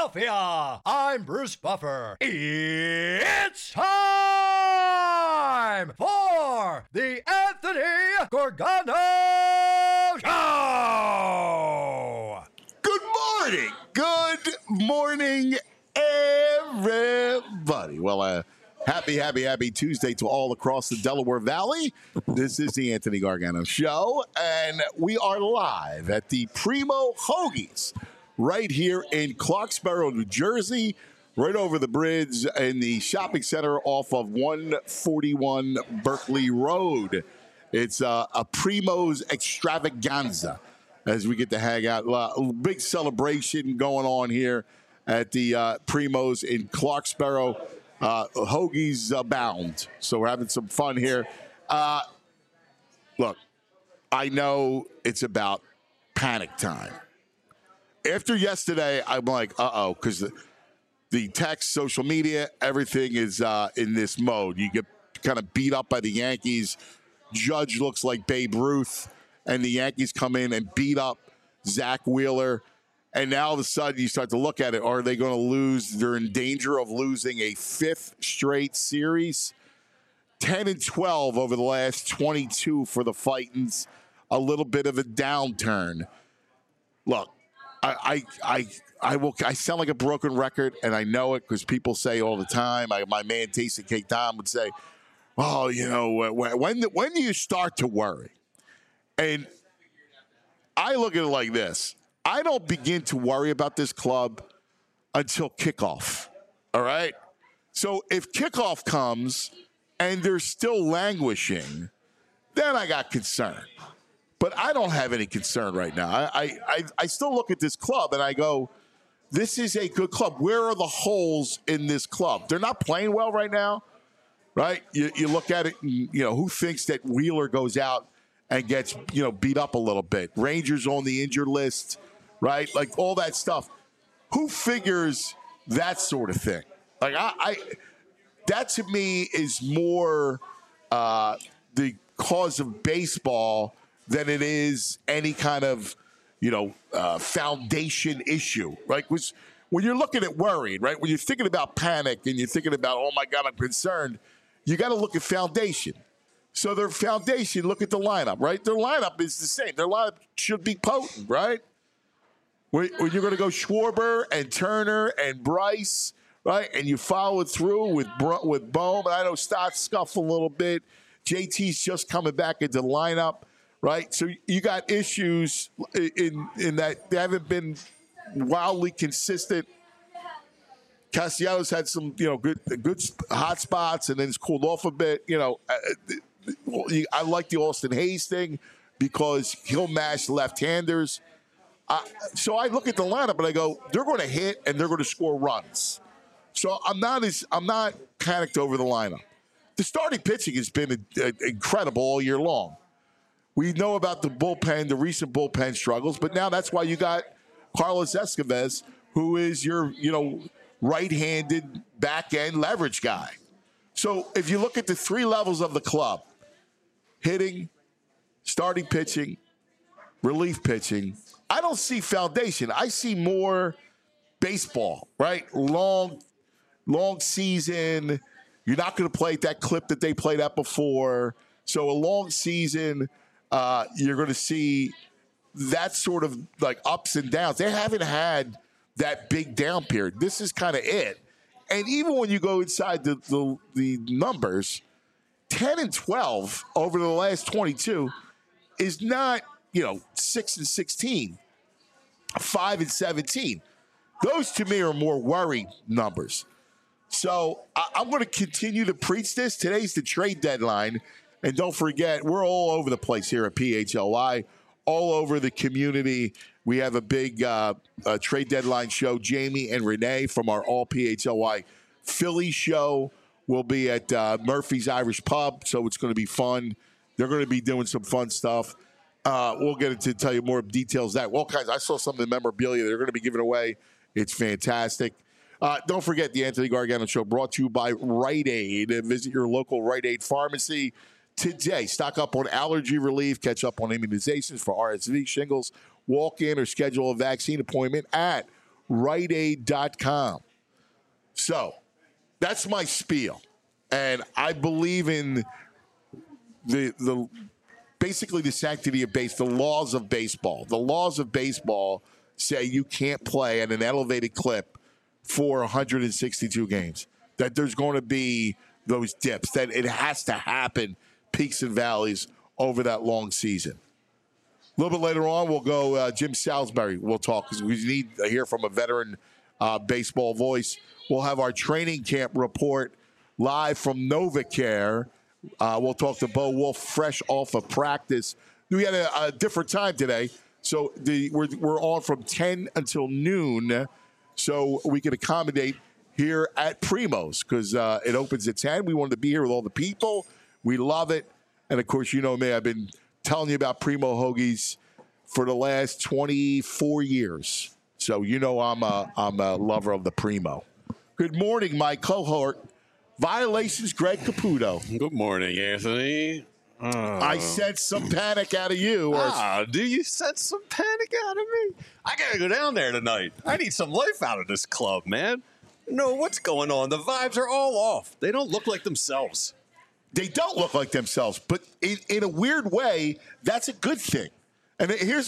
Philadelphia. I'm Bruce Buffer. It's time for the Anthony Gargano Show. Good morning. Good morning, everybody. Well, happy Tuesday to all across the Delaware Valley. This is the Anthony Gargano Show, and we are live at the Primo Hoagies right here in Clarksboro, New Jersey, right over the bridge in the shopping center off of 141 Berkeley Road. It's a Primo's extravaganza as we get to hang out. A big celebration going on here at the Primo's in Clarksboro. Hoagies abound, so we're having some fun here. Look, I know it's about panic time. After yesterday, I'm like, uh-oh, because the text, social media, everything is in this mode. You get kind of beat up by the Yankees. Judge looks like Babe Ruth, and the Yankees come in and beat up Zach Wheeler. And now all of a sudden you start to look at it. Are they going to lose? They're in danger of losing a fifth straight series. 10-12 over the last 22 for the Fightins. A little bit of a downturn. Look, I sound like a broken record, and I know it because people say all the time. My man Tasty Cake Tom would say, "Oh, you know, when do you start to worry?" And I look at it like this. I don't begin to worry about this club until kickoff, all right? So if kickoff comes and they're still languishing, then I got concern. But I don't have any concern right now. I still look at this club and I go, this is a good club. Where are the holes in this club? They're not playing well right now, right? You look at it, and, who thinks that Wheeler goes out and gets, beat up a little bit? Rangers on the injured list, right? Like all that stuff. Who figures that sort of thing? Like that to me is more the cause of baseball than it is any kind of, foundation issue, right? When you're looking at worried, right? When you're thinking about panic and you're thinking about, oh my God, I'm concerned, you got to look at foundation. So their foundation, look at the lineup, right? Their lineup is the same. Their lineup should be potent, right? When you're going to go Schwarber and Turner and Bryce, right? And you follow it through with Bohm. And I know Stott's scuffed a little bit. JT's just coming back into the lineup, right? So you got issues in that they haven't been wildly consistent. Castellanos had some, good hot spots, and then it's cooled off a bit. I like the Austin Hayes thing because he'll mash left-handers. So I look at the lineup and I go, they're going to hit and they're going to score runs. So I'm not panicked over the lineup. The starting pitching has been incredible all year long. We know about the bullpen, the recent bullpen struggles, but now that's why you got Carlos Escobar, who is your, right-handed back-end leverage guy. So if you look at the three levels of the club, hitting, starting pitching, relief pitching, I don't see foundation. I see more baseball, right? Long season. You're not going to play at that clip that they played at before. So a long season, you're going to see that sort of like ups and downs. They haven't had that big down period. This is kind of it. And even when you go inside the numbers, 10-12 over the last 22 is not, 6-16, 5-17. Those to me are more worry numbers. So I'm going to continue to preach this. Today's the trade deadline. And don't forget, we're all over the place here at PHLY, all over the community. We have a big trade deadline show. Jamie and Renee from our All PHLY Philly show will be at Murphy's Irish Pub, so it's going to be fun. They're going to be doing some fun stuff. We'll get into tell you more details of that. All kinds. I saw some of the memorabilia they're going to be giving away. It's fantastic. Don't forget the Anthony Gargano Show brought to you by Rite Aid. Visit your local Rite Aid pharmacy today. Stock up on allergy relief. Catch up on immunizations for RSV, shingles. Walk in or schedule a vaccine appointment at RiteAid.com. So that's my spiel. And I believe in the basically the sanctity of the laws of baseball. The laws of baseball say you can't play at an elevated clip for 162 games. That there's going to be those dips. That it has to happen, peaks and valleys over that long season. A little bit later on, we'll go Jim Salisbury. We'll talk because we need to hear from a veteran baseball voice. We'll have our training camp report live from NovaCare. We'll talk to Bo Wolf fresh off of practice. We had a different time today, so we're on from 10 until noon, so we can accommodate here at Primo's because it opens at 10. We wanted to be here with all the people. We love it. And, of course, you know me. I've been telling you about Primo Hoagies for the last 24 years. So you know I'm a lover of the Primo. Good morning, my cohort. Violations, Greg Caputo. Good morning, Anthony. I sense some panic out of you. Do you sense some panic out of me? I got to go down there tonight. I need some life out of this club, man. No, what's going on? The vibes are all off. They don't look like themselves. They don't look like themselves, but in a weird way, that's a good thing. And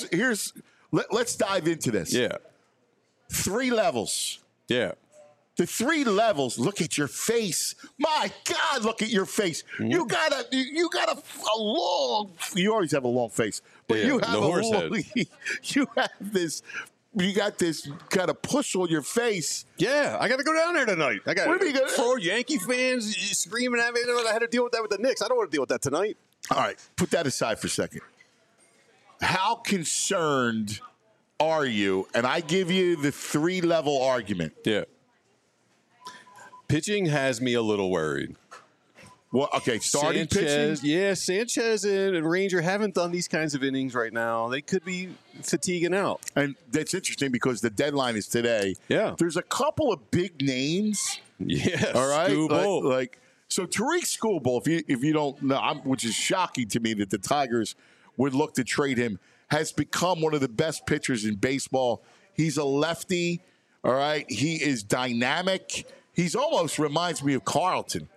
let's dive into this. Yeah. 3 levels. Yeah. The 3 levels. Look at your face. My God, look at your face. Mm-hmm. You got a long. You always have a long face, but you have you have this. You got this kind of push on your face. Yeah, I got to go down there tonight. I got 4 Yankee fans screaming at me. I had to deal with that with the Knicks. I don't want to deal with that tonight. All right, put that aside for a second. How concerned are you? And I give you the 3-level argument. Yeah. Pitching has me a little worried. Well, okay, starting pitching? Yeah, Sanchez and Ranger haven't done these kinds of innings right now. They could be fatiguing out. And that's interesting because the deadline is today. Yeah. There's a couple of big names. Yes. All right? Skubal. So Tariq Skubal, if you don't know, which is shocking to me that the Tigers would look to trade him, has become one of the best pitchers in baseball. He's a lefty, all right? He is dynamic. He's almost reminds me of Carlton.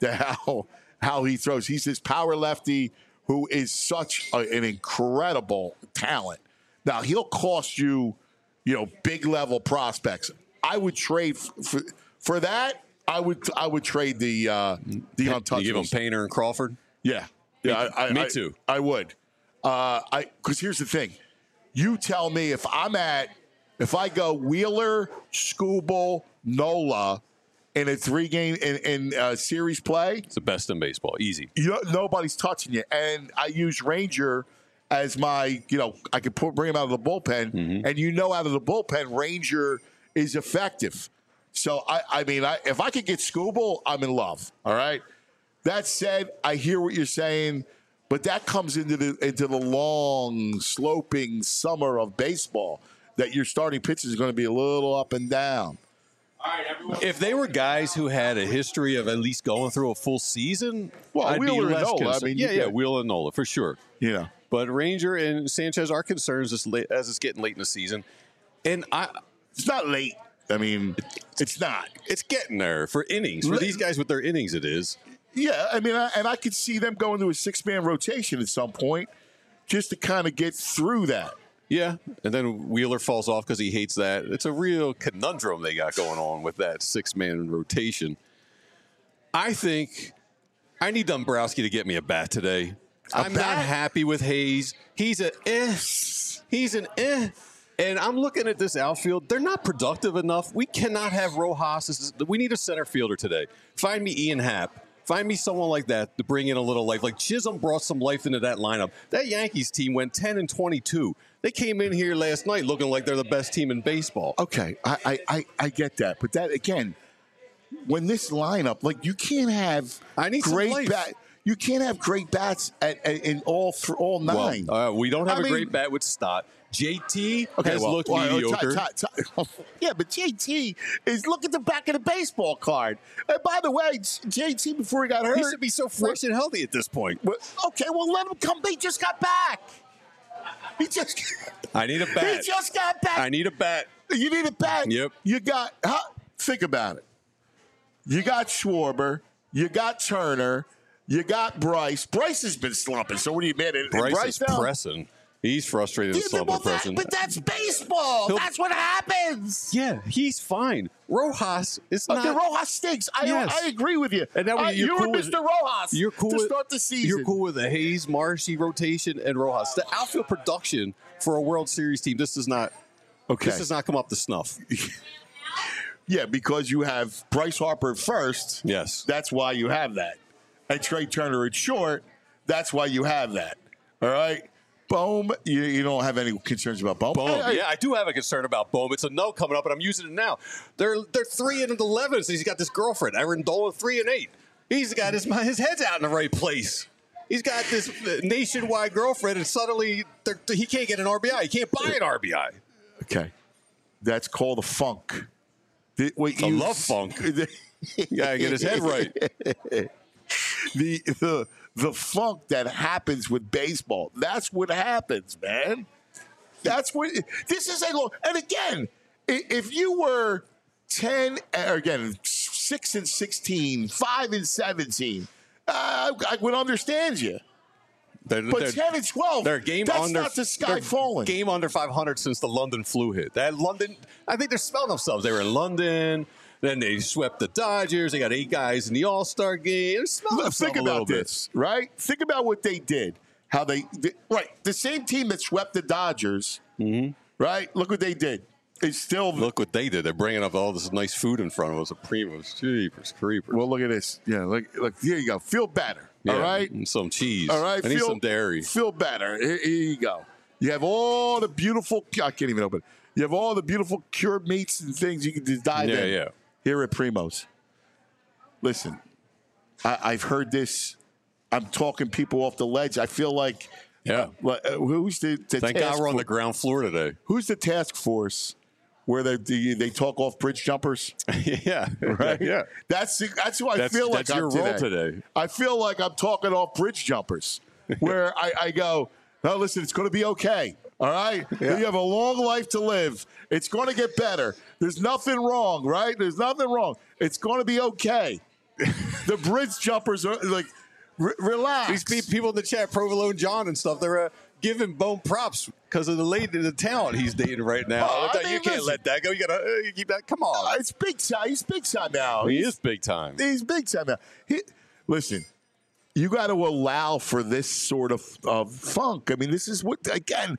How he throws. He's this power lefty who is such an incredible talent. Now, he'll cost you, big level prospects. I would trade for that. I would trade the untouchables. You give him Painter and Crawford? Yeah. Me too. I would. Because here's the thing. You tell me if I go Wheeler, Skubal, Nola, in a 3-game in series play, it's the best in baseball. Easy. Nobody's touching you. And I use Ranger as my, I could bring him out of the bullpen. Mm-hmm. And out of the bullpen, Ranger is effective. So, if I could get Skubal, I'm in love. All right? That said, I hear what you're saying, but that comes into the long, sloping summer of baseball that your starting pitch is going to be a little up and down. All right, everyone. If they were guys who had a history of at least going through a full season, I'd Wheeler be less and Nola. concerned. Wheeler and Nola, for sure. Yeah. But Ranger and Sanchez are concerns as it's getting late in the season. And it's not late. It's not. It's getting there for innings. For these guys with their innings, it is. Yeah, I could see them going to a 6-man rotation at some point just to kind of get through that. Yeah, and then Wheeler falls off because he hates that. It's a real conundrum they got going on with that 6-man rotation. I think I need Dombrowski to get me a bat today. I'm not happy with Hayes. He's an eh. And I'm looking at this outfield. They're not productive enough. We cannot have Rojas. We need a center fielder today. Find me Ian Happ. Find me someone like that to bring in a little life. Like Chisholm brought some life into that lineup. That Yankees team went 10-22. They came in here last night looking like they're the best team in baseball. Okay, I get that. But that, again, when this lineup, you can't have great bats. You can't have great bats in all 9. Well, we don't have a great bat with Stott. JT has looked mediocre. Yeah, but JT look at the back of the baseball card. And by the way, JT, before he got hurt, he should be so fresh and healthy at this point. Okay, well, let him come. He just got back. I need a bat. He just got back. I need a bat. You need a bat. Yep. You got. Think about it. You got Schwarber. You got Turner. You got Bryce. Bryce has been slumping. So what are you mad at? Bryce is now? pressing. He's frustrated and slumping pressing. But that's baseball. That's what happens. Yeah, he's fine. Rojas is not. The Rojas stinks. I agree with you. And now you cool and with, Mr. Rojas you're cool to with, start the season. You're cool with the Hayes, Marshy rotation and Rojas. The outfield production for a World Series team, this does not come up to snuff. Yeah, because you have Bryce Harper at first. Yes. That's why you have that. And Trey Turner at short. That's why you have that. All right? Bohm, you don't have any concerns about Bohm? Yeah, I do have a concern about Bohm. It's a no coming up, and I'm using it now. They're 3-11, so he's got this girlfriend, Erin Dolan, 3-8. He's got his head's out in the right place. He's got this nationwide girlfriend, and suddenly he can't get an RBI. He can't buy an RBI. Okay. That's called a funk. I love funk. You gotta get his head right. The funk that happens with baseball. That's what happens, man. That's what this is a long. And again, if you were 10, or again 6-16, 5-17, I would understand you. But 10-12, they're game that's under, not the sky falling. Game under 500 since the London flu hit. That London, I think they're smelling themselves. They were in London. Then they swept the Dodgers. They got 8 guys in the All-Star game. Think about this, right? Think about what they did. How they right. The same team that swept the Dodgers, right? Look what they did. It's still look what they did. They're bringing up all this nice food in front of us. A Primos, Jeepers, Creepers. Well, look at this. Yeah, look. Here you go. Feel better. Yeah, all right. And some cheese. All right. I need some dairy. Feel better. Here you go. You have all the beautiful. I can't even open it. You have all the beautiful cured meats and things you can just dive in. Yeah. Here at Primo's. Listen, I've heard this. I'm talking people off the ledge. I feel like, who's the Thank God we're on the ground floor today. Who's the task force where they talk off bridge jumpers? Yeah, right. Yeah, that's who I feel like. That's your role today. I feel like I'm talking off bridge jumpers, where I go, no, listen, it's going to be okay. All right? Yeah. You have a long life to live. It's going to get better. There's nothing wrong, right? There's nothing wrong. It's going to be okay. The bridge jumpers are like, relax. These people in the chat, Provolone John and stuff, they're giving Bone props because of the talent he's dating right now. You can't let that go. You got to keep that. Come on. It's big time. He's big time now. He is big time. He's big time now. Listen. You got to allow for this sort of funk. I mean, this is what, again,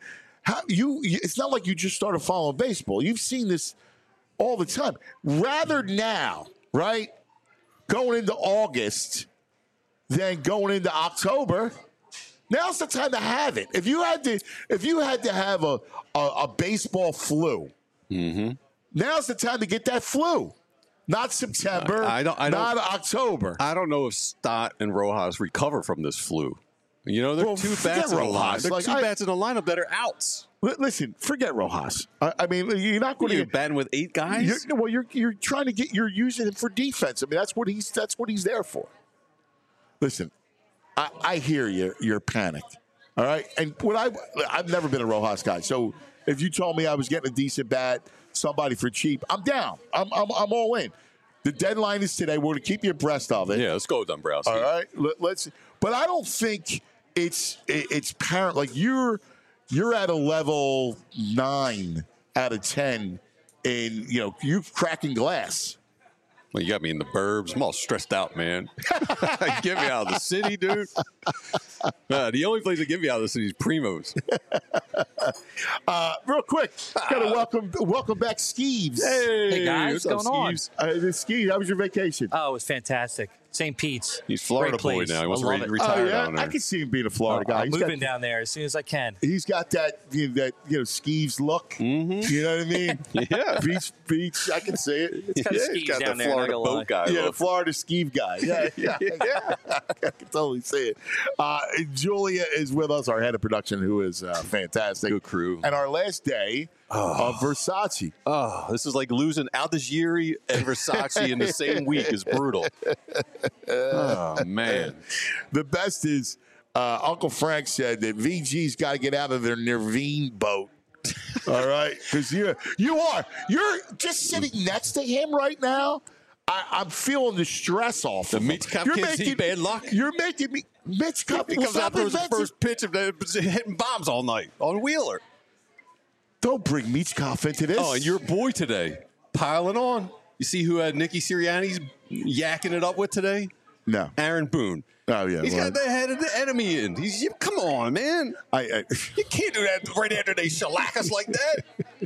it's not like you just started following baseball. You've seen this all the time. Rather now, right, going into August than going into October, now's the time to have it. If you had to have a baseball flu, now's the time to get that flu. Not September, not October. I don't know if Stott and Rojas recover from this flu. You know, there are two bats in the lineup. There are two bats in the lineup that are outs. Listen, forget Rojas. I mean, you're not going to get batting with 8 guys. You're trying to you're using him for defense. I mean, that's what he's there for. Listen, I hear you. You're panicked. All right, and I've never been a Rojas guy. So if you told me I was getting a decent bat, somebody for cheap, I'm down. I'm all in. The deadline is today. We're going to keep you abreast of it. Yeah, let's go with Dombrowski. All right, let's. But I don't think it's apparent. Like you're at a level 9 out of 10, and you're cracking glass. Well, you got me in the burbs. I'm all stressed out, man. Get me out of the city, dude. The only place that get me out of the city is Primo's. Real quick, gotta welcome back Skeeves. Hey guys, what's going on? Skeeves, how was your vacation? Oh, it was fantastic. St. Pete's. He's Florida boy now. He wants to retire down there. I can see him being a Florida guy. I'm moving down there as soon as I can. He's got that Skeeves look. Mm-hmm. You know what I mean? Yeah. Beach. I can see it. It's kind of Skeeves down there. Florida boat guy. Yeah, the Florida Skeeve guy. Yeah. I can totally see it. Julia is with us, our head of production, who is fantastic. Good crew. And our last day of Versace. Oh, this is like losing Aldigiri and Versace in the same week is brutal. Oh, man. The best is Uncle Frank said that VG's got to get out of their Nirvine boat All right, because you are. You're just sitting next to him right now. I'm feeling the stress off. The Mitch Cup can't see bad luck. You're making me. Mitch Cup He comes out there with the first pitch of hitting bombs all night on Wheeler. Don't bring Mitch Cup into this. Oh, and your boy today, piling on. You see who had Nicky Sirianni's yakking it up with today? No. Aaron Boone. Oh, yeah. He's got the head of the enemy in. Come on, man. I You can't do that right after they shellac us like that.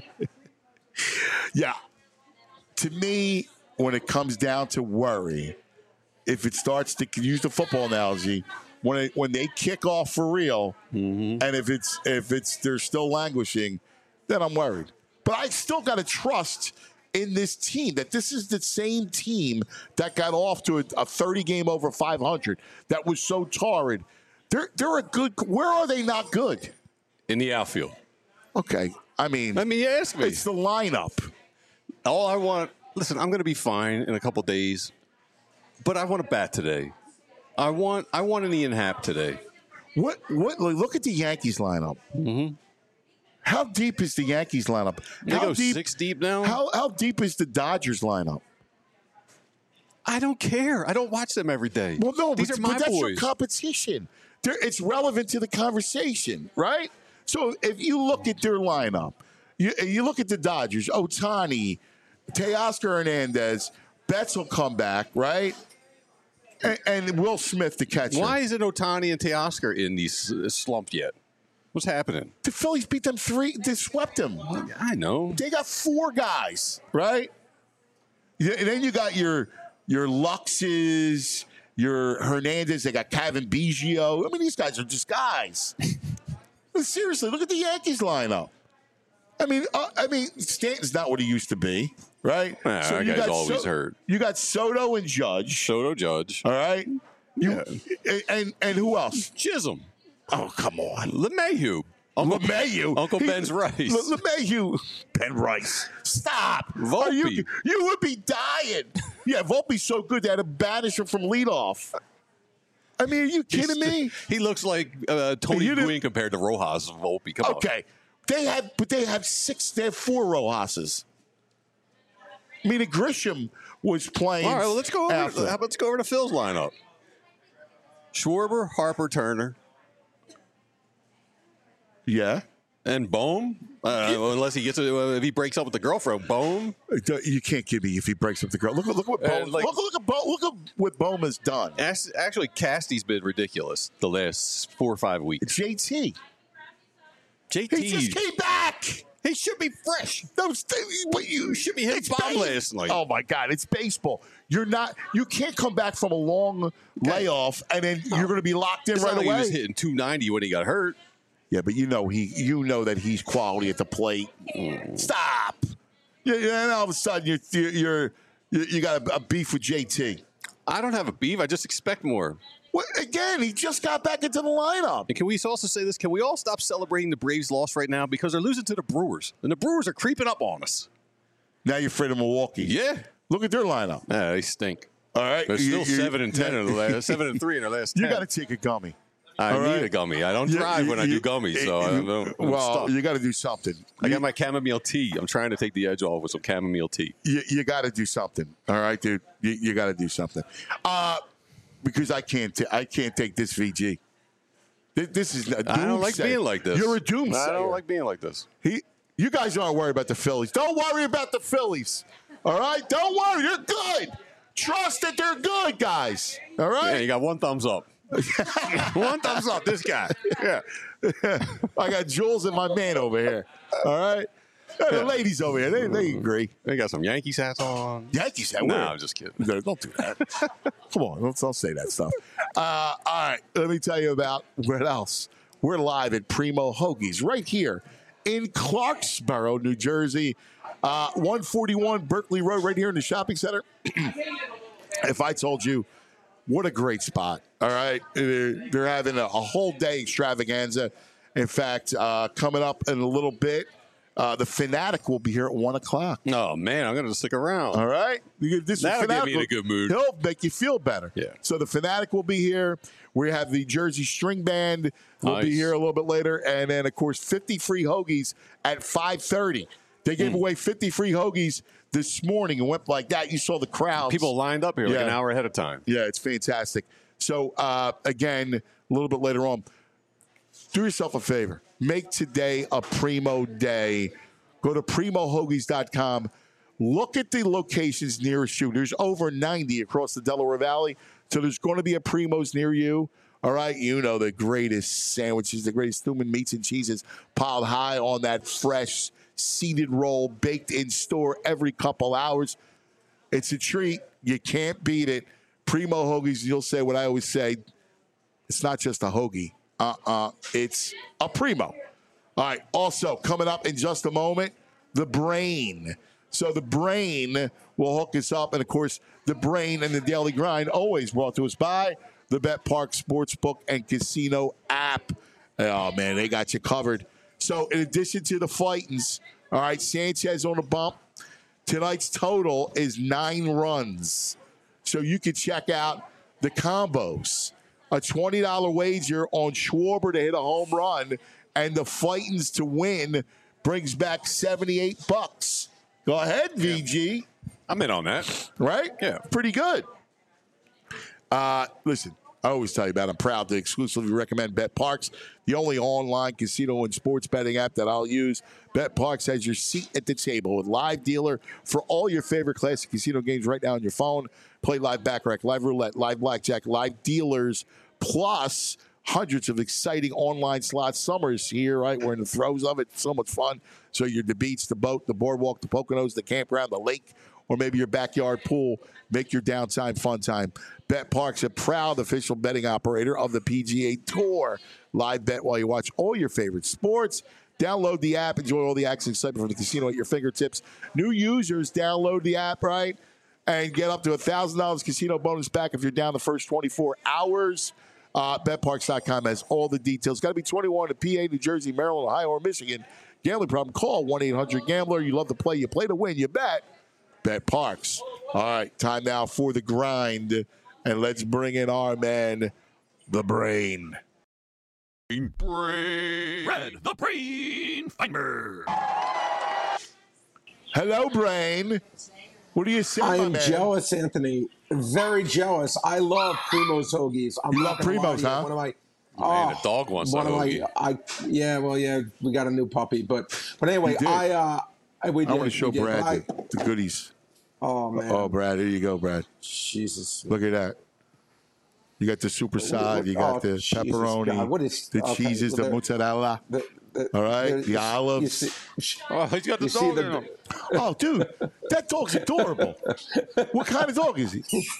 Yeah. To me, when it comes down to worry, if it starts to use the football analogy, when they kick off for real, and if it's they're still languishing, then I'm worried. But I still got to trust in this team that this is the same team that got off to a 30-game over 500 that was so torrid. They're a good. Where are they not good? In the outfield. Okay, I mean, Let me ask me. it's the lineup. All I want. Listen, I'm going to be fine in a couple days, but I want a bat today. I want an Ian Happ today. What? Look at the Yankees lineup. Mm-hmm. How deep is the Yankees lineup? They go 6 deep now? How deep is the Dodgers lineup? I don't care. I don't watch them every day. Well, no, These but are my that's your boys. competition. It's relevant to the conversation, right? So if you look at their lineup, you look at the Dodgers, Ohtani, Teoscar Hernandez, Betts will come back, right? And Will Smith, the catcher. Why isn't Ohtani and Teoscar in these slump yet? What's happening? The Phillies beat them 3. They swept them. I know. They got 4 guys, right? And then you got your Luxes, your Hernandez. They got Kevin Biggio. I mean, these guys are just guys. Seriously, look at the Yankees lineup. I mean, Stanton's not what he used to be, right? That guy's always hurt. You got Soto and Judge. Soto, Judge. All right. And who else? Chisholm. Oh, come on. LeMahieu. LeMahieu. Uncle Ben's Rice. LeMahieu. Ben Rice. Stop. Volpe. You would be dying. Yeah, Volpe's so good they had to banish him from leadoff. I mean, are you kidding me? He looks like Tony Gwynn compared to Rojas Volpe. Come on. Okay. They have 4 Rojases. I mean, Grisham was playing. All right, well, let's go over. after. How about let's go over to Phil's lineup? Schwarber, Harper, Turner, Yeah. and Bohm. Unless he gets if he breaks up with the girlfriend, Bohm. You can't give me if he breaks up the girl. Look what Bohm. like- look at what Bohm has done. Actually, Casty's been ridiculous the last 4 or 5 weeks. JT. JT, He just came back. he should be fresh. You should be hitting bomb last night. Oh my God, it's baseball. You can't come back from a long layoff and then you're going to be locked in It's right not like away. He was hitting 290 when he got hurt. Yeah, but you know that he's quality at the plate. Stop. And all of a sudden you got a beef with JT. I don't have a beef. I just expect more. Well, again, he just got back into the lineup. And can we also say this? Can we all stop celebrating the Braves' loss right now because they're losing to the Brewers, and the Brewers are creeping up on us. Now you're afraid of Milwaukee. Yeah, Look at their lineup. yeah, they stink. All right, They're still 7-10 in the last 7-3 in their last 10. You got to take a gummy. I all need right? a gummy. I don't drive when I do gummies, so I don't. I'm stuck. You got to do something. I got my chamomile tea. I'm trying to take the edge off with some chamomile tea. You got to do something. All right, dude. You got to do something. Because I can't take this VG. This is a I don't like doomsday. being like this. You're a doomsayer. I don't like being like this. You guys aren't worried about the Phillies. Don't worry about the Phillies. All right? Don't worry. They're good. Trust that they're good, guys. All right? Yeah, you got 1 thumbs up. 1 thumbs up, this guy. Yeah. I got Jules and my man over here. All right? The ladies over here, they agree. They got some Yankees hats on. Yankees hat. No, Where? I'm just kidding. No, don't do that. Come on, don't say that stuff. All right, let me tell you about what else. We're live at Primo Hoagies right here in Clarksboro, New Jersey. 141 Berkeley Road right here in the shopping center. If I told you, what a great spot. All right, they're having a whole day extravaganza. In fact, coming up in a little bit, The Fanatic will be here at 1 o'clock. Oh, man, I'm going to stick around. All right? That'll get me in a good mood. He'll make you feel better. Yeah. So the Fanatic will be here. We have the Jersey String Band will be here a little bit later. And then, of course, 50 free hoagies at 5:30. They gave away 50 free hoagies this morning and went like that. You saw the crowds. People lined up here like an hour ahead of time. Yeah, it's fantastic. So, again, a little bit later on, do yourself a favor. Make today a primo day. Go to primohoagies.com. Look at the locations nearest you. There's over 90 across the Delaware Valley. So there's going to be a Primo's near you. All right. You know, the greatest sandwiches, the greatest human meats and cheeses piled high on that fresh seeded roll, baked in store every couple hours. It's a treat. You can't beat it. Primo Hoagies, you'll say what I always say. It's not just a hoagie. It's a Primo. All right. Also, coming up in just a moment, the Brain. So the Brain will hook us up. And, of course, the Brain and the Daily Grind always brought to us by the Bet Park Sportsbook and Casino app. Oh, man, they got you covered. So, in addition to the Fightins, all right, Sanchez on the bump. Tonight's total is 9 runs. So you can check out the combos. A $20 wager on Schwarber to hit a home run and the Fightins to win brings back $78. Go ahead, VG. I'm in on that. Right? Yeah. Pretty good. Listen, I always tell you about it. I'm proud to exclusively recommend BetParx, the only online casino and sports betting app that I'll use. BetParx has your seat at the table with live dealer for all your favorite classic casino games right now on your phone. Play live baccarat, live roulette, live blackjack, live dealers, plus hundreds of exciting online slots. Summer is here, right? We're in the throes of it. So much fun. So you're the beach, the boat, the boardwalk, the Poconos, the campground, the lake, or maybe your backyard pool. Make your downtime fun time. BetParx, a proud official betting operator of the PGA Tour. Live bet while you watch all your favorite sports. Download the app. Enjoy all the action excitement from the casino at your fingertips. New users, download the app, right? And get up to $1,000 casino bonus back if you're down the first 24 hours. BetParx.com has all the details. Got to be 21 in PA, New Jersey, Maryland, Ohio, or Michigan. Gambling problem? Call 1-800-GAMBLER. You love to play. You play to win. You bet. BetParx. All right, time now for the grind. And let's bring in our man, the Brain. Red, the Brain Feinberg. Hello, Brain. What do you say, I my am man? jealous, Anthony. Very jealous. I love Primo's hoagies. You love Primo's, huh? One of my Man, the dog wants a hoagie. we got a new puppy, but anyway, You did. I want to show Brad the goodies. Oh man. Oh, Brad, here you go, Brad. Jesus. Look at that. You got the super side. You got the Jesus pepperoni, God, what is- the okay, cheeses, well, the mozzarella. All right, the olives. Oh, he's got the dog in him. Oh, dude, that dog's adorable. What kind of dog is he?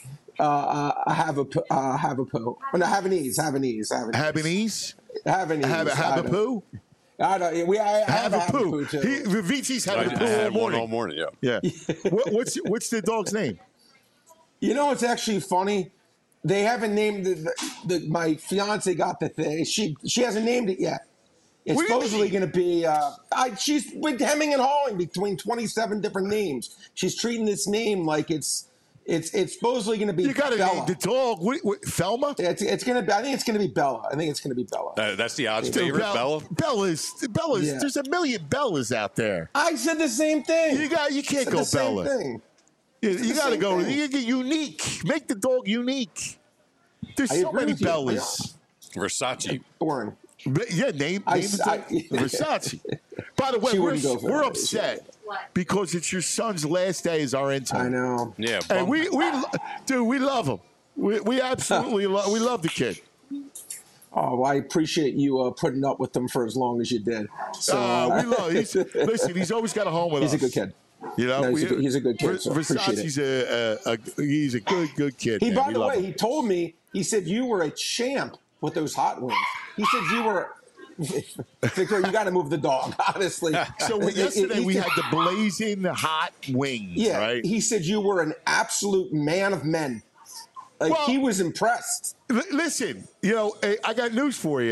I have a poo. Oh, no, Havanese. Habanese? Have a poo? I have a poo. too. Vici's having a I poo had all one all morning. morning, Yeah. What's the dog's name? You know, it's actually funny. They haven't named my fiance got the thing. She hasn't named it yet. It's What do you supposedly mean? going to be. She's been hemming and hawing between 27 different names. She's treating this name like it's supposedly going to be. You got to Bella. name the dog. What, Thelma? It's going to be. I think it's going to be Bella. That's the odds Dude, favorite, Bella. Bella's. Yeah. There's a million Bellas out there. I said the same thing. You can't Said go the same Bella. thing. You got to same go. thing. You get unique. Make the dog unique. There's I so agree many with you. Bellas. Versace. Boring. Yeah, name the dog. Versace. By the way, She wouldn't go for we're that. upset because it's your son's last day as our intern. I know. Yeah, And bum. we love him. We absolutely we love the kid. Oh, well, I appreciate you putting up with them for as long as you did. So We love. He's always got a home with us. he's a good kid. You know, No, he's a good kid, so I appreciate Versace's he's a good kid. He, man. by We the love way, him. he told me, he said you were a champ with those hot wings. He said you were. Victor, you got to move the dog, honestly. So yesterday we had the blazing hot wings, Yeah, right? he said you were an absolute man of men. Like Well- he was impressed. Listen, I got news for you.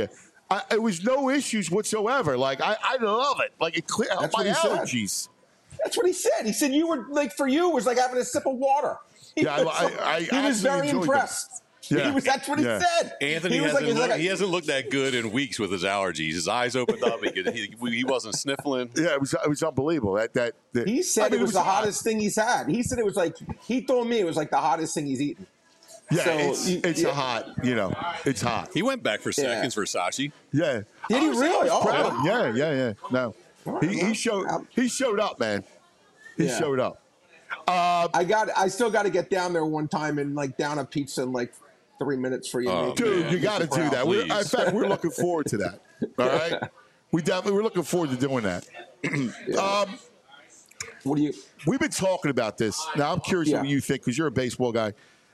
It was no issues whatsoever. Like I love it. Like it cleared out my allergies. That's what he said. He said you were like, for you, it was like having a sip of water. He was very impressed. Yeah. That's what he said. Anthony he hasn't looked that good in weeks with his allergies. His eyes opened up. He wasn't sniffling. Yeah, it was unbelievable. He said it was the hottest thing he's had. He said it was like, he told me it was like the hottest thing he's eaten. Yeah, so, it's a hot, it's hot. He went back for seconds for Sashi. Yeah. Did he really? Yeah. No. He showed up, man. He showed up. I still got to get down there one time and like down a pizza in like 3 minutes for you. Dude, you got to do that. In fact, we're looking forward to that. All right, we're looking forward to doing that. We've been talking about this. Now I'm curious what you think because you're a baseball guy.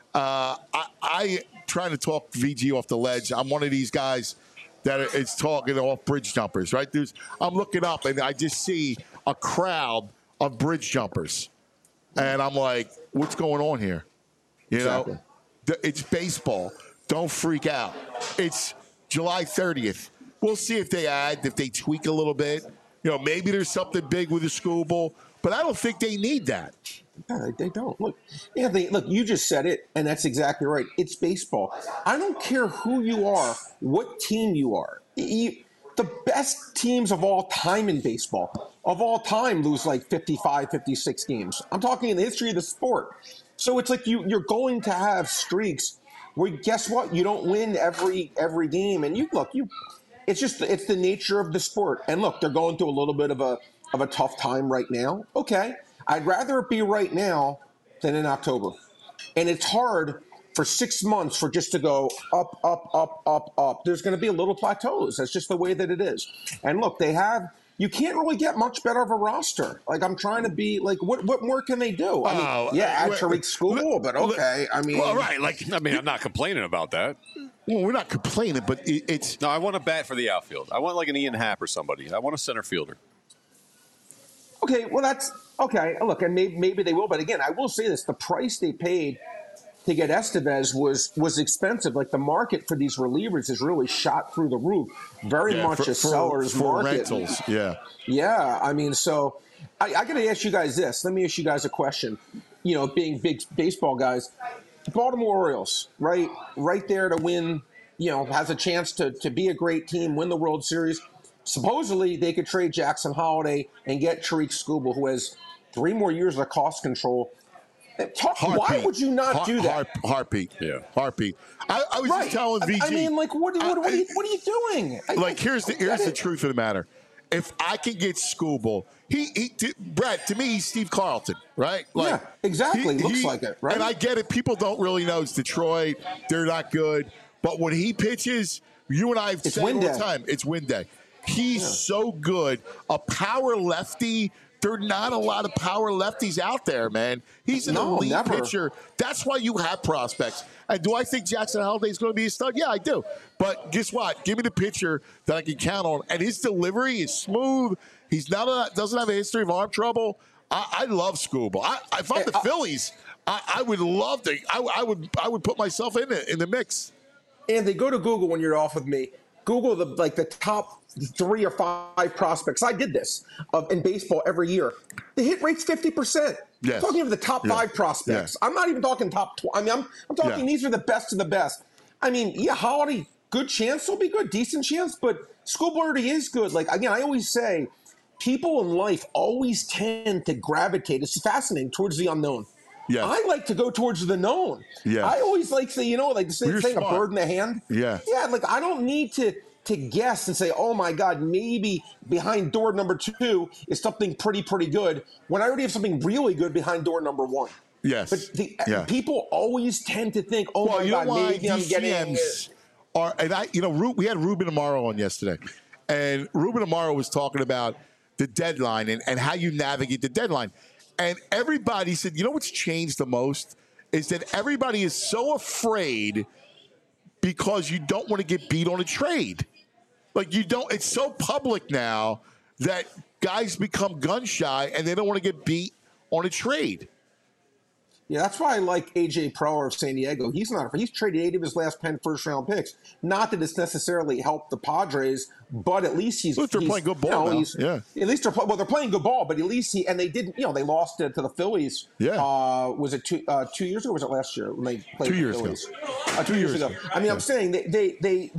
I trying to talk VG off the ledge. I'm one of these guys that is talking off bridge jumpers, right? I'm looking up and I just see a crowd of bridge jumpers. And I'm like, what's going on here? You know, it's baseball. Don't freak out. It's July 30th. We'll see if they tweak a little bit. Maybe there's something big with the school bowl, but I don't think they need that. No, they don't. Look, you just said it, and that's exactly right. It's baseball. I don't care who you are, what team you are. The best teams of all time in baseball, lose like 55, 56 games. I'm talking in the history of the sport. So it's like you're going to have streaks where, guess what? You don't win every game. And it's the nature of the sport. And look, they're going through a little bit of a tough time right now. Okay. I'd rather it be right now than in October. And it's hard for 6 months for just to go up, up, up, up, up. There's going to be a little plateaus. That's just the way that it is. And look, you can't really get much better of a roster. Like, I'm trying to be like, what more can they do? I mean, add Tariq School, but okay. I mean, well, right. I'm not complaining about that. Well, we're not complaining, but it's. No, I want a bat for the outfield. I want like an Ian Happ or somebody. I want a center fielder. Okay, well, that's okay. Look, and maybe they will, but again, I will say this: the price they paid to get Estevez was expensive. Like, the market for these relievers is really shot through the roof. Very much a seller's market. Rentals, yeah. I mean, so I got to ask you guys this. Let me ask you guys a question. Being big baseball guys, Baltimore Orioles, right there to win. Has a chance to be a great team, win the World Series. Supposedly, they could trade Jackson Holiday and get Tariq Skubal, who has 3 more years of cost control. Why would you not do that? Heartbeat. Yeah. Heartbeat. I was just telling VG. I mean, like, what are you doing? Here's the truth of the matter. If I can get Skubal, Brett, to me, he's Steve Carlton, right? Yeah, exactly. Looks like it, right? And I get it. People don't really know it's Detroit. They're not good. But when he pitches, you and I have said all the time, it's win day. He's so good. A power lefty. There are not a lot of power lefties out there, man. He's an elite pitcher. That's why you have prospects. And do I think Jackson Holiday is going to be a stud? Yeah, I do. But guess what? Give me the pitcher that I can count on. And his delivery is smooth. He's doesn't have a history of arm trouble. I love Skubal. If I'm the Phillies, I would love to. I would put myself in the mix. And they go to Google when you're off with me. Google the top 3 or 5 prospects. I did this in baseball every year. The hit rate's 50%. Yes. I'm talking of the top 5 prospects. I'm not even talking top 20. I mean, I'm talking these are the best of the best. I mean, Holiday, good chance will be good, decent chance, but Skubal already is good. Like, again, I always say, people in life always tend to gravitate. It's fascinating towards the unknown. Yes. I like to go towards the known. Yeah. I always like to say, like the saying, a bird in the hand. Yeah. Yeah, like I don't need to guess and say, oh my God, maybe behind door number 2 is something pretty good, when I already have something really good behind door number 1. Yes. But people always tend to think, oh my God, maybe I'm getting we had Ruben Amaro on yesterday, and Ruben Amaro was talking about the deadline and how you navigate the deadline. And everybody said, what's changed the most is that everybody is so afraid because you don't want to get beat on a trade. Like, it's so public now that guys become gun shy and they don't want to get beat on a trade. Yeah, that's why I like A.J. Preller of San Diego. He's traded 8 of his last 10 first-round picks. Not that it's necessarily helped the Padres, but at least At least they're playing good ball now. Yeah. At least they're playing good ball, but at least and they didn't, they lost to the Phillies. Yeah. Was it 2 years ago or was it last year when they played 2 years the Phillies? ago. 2 years ago. I mean, I'm saying they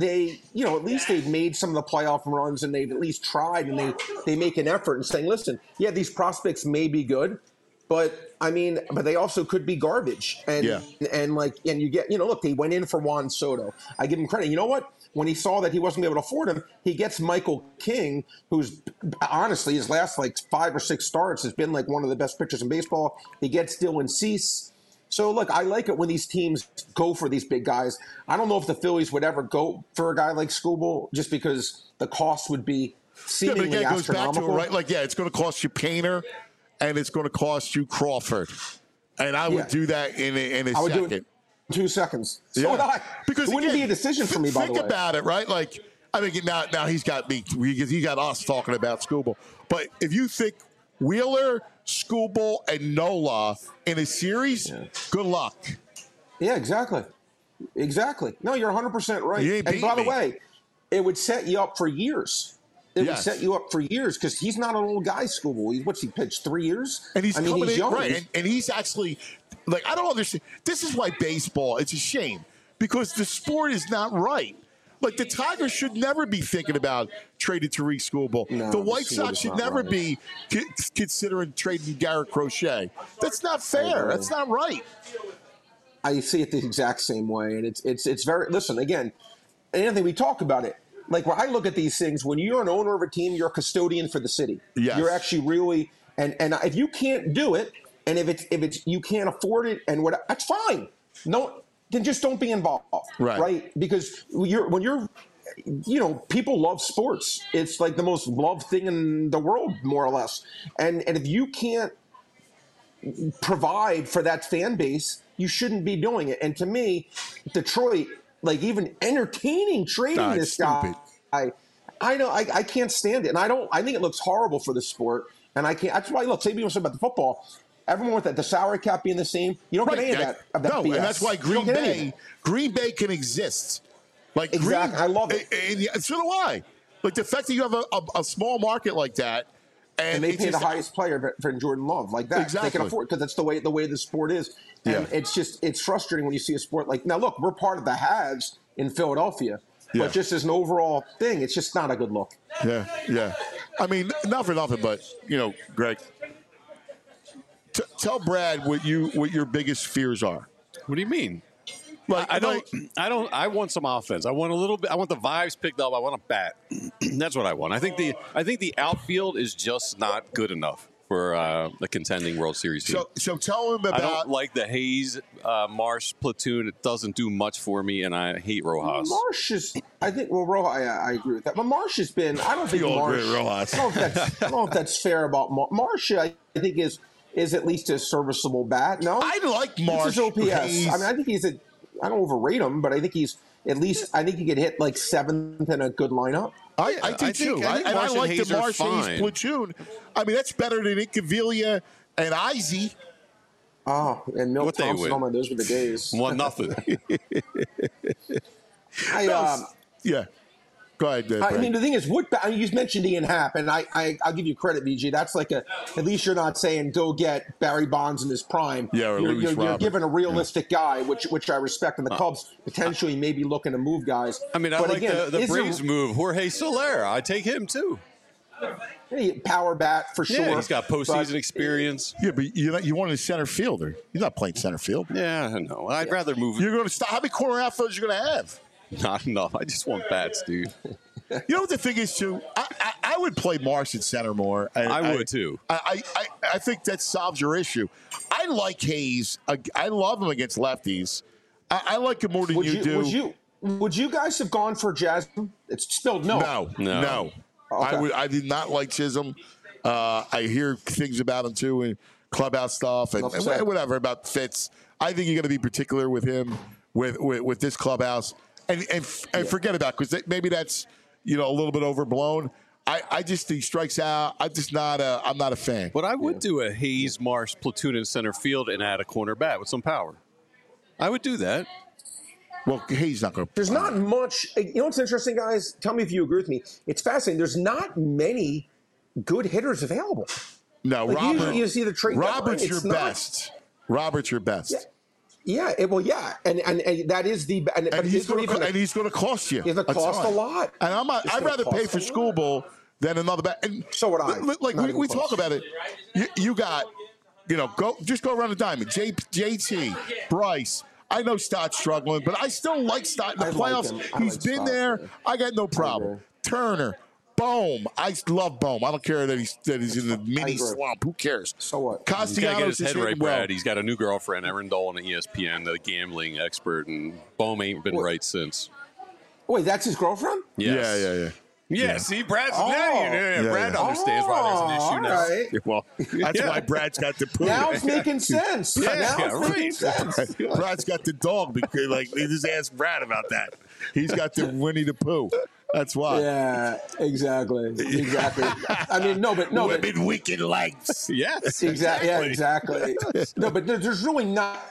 at least they've made some of the playoff runs and they've at least tried and they make an effort and saying, listen, yeah, these prospects may be good, but they also could be garbage. And you get, look, they went in for Juan Soto. I give him credit. You know what? When he saw that he wasn't able to afford him, he gets Michael King, who's honestly his last 5 or 6 starts has been one of the best pitchers in baseball. He gets Dylan Cease. So look, I like it when these teams go for these big guys. I don't know if the Phillies would ever go for a guy like Skubal just because the cost would be seemingly but again, it goes back to it, astronomical. right? It's going to cost you Painter. And it's going to cost you Crawford. And I would do that in a I would second. do it in 2 seconds. So would I. Because it wouldn't again, be a decision for me, by the way. Think about it, right? Now he's got me. He got us talking about Skubal. But if you think Wheeler, Skubal, and Nola in a series, good luck. Yeah, exactly. No, you're 100% right. You ain't And by the me. way, it would set you up for years. It would set you up for years because he's not an old guy, Skubal. What's he pitched 3 years? And he's coming in, young. right? And he's actually I don't understand. This is why baseball. It's a shame because the sport is not right. The Tigers should never be thinking about trading Tariq Skubal. No, the White Sox should never be considering trading Garrett Crochet. That's not fair. That's not right. I see it the exact same way, and it's very. Listen again, Anthony. We talk about it. When I look at these things, when you're an owner of a team, you're a custodian for the city. Yes. You're actually really, and if you can't do it, and if it's you can't afford it, and that's fine. No, then just don't be involved, right? Because when you're, people love sports. It's the most loved thing in the world, more or less. And if you can't provide for that fan base, you shouldn't be doing it. And to me, Detroit. Even entertaining trading this guy, I can't stand it, and I think it looks horrible for the sport, and I can't. That's why say people say about the football. Everyone with the salary cap being the same, you don't get any of that. No, BS. and that's why Green Bay can exist. Exactly, I love it. And so do I. The fact that you have a small market like that. And they pay the highest player for Jordan Love like that. Exactly. They can afford because that's the way the sport is. And it's frustrating when you see a sport now. Look, we're part of the haves in Philadelphia, but just as an overall thing, it's just not a good look. Yeah. I mean, not for nothing, but Greg, tell Brad what your biggest fears are. What do you mean? I want some offense. I want a little bit. I want the vibes picked up. I want a bat. That's what I want. I think the outfield is just not good enough for the contending World Series team. So tell him about. I don't like the Hayes Marsh platoon. It doesn't do much for me, and I hate Rojas. Marsh is. I think. Well, Rojas. I agree with that. But Marsh has been. I don't think Marsh. Rojas. I don't know if that's fair about Marsh. I think is at least a serviceable bat. No, I like Marsh. This is OPS. Hayes. I mean, I think he's a. I don't overrate him, but I think he's at least. I think he could hit 7th in a good lineup. I do too. I like the Marsh Hayes platoon. I mean, that's better than Incaviglia and Izzy. Oh, and Milt Thompson. Oh my, those were the days. 1-0. Yeah. Go ahead. I mean, the thing is, you mentioned Ian Happ, and I'll give you credit, VG. That's at least you're not saying go get Barry Bonds in his prime. Yeah, or you're giving a realistic guy, which I respect, and the Cubs potentially may be looking to move guys. I mean, I like the Braves move. Jorge Soler, I take him too. Power bat for sure. Yeah, he's got postseason experience. Yeah, but you want a center fielder. He's not playing center field. Yeah, I know. I'd rather move. You're going to stop. How many corner outfielders are you going to have? Not enough. I just want bats, dude. You know what the thing is, too? I would play Marsh at center more. I would, too. I think that solves your issue. I like Hayes. I love him against lefties. I like him more than you do. Would you guys have gone for Jasmine? It's spelled no. No. Okay. I did not like Chisholm. I hear things about him, too, and clubhouse stuff and whatever about Fitz. I think you got to be particular with him, with this clubhouse. And forget about because maybe that's a little bit overblown. I just think strikes out. I'm not a fan. But I would do a Hayes Marsh platoon in center field and add a corner bat with some power. I would do that. Well, Hayes not going to. There's not much. You know what's interesting, guys? Tell me if you agree with me. It's fascinating. There's not many good hitters available. No, like Robert. You see the trade. Robert's your best. Robert's your best. Yeah. And that is the. And he's going to cost you. He's going to cost a lot. And I'd rather pay for Skubal than another bat. And so would I. Like we talk about it. You got, go around the diamond. JT, Bryce. I know Stott's struggling, but I still like Stott in the playoffs. He's been there. I got no problem. Turner, Bohm. I love Bohm. I don't care that he's in the mini swamp. Who cares? So what? Castellanos his head right, well. Brad. He's got a new girlfriend, Erin Dolan, at ESPN, the gambling expert, and Bohm ain't been right since. Wait, that's his girlfriend? Yes. Yeah, see, Brad's Brad understands why there's an issue now. Right. Well, that's why Brad's got the poo. Now it's making sense. Making sense. Brad's got the dog because, they just asked Brad about that. He's got the Winnie the Pooh. That's why. Yeah, exactly. I mean, women weaken legs. Yes, exactly. Yeah, exactly. No, but there's really not.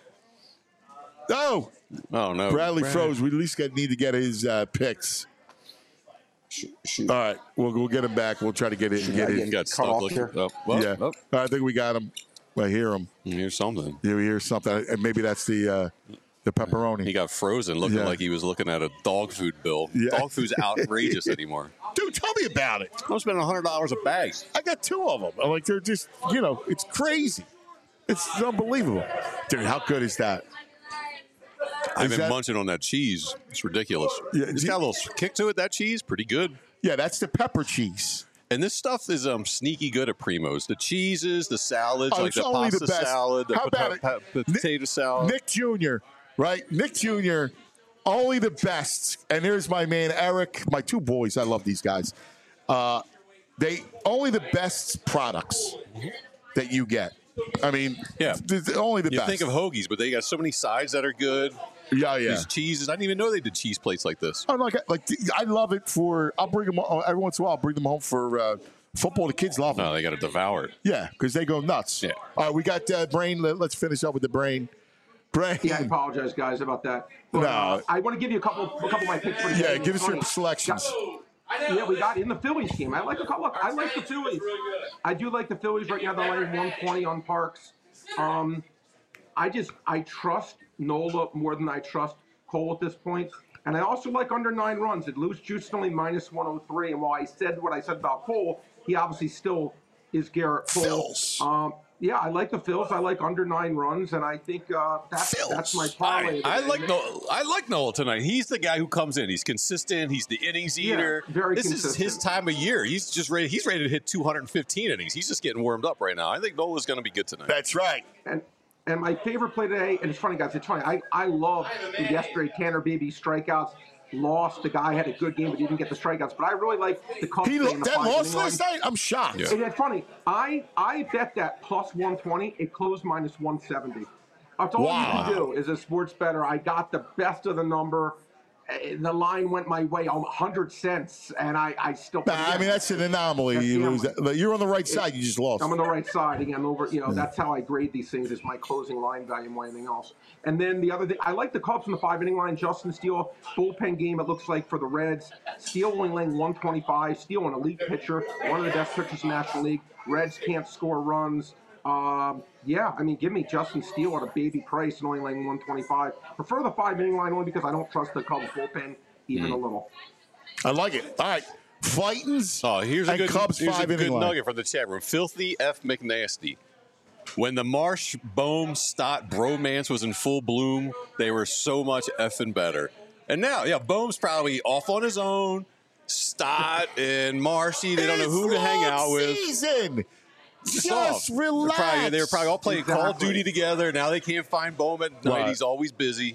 Oh no, Bradley froze. We at least need to get his picks. Shoot. All right, we'll get him back. We'll try to get it. He got stuck looking. I think we got him. I hear him. You hear something. Yeah, we hear something. And maybe that's the pepperoni. He got frozen, looking like he was looking at a dog food bill. Yeah. Dog food's outrageous anymore. Dude, tell me about it. I'm spending $100 a bag. I got 2 of them. Like they're just, it's crazy. It's unbelievable, dude. How good is that? I've been munching on that cheese. It's ridiculous. Yeah, it's got a little kick to it. That cheese, pretty good. Yeah, that's the pepper cheese. And this stuff is sneaky good at Primo's. The cheeses, the salads, like the pasta salad, the potato salad. Nick Jr., right? Nick Jr., only the best. And here's my man, Eric, my 2 boys. I love these guys. They only the best products that you get. I mean, only the best. You think of hoagies, but they got so many sides that are good. Yeah. These cheeses. I didn't even know they did cheese plates like this. Oh, I love it I'll bring them every once in a while. I'll bring them home for football. The kids love them. No, they got to devour it. Yeah, because they go nuts. Yeah. All right, we got Brain. Let's finish up with the Brain. Brain. Yeah, I apologize, guys, about that. But, no. I want to give you a couple of my picks for the game. Yeah, give us your selections. Yeah, we got in the Phillies game. I like the Phillies. I do like the Phillies right now. They're laying 120 on Parks. I trust Nola more than I trust Cole at this point. And I also like under 9 runs. It loose juice is only minus 103. And while I said what I said about Cole, he obviously still is Garrett Cole. Yeah, I like the Phils. I like under 9 runs, and I think that's my parlay. I like Nola tonight. He's the guy who comes in. He's consistent. He's the innings eater. Yeah, very this consistent. Is his time of year. He's ready to hit 215 innings. He's just getting warmed up right now. I think Nola's going to be good tonight. That's right. And my favorite play today, and it's funny, guys. It's funny. I love yesterday Tanner Beebe strikeouts. Lost. The guy had a good game, but he didn't get the strikeouts. But I really like the Cubs. That lost last night? I'm shocked. Yeah. And it's funny. I bet that plus 120. It closed minus 170. That's all you can do as a sports bettor. I got the best of the number. The line went my way, 100 cents, and I still. I mean, that's an anomaly. You lose that. You're on the right side. You just lost. I'm on the right side again. That's how I grade these things. Is my closing line value more than anything else. And then the other thing, I like the Cubs in the 5-inning line. Justin Steele, bullpen game. It looks like for the Reds. Steele only laying 125. Steele, an elite pitcher, one of the best pitchers in the National League. Reds can't score runs. Give me Justin Steele at a baby price and only laying 125. Prefer the 5-inning line only because I don't trust the Cubs bullpen even a little. I like it. All right. Fightins. Oh, here's a good Cubs here's a good line. nugget from the chat room. Filthy F. McNasty. When the Marsh, Bohm, Stott bromance was in full bloom, they were so much effing better. And now, Bohm's probably off on his own. Stott and Marshy, they don't know who to hang out with. Just relax. They were probably all playing Call of Duty together. Now they can't find Bohm at night. He's always busy.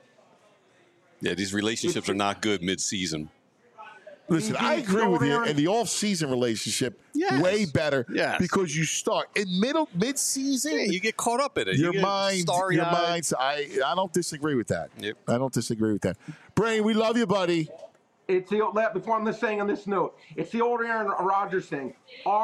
Yeah, these relationships are not good mid-season. Listen, I agree with you. In the off-season relationship, way better. Yes. Because you start in mid-season. Yeah, you get caught up in it. Your mind. I don't disagree with that. Yep. I don't disagree with that. Brain, we love you, buddy. It's the old, before I'm just saying on this note, it's the old Aaron Rodgers thing.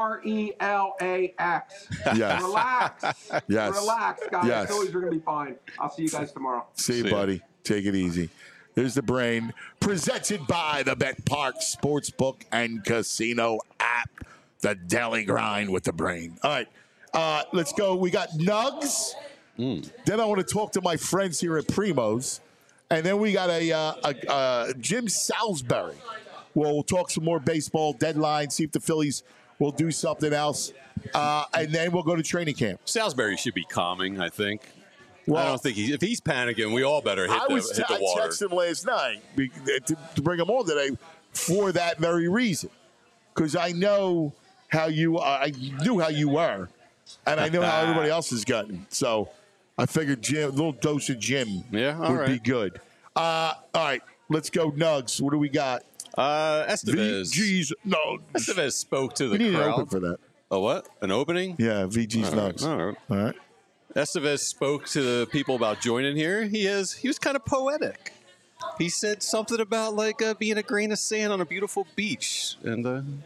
RELAX. Yes. Relax. Yes. Relax, guys. Yes. The Phillies are going to be fine. I'll see you guys tomorrow. See you, buddy. Take it easy. There's the brain, presented by the Bet Park Sportsbook and Casino app. The Daily Grind with the brain. All right, let's go. We got Nugs. Then I want to talk to my friends here at Primo's. And then we got a Jim Salisbury. We'll talk some more baseball deadline, see if the Phillies will do something else. And then we'll go to training camp. Salisbury should be calming, I think. Well, I don't think if he's panicking, we all better hit the water. I texted him last night to bring him on today for that very reason. Because I know how you are. I knew how you were. And I know how everybody else has gotten. So I figured a little dose of Jim would be good. All right, let's go Nugs. What do we got? Estevez. VG's Nugs. Estevez spoke to the we need crowd. an open for that. A what? An opening? Yeah, VG's Nugs. All All right. Estevez spoke to the people about joining here. He was kind of poetic. He said something about being a grain of sand on a beautiful beach, and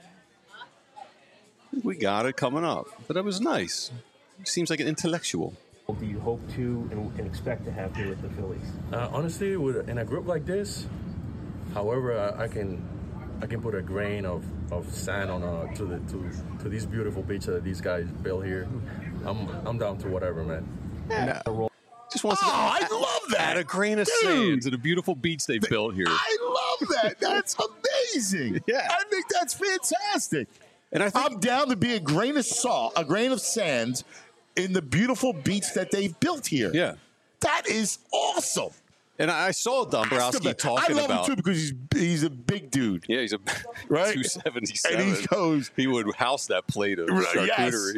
we got it coming up. But it was nice. He seems like an intellectual. What do you hope to and expect to have here with the Phillies? Honestly, in a group like this, however I can put a grain of sand on to these beautiful beach that these guys built here, I'm down to whatever, man. Yeah. Just wants to I love that. add a grain of sand to the beautiful beach they built here. I love that. That's amazing. Yeah. I think that's fantastic. And I think I'm down to be a grain of salt, a grain of sand in the beautiful beach that they've built here. Yeah. That is awesome. And I saw Dombrowski talking I love about him too because he's a big dude. Yeah, he's a Right? 277. And he goes, he would house that plate of charcuterie.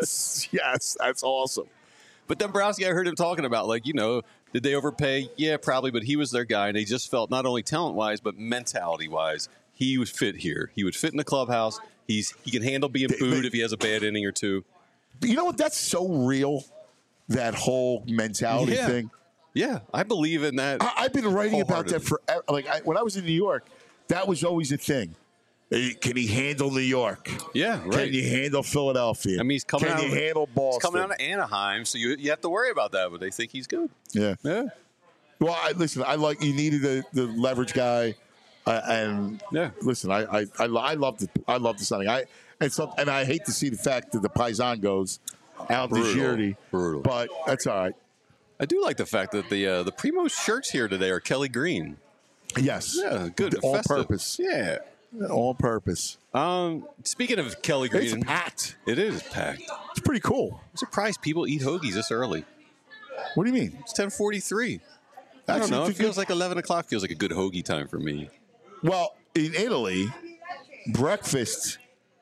Yes, that's awesome. But Dombrowski, I heard him talking about, did they overpay? Yeah, probably, but he was their guy, and they just felt not only talent-wise, but mentality-wise, he would fit here. He would fit in the clubhouse. He can handle being booed if he has a bad inning or two. You know what? That's so real, that whole mentality thing. Yeah, I believe in that. I've been writing about that forever. When I was in New York, that was always a thing. Can he handle New York? Yeah, right. Can you handle Philadelphia? I mean, he's coming out. Can you handle Boston? He's coming out of Anaheim, so you have to worry about that. But they think he's good. Yeah. Yeah. Well, listen. You needed the leverage guy, and listen. I love the signing. And I hate to see the fact that the Paisan goes out this year. Brutal. But that's all right. I do like the fact that the Primo shirts here today are Kelly Green. Yes. Yeah, good. On festive. purpose. Yeah. On purpose. Speaking of Kelly Green. It's packed. It is packed. It's pretty cool. I'm surprised people eat hoagies this early. What do you mean? It's 10:43. I don't know. It feels like 11 o'clock feels like a good hoagie time for me. Well, in Italy, breakfast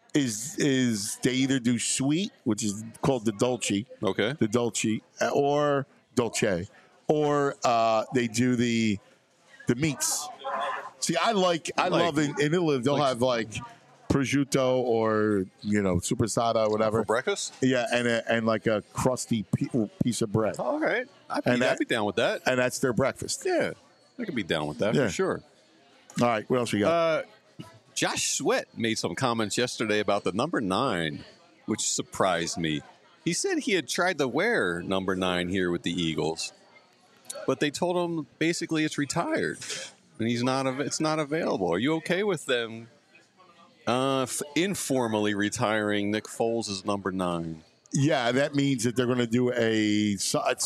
is they either do sweet, which is called the dolce. Okay. The dolce, or dolce, or they do the meats. See, I love in Italy they'll have prosciutto or supersada or whatever for breakfast. Yeah, and like a crusty piece of bread. All right, I'd be down with that. And that's their breakfast. Yeah, I could be down with that for sure. All right, what else we got? Josh Sweat made some comments yesterday about the number 9, which surprised me. He said he had tried to wear number 9 here with the Eagles, but they told him basically it's retired and it's not available. Are you okay with them informally retiring Nick Foles as number 9? Yeah, that means that they're going to do at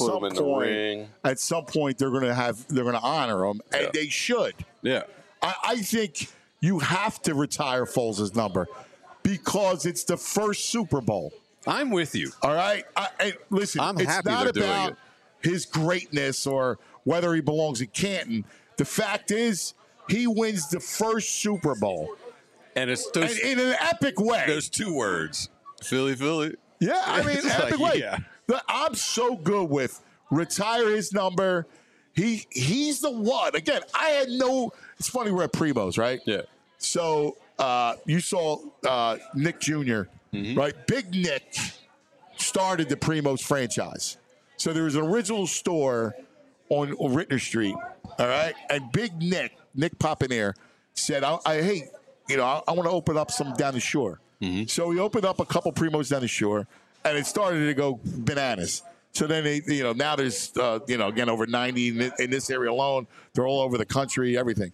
some point they're going to honor him, and they should. Yeah, I think you have to retire Foles' number because it's the first Super Bowl. I'm with you. All right, listen, I'm it's happy not they're doing about it. his greatness or whether he belongs in Canton. The fact is, he wins the first Super Bowl, and it's in an epic way. There's 2 words: Philly, Philly. Yeah, I mean, epic way. Yeah. I'm so good with retire his number. He's the one. Again, it's funny we're at Primo's, right? Yeah. So you saw Nick Jr., right? Big Nick started the Primo's franchise. So there was an original store on Rittner Street, all right? And Big Nick Papinier, said, "Hey, I want to open up some down the shore." Mm-hmm. So he opened up a couple Primos down the shore, and it started to go bananas. So then now there's again over 90 in this area alone. They're all over the country, everything.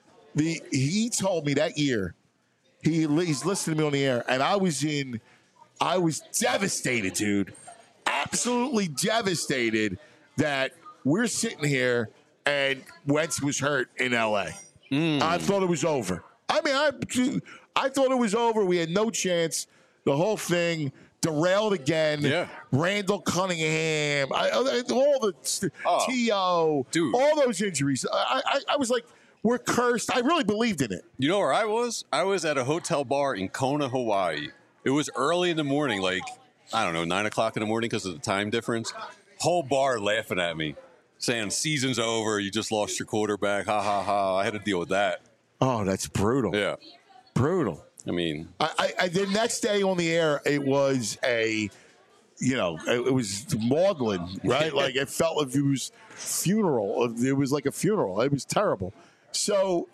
He told me that year, he's listening to me on the air, and I was devastated, dude. Absolutely devastated that we're sitting here and Wentz was hurt in LA. I thought it was over. I mean, I thought it was over. We had no chance. The whole thing derailed again. Yeah. Randall Cunningham, all the T.O., dude. All those injuries. I was like, we're cursed. I really believed in it. You know where I was? I was at a hotel bar in Kona, Hawaii. It was early in the morning, like, I don't know, 9 o'clock in the morning because of the time difference. Whole bar laughing at me, saying, season's over, you just lost your quarterback, ha, ha, ha. I had to deal with that. Oh, that's brutal. Yeah. Brutal. I mean. I the next day on the air, it was it was maudlin, right? Like, it felt like it was funeral. It was like a funeral. It was terrible. So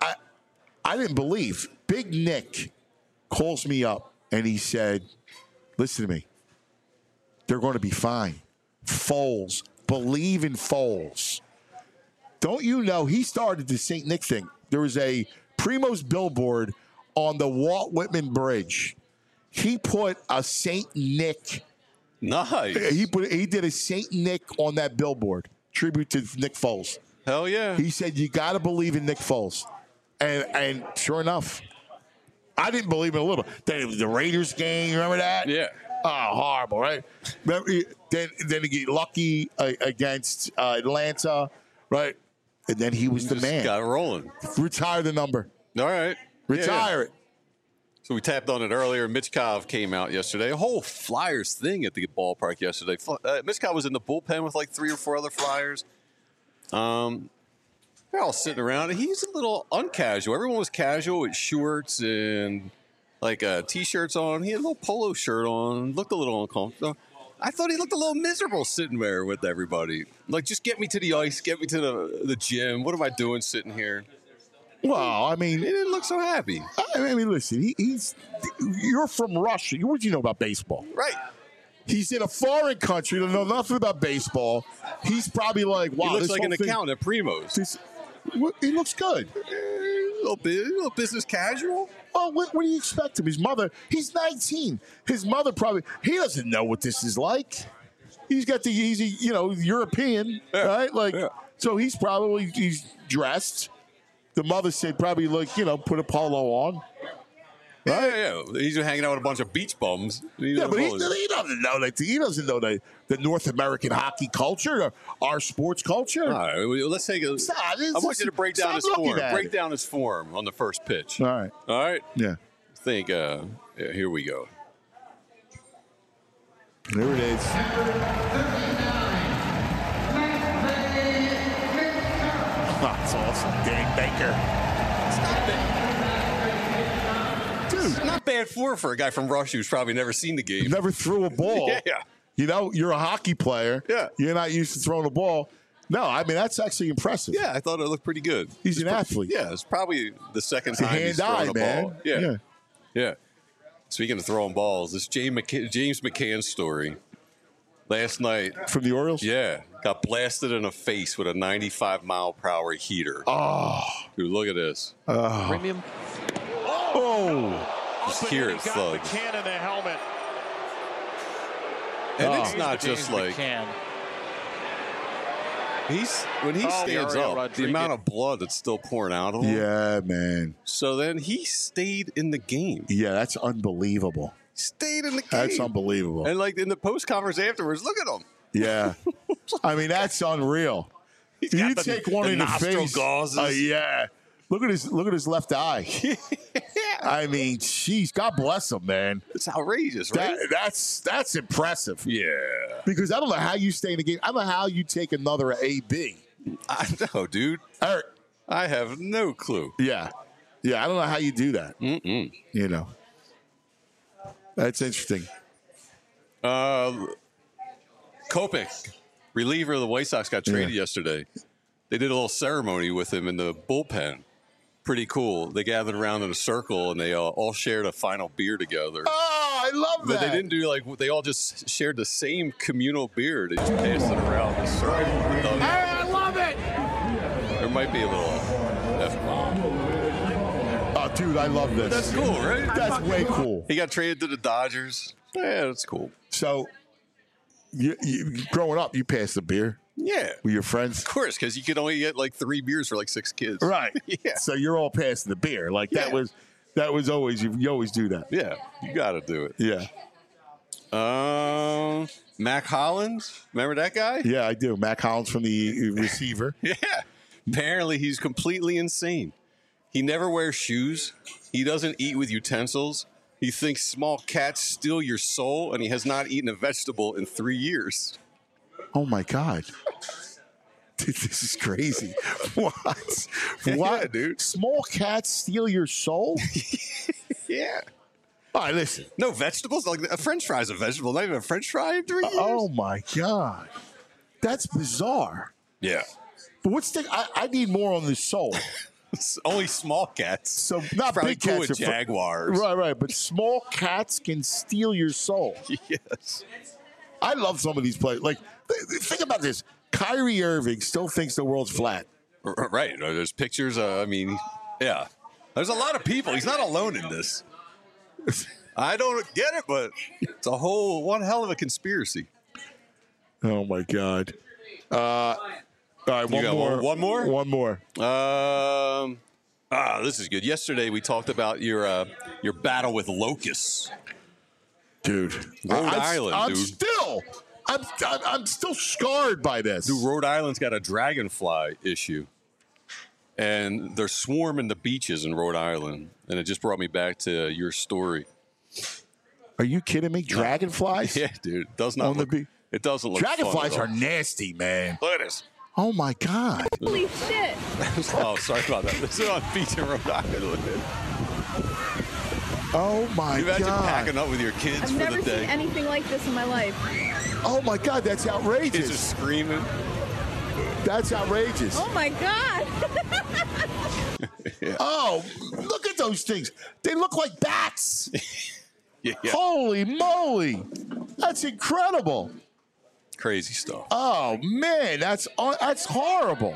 I didn't believe. Big Nick calls me up, and he said, listen to me. They're going to be fine. Foles. Believe in Foles. Don't you know he started the St. Nick thing? There was a Primo's billboard on the Walt Whitman Bridge. He put a St. Nick. Nice. He did a St. Nick on that billboard. Tribute to Nick Foles. Hell yeah. He said, you got to believe in Nick Foles. And sure enough, I didn't believe in a little. Then the Raiders game, remember that? Yeah. Oh, horrible, right? Then he get lucky against Atlanta, right? And then he was the man. Got it rolling. Retire the number. All right. Retire it. So we tapped on it earlier. Mitch Kov came out yesterday. A whole Flyers thing at the ballpark yesterday. Mitch Kov was in the bullpen with like 3 or 4 other Flyers. They're all sitting around. He's a little uncasual. Everyone was casual with shorts and like T-shirts on. He had a little polo shirt on. Looked a little uncomfortable. I thought he looked a little miserable sitting there with everybody. Like, just get me to the ice. Get me to the gym. What am I doing sitting here? Well, I mean, he didn't look so happy. I mean, listen, you're from Russia. What do you know about baseball? Right. He's in a foreign country. Don't know nothing about baseball. He's probably like, wow. He looks like an accountant at Primo's. He looks good. A little business casual. Oh, what do you expect him? His mother, he's 19. His mother he doesn't know what this is like. He's European, right? Like, so he's dressed. The mother said probably put a polo on. Right? Yeah. He's hanging out with a bunch of beach bums. But he doesn't know that. He doesn't know the North American hockey culture, or our sports culture. All right, let's take a. I want you to break down his form. Break down his form on the first pitch. All right. Yeah. I think. Here we go. There it is. That's awesome. Dan Baker. Dude, not bad for a guy from Russia who's probably never seen the game. Never threw a ball. Yeah. You're a hockey player. Yeah. You're not used to throwing a ball. No, I mean, that's actually impressive. Yeah, I thought it looked pretty good. He's an athlete. Yeah, it's probably the second time he's thrown a ball. Yeah. Speaking of throwing balls, this James McCann story. Last night. From the Orioles? Yeah. Got blasted in the face with a 95-mile-per-hour heater. Oh. Dude, look at this. Premium. Oh. Just hear it thug. McCann in the helmet. And it's not just like. McCann. When he stands up, Rodriguez. The amount of blood that's still pouring out of him. Yeah, man. So then he stayed in the game. Yeah, that's unbelievable. Stayed in the game. That's unbelievable. And like in the post conference afterwards, look at him. Yeah. I mean, that's unreal. You take one in the face. Yeah. Look at his left eye. I mean, jeez, God bless him, man. It's outrageous, right? That's impressive. Yeah. Because I don't know how you stay in the game. I don't know how you take another AB. I know, dude. I have no clue. Yeah. Yeah, I don't know how you do that. That's interesting. Kopech, reliever of the White Sox, got traded yesterday. They did a little ceremony with him in the bullpen. pretty cool. They gathered around in a circle and they all shared a final beer together. Oh, I love But that. they didn't do they all just shared the same communal beer. They just passed it around the circle. I love it. There might be a little F-bomb. Oh, dude, I love this. That's cool, right? That's way cool. He got traded to the Dodgers. Yeah, that's cool. So, you growing up, you passed the beer Yeah. with your friends. Of course, because you could only get 3 beers for 6 kids. Right. Yeah. So you're all passing the beer. That Yeah. was always, you always do that. Yeah, you got to do it. Yeah. Mac Hollins, remember that guy? Yeah, I do. Mac Hollins from the receiver. Yeah. Apparently, he's completely insane. He never wears shoes. He doesn't eat with utensils. He thinks small cats steal your soul, and he has not eaten a vegetable in 3 years. Oh, my God. This is crazy. What? Yeah, dude. Small cats steal your soul? Yeah. All right, listen. No vegetables? A French fry is a vegetable, not even a French fry in 3 years. Oh, my God. That's bizarre. Yeah. But I need more on the soul. Only small cats. So not Probably big cool cats. with jaguars. Right. But small cats can steal your soul. Yes. I love some of these players. Think about this. Kyrie Irving still thinks the world's flat. Right. There's pictures. Yeah. There's a lot of people. He's not alone in this. I don't get it, but it's one hell of a conspiracy. Oh, my God. All right, You got one more? One more. This is good. Yesterday we talked about your battle with locusts. Dude. Rhode Island, I'm still scarred by this. Dude, Rhode Island's got a dragonfly issue. And they're swarming the beaches in Rhode Island. And it just brought me back to your story. Are you kidding me? Dragonflies? Yeah, dude. It does not look, it doesn't look Dragonflies fun are at all. nasty, man. Look at this. Oh, my God. Holy shit. Oh, sorry about that. This is on beach in Rhode Island. Oh, my You imagine God. packing up with your kids I've for never the day. seen anything like this in my life. Oh, my God. That's Kids are outrageous. screaming. That's outrageous. Oh my God. Oh, look at those things. They look like bats. Yeah. Holy moly. That's incredible. Crazy stuff. Oh, man. That's horrible.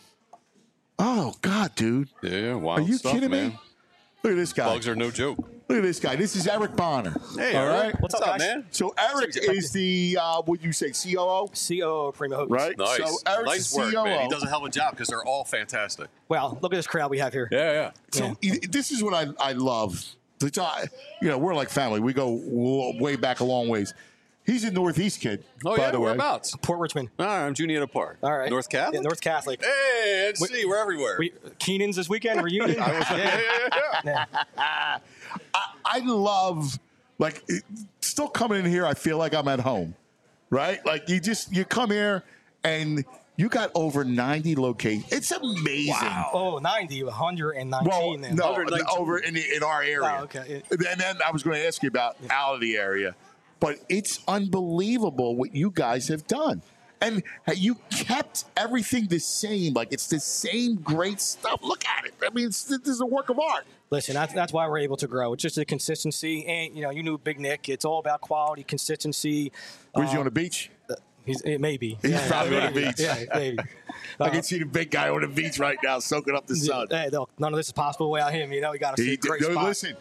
Oh, God, dude. Yeah, wild Are you stuff, kidding man. me? Look at this guy. Bugs are no joke. Look at this guy. This is Eric Bonner. Hey, all Eric. right. What's up, guys? man? So Eric is the what you say, COO, COO of Primo Hoops. right? Nice. So Eric's nice the work, COO. man. He does a hell of a job because they're all fantastic. Well, look at this crowd we have here. Yeah. So this is what I love. We're like family. We go way back a long ways. He's a Northeast kid, Oh, by yeah? the way. Whereabouts? Port Richmond. All right, I'm Juniata Park. All right. North Catholic? Yeah, North Catholic. Hey, let's see. We're everywhere. Keenan's this weekend, reunion. yeah. I love, still coming in here, I feel like I'm at home, right? Like, you come here and you got over 90 locations. It's amazing. Wow. Oh, 90, 119 Well, then. no, 119. over in our area. Oh, okay. And then I was going to ask you about out of the area. But it's unbelievable what you guys have done. And you kept everything the same. Like, it's the same great stuff. Look at it. I mean, this is a work of art. Listen, that's why we're able to grow. It's just the consistency. And, you knew Big Nick. It's all about quality, consistency. Was he on the beach? Maybe. He's probably on the beach. Yeah, maybe. I can see the big guy on the beach right now soaking up the sun. Hey, look, none of this is possible without him. We got to see a great spot. Listen,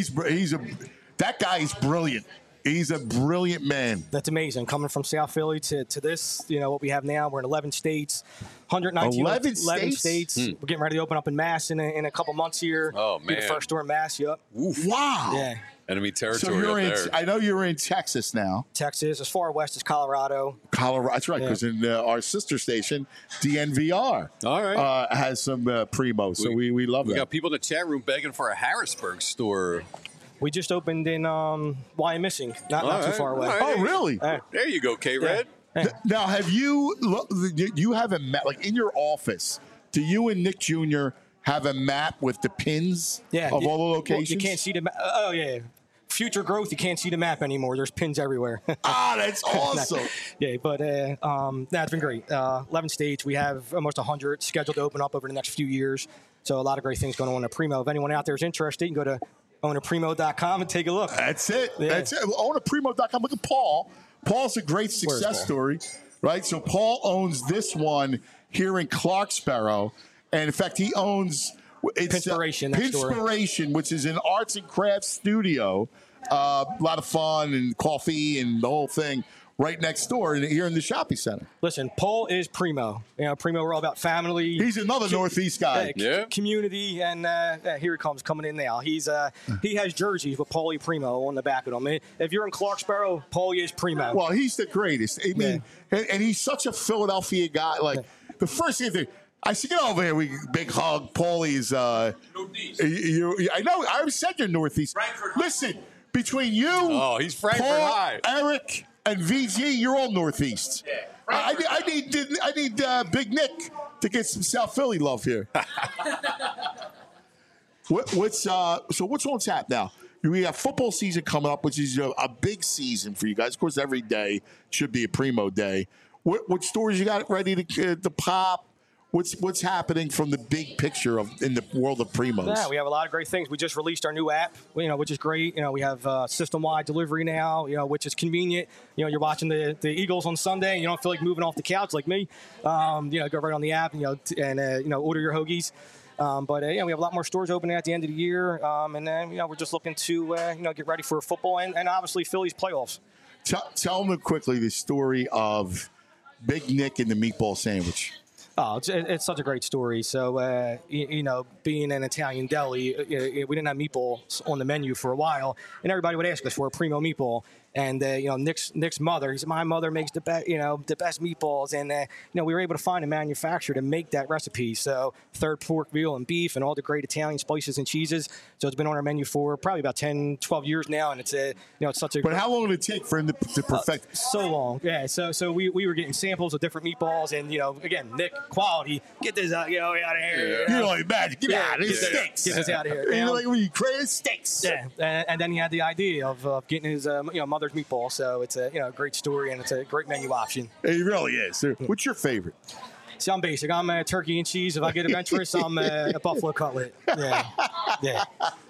that guy is brilliant. He's a brilliant man. That's amazing. Coming from South Philly to this, what we have now. We're in 11 states, 119 11 states. We're getting ready to open up in Mass in a couple months here. Oh, Be the man. first store in Mass. Yep. Wow. Yeah. Enemy So territory you're up in. there. I know you're in Texas now. Texas, as far west as Colorado. Colorado. That's right, Yeah. because in our sister station, DNVR, All right. has some Primo. So we love We that. got people in the chat room begging for a Harrisburg store. We just opened in Wyomissing, not All too right. far away. All Oh, really? There you go, K-Red. Yeah. Now, have you have a map, like in your office, do you and Nick Jr. have a map with the pins Yeah. of all the Well, locations? you can't see the. Oh yeah. future growth, you can't see the map anymore. There's pins everywhere. That's awesome. Yeah, but that's been great. 11 states. We have almost 100 scheduled to open up over the next few years. So a lot of great things going on at Primo. If anyone out there is interested, you can go to ownerprimo.com and take a look. That's it. Yeah. That's it. Ownerprimo.com. Look at Paul. Paul's a great success story, right? So Paul owns this one here in Clarksboro. And, in fact, he owns Pinspiration, which is an arts and crafts studio. A lot of fun and coffee and the whole thing. Right next door here in the shopping center. Listen, Paul is Primo. Primo, we're all about family. He's another Northeast guy. Community, and here he comes coming in now. He has jerseys with Paulie Primo on the back of them. If you're in Clarksboro, Paulie is Primo. Well, he's the greatest. I mean, and he's such a Philadelphia guy. Like, the first thing I said, get over here, big hug. Paulie's, I know, I said you're Northeast. Frankfurt. Listen, between you, he's Frankfurt Paul, High. Eric, and VG, you're all Northeast. Yeah. I need Big Nick to get some South Philly love here. What's on tap now? We have football season coming up, which is a big season for you guys. Of course, every day should be a Primo day. What stories you got ready to pop? What's happening from the big picture in the world of Primos? Yeah, we have a lot of great things. We just released our new app, which is great. We have system-wide delivery now, which is convenient. You're watching the Eagles on Sunday, and you don't feel like moving off the couch like me. Go right on the app, and order your hoagies. But we have a lot more stores opening at the end of the year, and then we're just looking to get ready for football and obviously Phillies playoffs. Tell them quickly the story of Big Nick and the meatball sandwich. Oh, it's such a great story. So, being an Italian deli, we didn't have meatballs on the menu for a while, and everybody would ask us for a Primo meatball. And Nick's mother, he said, my mother makes the best meatballs, and we were able to find a manufacturer to make that recipe. So third pork, veal, and beef, and all the great Italian spices and cheeses. So it's been on our menu for probably about 10, 12 years now, and it's such a. But how long did it take for him to perfect? So long, yeah. So we were getting samples of different meatballs, and again, Nick, quality, get this out, out of here. You know, imagine, get out of here, stinks. Get this out of here. When you crazy stinks. Yeah, and then he had the idea of getting his mother's meatball. So it's a great story, and it's a great menu option. It really is. What's your favorite? See, I'm basic. I'm turkey and cheese. If I get adventurous, I'm a buffalo cutlet. Yeah.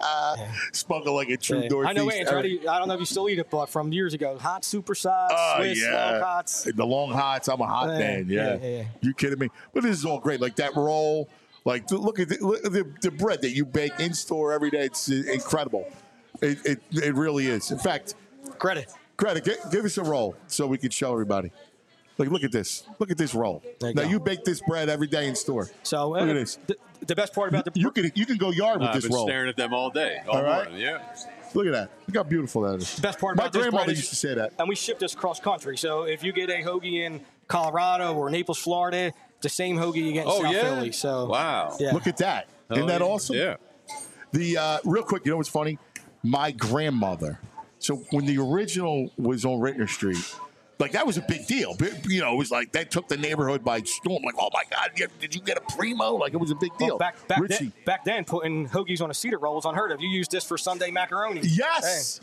Spoken like a true Northeast. I know, Andrew. I don't know if you still eat it, but from years ago, hot supersize, Swiss, long hots. The long hots. I'm a hot man. Yeah. You kidding me? But this is all great. Like that roll. Like look at the bread that you bake in store every day. It's incredible. It really is. In fact, credit. Give us a roll so we can show everybody. Like, look at this. Look at this roll. You bake this bread every day in store. So look at this. The best part about the you can go yard with this roll. I've been staring at them all day. All right. Morning, yeah. Look at that. Look how beautiful that is. The best part about this bread my grandmother used to say that. And we ship this cross country. So if you get a hoagie in Colorado or Naples, Florida, it's the same hoagie you get in South Philly. So wow. Yeah. Look at that. Isn't that awesome? Yeah. The real quick, you know what's funny? My grandmother. So when the original was on Rittner Street, like that was a big deal. It was like that took the neighborhood by storm. Like, oh my God, did you get a Primo? Like it was a big deal. Well, back then, putting hoagies on a cedar roll was unheard of. You used this for Sunday macaroni. Yes.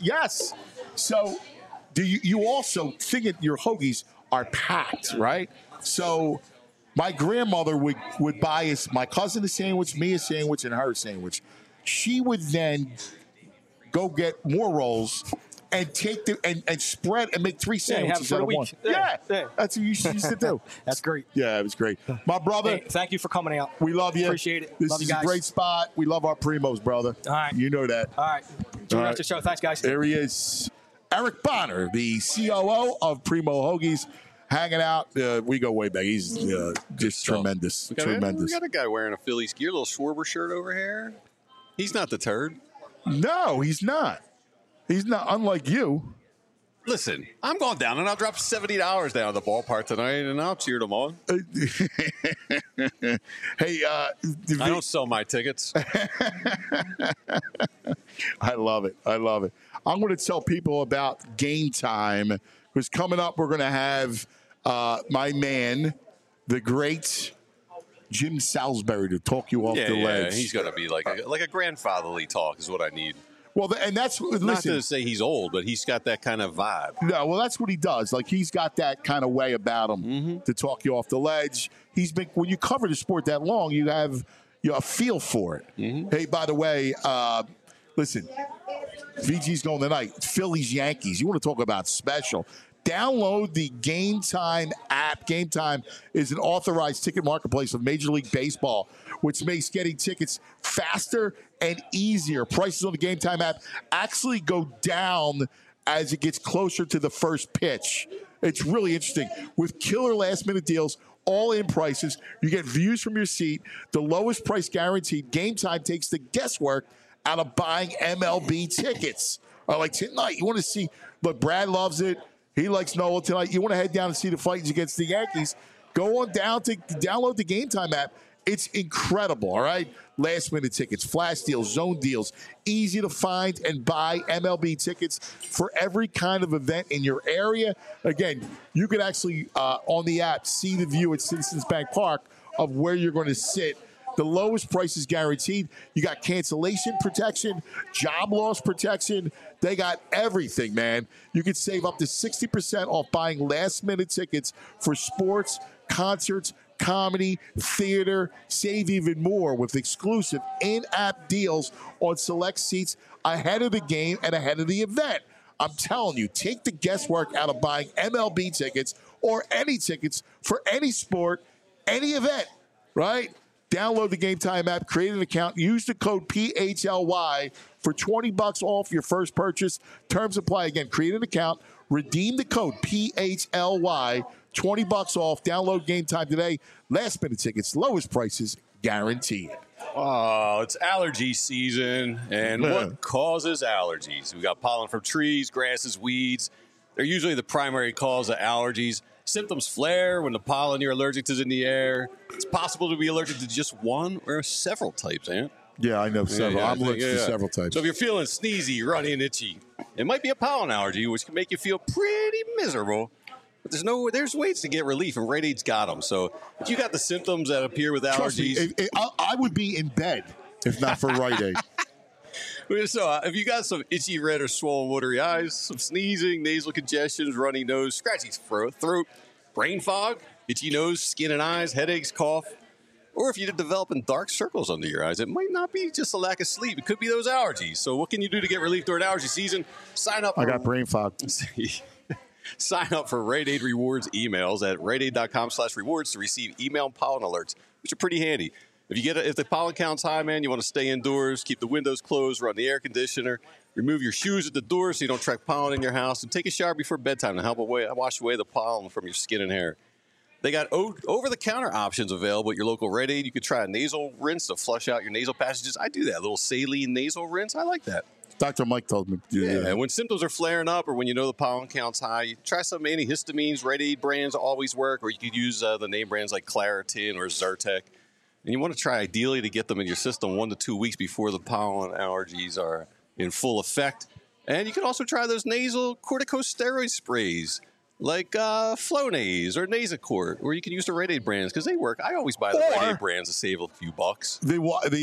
So do you also think that your hoagies are packed, right? So my grandmother would buy us, my cousin a sandwich, me a sandwich, and her a sandwich. She would then go get more rolls and take and spread and make 3 sandwiches out of one. Yeah, that's what you used to do. That's great. Yeah, it was great. My brother. Hey, thank you for coming out. We love you. Appreciate it. This love is you guys. a great spot. We love our Primos, brother. All right. You know that. All right. Enjoy the rest of the show. Thanks, guys. There he is. Eric Bonner, the COO of Primo Hoagies, hanging out. We go way back. He's just tremendous. We got a guy wearing a Phillies gear, little Schwarber shirt over here. He's not the turd. No, he's not. He's not, unlike you. Listen, I'm going down, and I'll drop $70 down at the ballpark tonight, and I'll cheer them on. Hey, I don't sell my tickets. I love it. I'm going to tell people about Game Time, because coming up, we're going to have my man, the great Jim Salisbury, to talk you off the ledge. Yeah, he's going to be like a grandfatherly talk is what I need. Well, and that's listen, not to say he's old, but he's got that kind of vibe. No, well, that's what he does. Like he's got that kind of way about him to talk you off the ledge. He's been when you cover the sport that long, you have a feel for it. Hey, by the way, listen, VG's going tonight. Phillies Yankees. You want to talk about special? Download the Game Time app. Game Time is an authorized ticket marketplace of Major League Baseball, which makes getting tickets faster and easier. Prices on the Game Time app actually go down as it gets closer to the first pitch. It's really interesting. With killer last-minute deals, all-in prices, you get views from your seat, the lowest price guaranteed. Game Time takes the guesswork out of buying MLB tickets. Like tonight, you want to see, but Brad loves it. He likes Nola tonight. You want to head down and see the Titans against the Yankees. Go on down to download the Game Time app. It's incredible, all right? Last-minute tickets, flash deals, zone deals, easy to find and buy MLB tickets for every kind of event in your area. Again, you can actually, on the app, see the view at Citizens Bank Park of where you're going to sit. The lowest price is guaranteed. You got cancellation protection, job loss protection. They got everything, man. You can save up to 60% off buying last-minute tickets for sports, concerts, comedy, theater. Save even more with exclusive in-app deals on select seats ahead of the game and ahead of the event. I'm telling you, take the guesswork out of buying MLB tickets or any tickets for any sport, any event, right? Download the Game Time app, create an account, use the code PHLY for $20 off your first purchase. Terms apply. Again, create an account, redeem the code PHLY, $20 off. Download Game Time today. Last minute tickets, lowest prices guaranteed. Oh, it's allergy season. And what causes allergies? We got pollen from trees, grasses, weeds. They're usually the primary cause of allergies. Symptoms flare when the pollen you're allergic to is in the air. It's possible to be allergic to just one or several types, Ant. Yeah, I know several. I'm allergic to several types. So if you're feeling sneezy, runny, and itchy, it might be a pollen allergy, which can make you feel pretty miserable. But there's ways to get relief, and Rite Aid's got them. So if you got the symptoms that appear with allergies, me, I would be in bed if not for Rite Aid. So if you got some itchy, red, or swollen, watery eyes, some sneezing, nasal congestions, runny nose, scratchy throat, brain fog, itchy nose, skin and eyes, headaches, cough, or if you're developing dark circles under your eyes, it might not be just a lack of sleep. It could be those allergies. So what can you do to get relief during allergy season? Sign up. I got brain fog. Sign up for Rite Aid Rewards emails at riteaid.com/rewards to receive email and pollen alerts, which are pretty handy. If the pollen count's high, man, you want to stay indoors, keep the windows closed, run the air conditioner, remove your shoes at the door so you don't track pollen in your house, and take a shower before bedtime to help wash away the pollen from your skin and hair. They got over-the-counter options available at your local Rite Aid. You could try a nasal rinse to flush out your nasal passages. I do that, a little saline nasal rinse. I like that. Dr. Mike told me to do that. And when symptoms are flaring up or when you know the pollen count's high, you try some antihistamines. Rite Aid brands always work, or you could use the name brands like Claritin or Zyrtec. And you want to try, ideally, to get them in your system 1 to 2 weeks before the pollen allergies are in full effect. And you can also try those nasal corticosteroid sprays like Flonase or Nasacort, or you can use the Rite Aid brands because they work. I always buy the Rite Aid brands to save a few bucks. The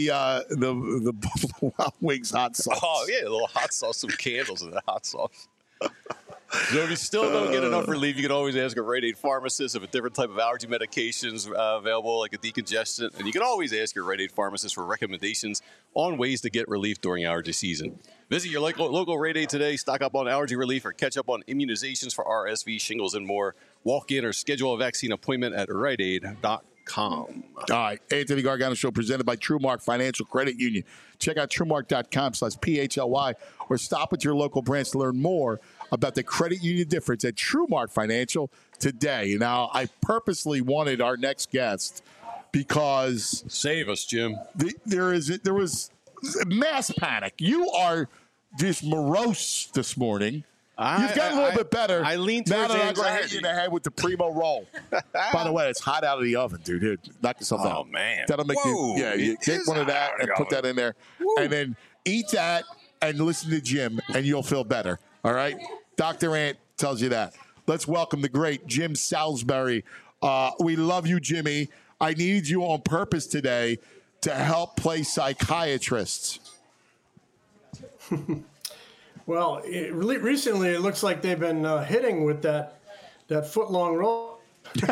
Buffalo Wild Wings hot sauce. Oh, yeah, a little hot sauce, some candles in that hot sauce. So if you still don't get enough relief, you can always ask a Rite Aid pharmacist if a different type of allergy medications available, like a decongestant. And you can always ask your Rite Aid pharmacist for recommendations on ways to get relief during allergy season. Visit your local Rite Aid today, stock up on allergy relief, or catch up on immunizations for RSV, shingles, and more. Walk in or schedule a vaccine appointment at riteaid.com. All right, Anthony Gargano Show presented by TrueMark Financial Credit Union. Check out TrueMark.com/PHLY or stop at your local branch to learn more about the credit union difference at TrueMark Financial today. Now, I purposely wanted our next guest because save us, Jim. There was mass panic. You are just morose this morning. You've gotten a little bit better. I lean now towards that I'm going to hit anxiety. you in the head with the Primo roll. By the way, it's hot out of the oven, dude. Here, knock yourself out. Oh, man. That'll make you get one of that and put that in there. Woo. And then eat that and listen to Jim, and you'll feel better. All right? Dr. Ant tells you that. Let's welcome the great Jim Salisbury. We love you, Jimmy. I need you on purpose today to help play psychiatrists. Well, recently it looks like they've been hitting with that foot-long roll.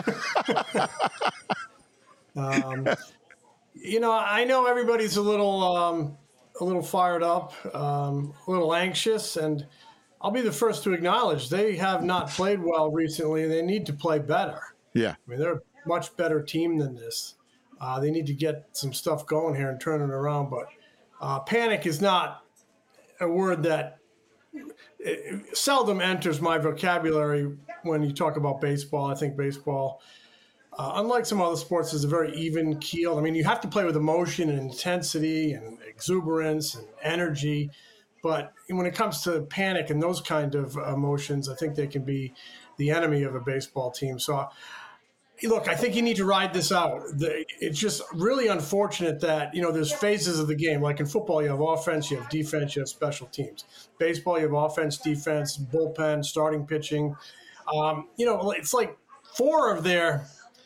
I know everybody's a little fired up, a little anxious, and I'll be the first to acknowledge they have not played well recently, and they need to play better. Yeah. I mean, they're a much better team than this. They need to get some stuff going here and turn it around, but panic is not a word that seldom enters my vocabulary when you talk about baseball. I think baseball, unlike some other sports, is a very even keel. I mean, you have to play with emotion and intensity and exuberance and energy. But when it comes to panic and those kind of emotions, I think they can be the enemy of a baseball team. So, look, I think you need to ride this out. It's just really unfortunate that, there's phases of the game. Like in football, you have offense, you have defense, you have special teams. Baseball, you have offense, defense, bullpen, starting pitching. It's like four of their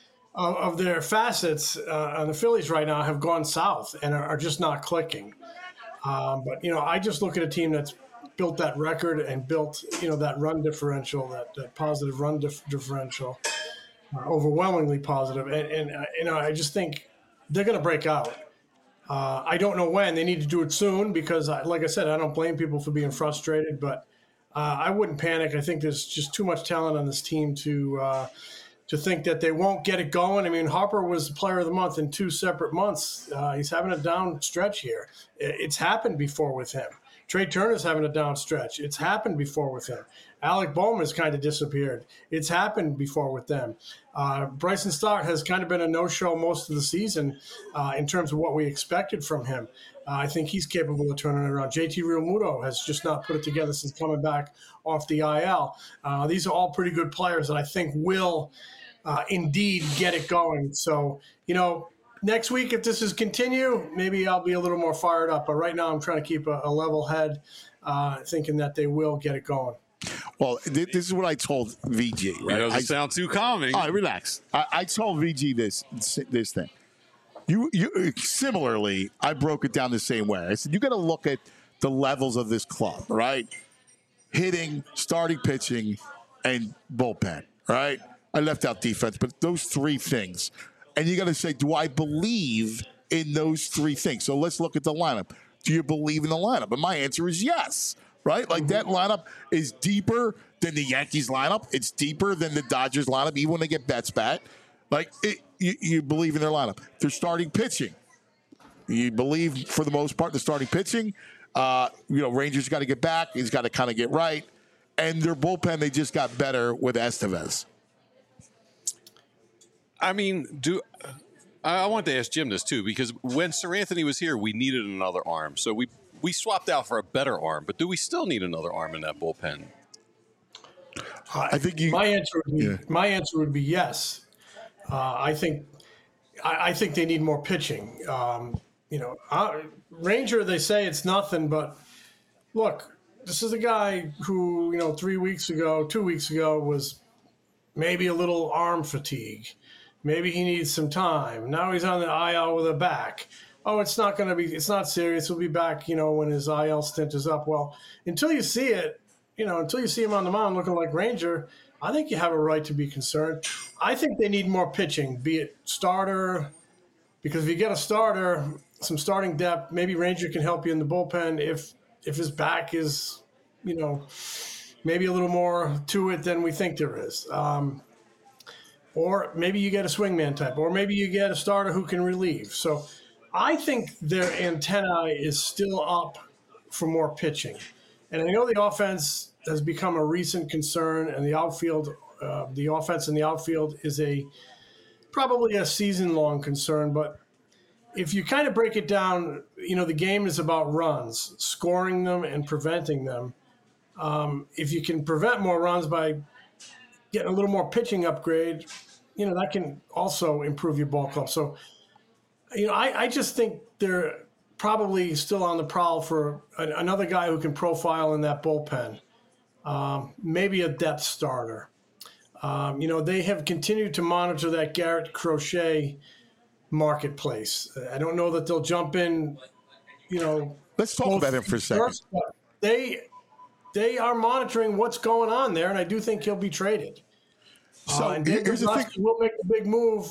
facets on the Phillies right now have gone south and are just not clicking. But I just look at a team that's built that record and built, that run differential, that positive run differential. Overwhelmingly positive, and I just think they're going to break out. I don't know when. They need to do it soon because, like I said, I don't blame people for being frustrated, but I wouldn't panic. I think there's just too much talent on this team to think that they won't get it going. I mean, Harper was the player of the month in 2 separate months. He's having a down stretch here. It's happened before with him. Trey Turner's having a down stretch. It's happened before with him. Alec Bowman's kind of disappeared. It's happened before with them. Bryson Stott has kind of been a no-show most of the season in terms of what we expected from him. I think he's capable of turning it around. JT Realmuto has just not put it together since coming back off the IL. These are all pretty good players that I think will indeed get it going. So, next week, if this is continue, maybe I'll be a little more fired up. But right now I'm trying to keep a level head, thinking that they will get it going. Well, this is what I told VG. Right? It doesn't sound too calming. All right, relax. I told VG this thing. You similarly, I broke it down the same way. I said you got to look at the levels of this club, right? Hitting, starting pitching, and bullpen, right? I left out defense, but those three things. And you got to say, do I believe in those three things? So let's look at the lineup. Do you believe in the lineup? And my answer is yes. Right? Like that lineup is deeper than the Yankees lineup. It's deeper than the Dodgers lineup, even when they get Betts back. Like, you believe in their lineup. They're starting pitching. You believe, for the most part, the starting pitching. Rangers got to get back. He's got to kind of get right. And their bullpen, they just got better with Estevez. I mean, I wanted to ask Jim this, too, because when Sir Anthony was here, we needed another arm. So we swapped out for a better arm, but do we still need another arm in that bullpen? I think my answer would be yes. I think they need more pitching. Ranger, they say it's nothing, but look, this is a guy who 2 weeks ago was maybe a little arm fatigue. Maybe he needs some time. Now he's on the IL with a back. Oh, it's not serious. He'll be back, when his IL stint is up. Well, until you see it, until you see him on the mound looking like Ranger, I think you have a right to be concerned. I think they need more pitching, be it starter, because if you get a starter, some starting depth, maybe Ranger can help you in the bullpen if his back is, maybe a little more to it than we think there is. Or maybe you get a swingman type, or maybe you get a starter who can relieve. So I think their antenna is still up for more pitching. And I know the offense has become a recent concern, and the outfield, the offense in the outfield is probably a season-long concern. But if you kind of break it down, the game is about runs, scoring them and preventing them. If you can prevent more runs by getting a little more pitching upgrade, that can also improve your ball club. So, I just think they're probably still on the prowl for another guy who can profile in that bullpen, maybe a depth starter. They have continued to monitor that Garrett Crochet marketplace. I don't know that they'll jump in, Let's talk about him for a second. they are monitoring what's going on there, and I do think he'll be traded. So and here's the thing. Will make a big move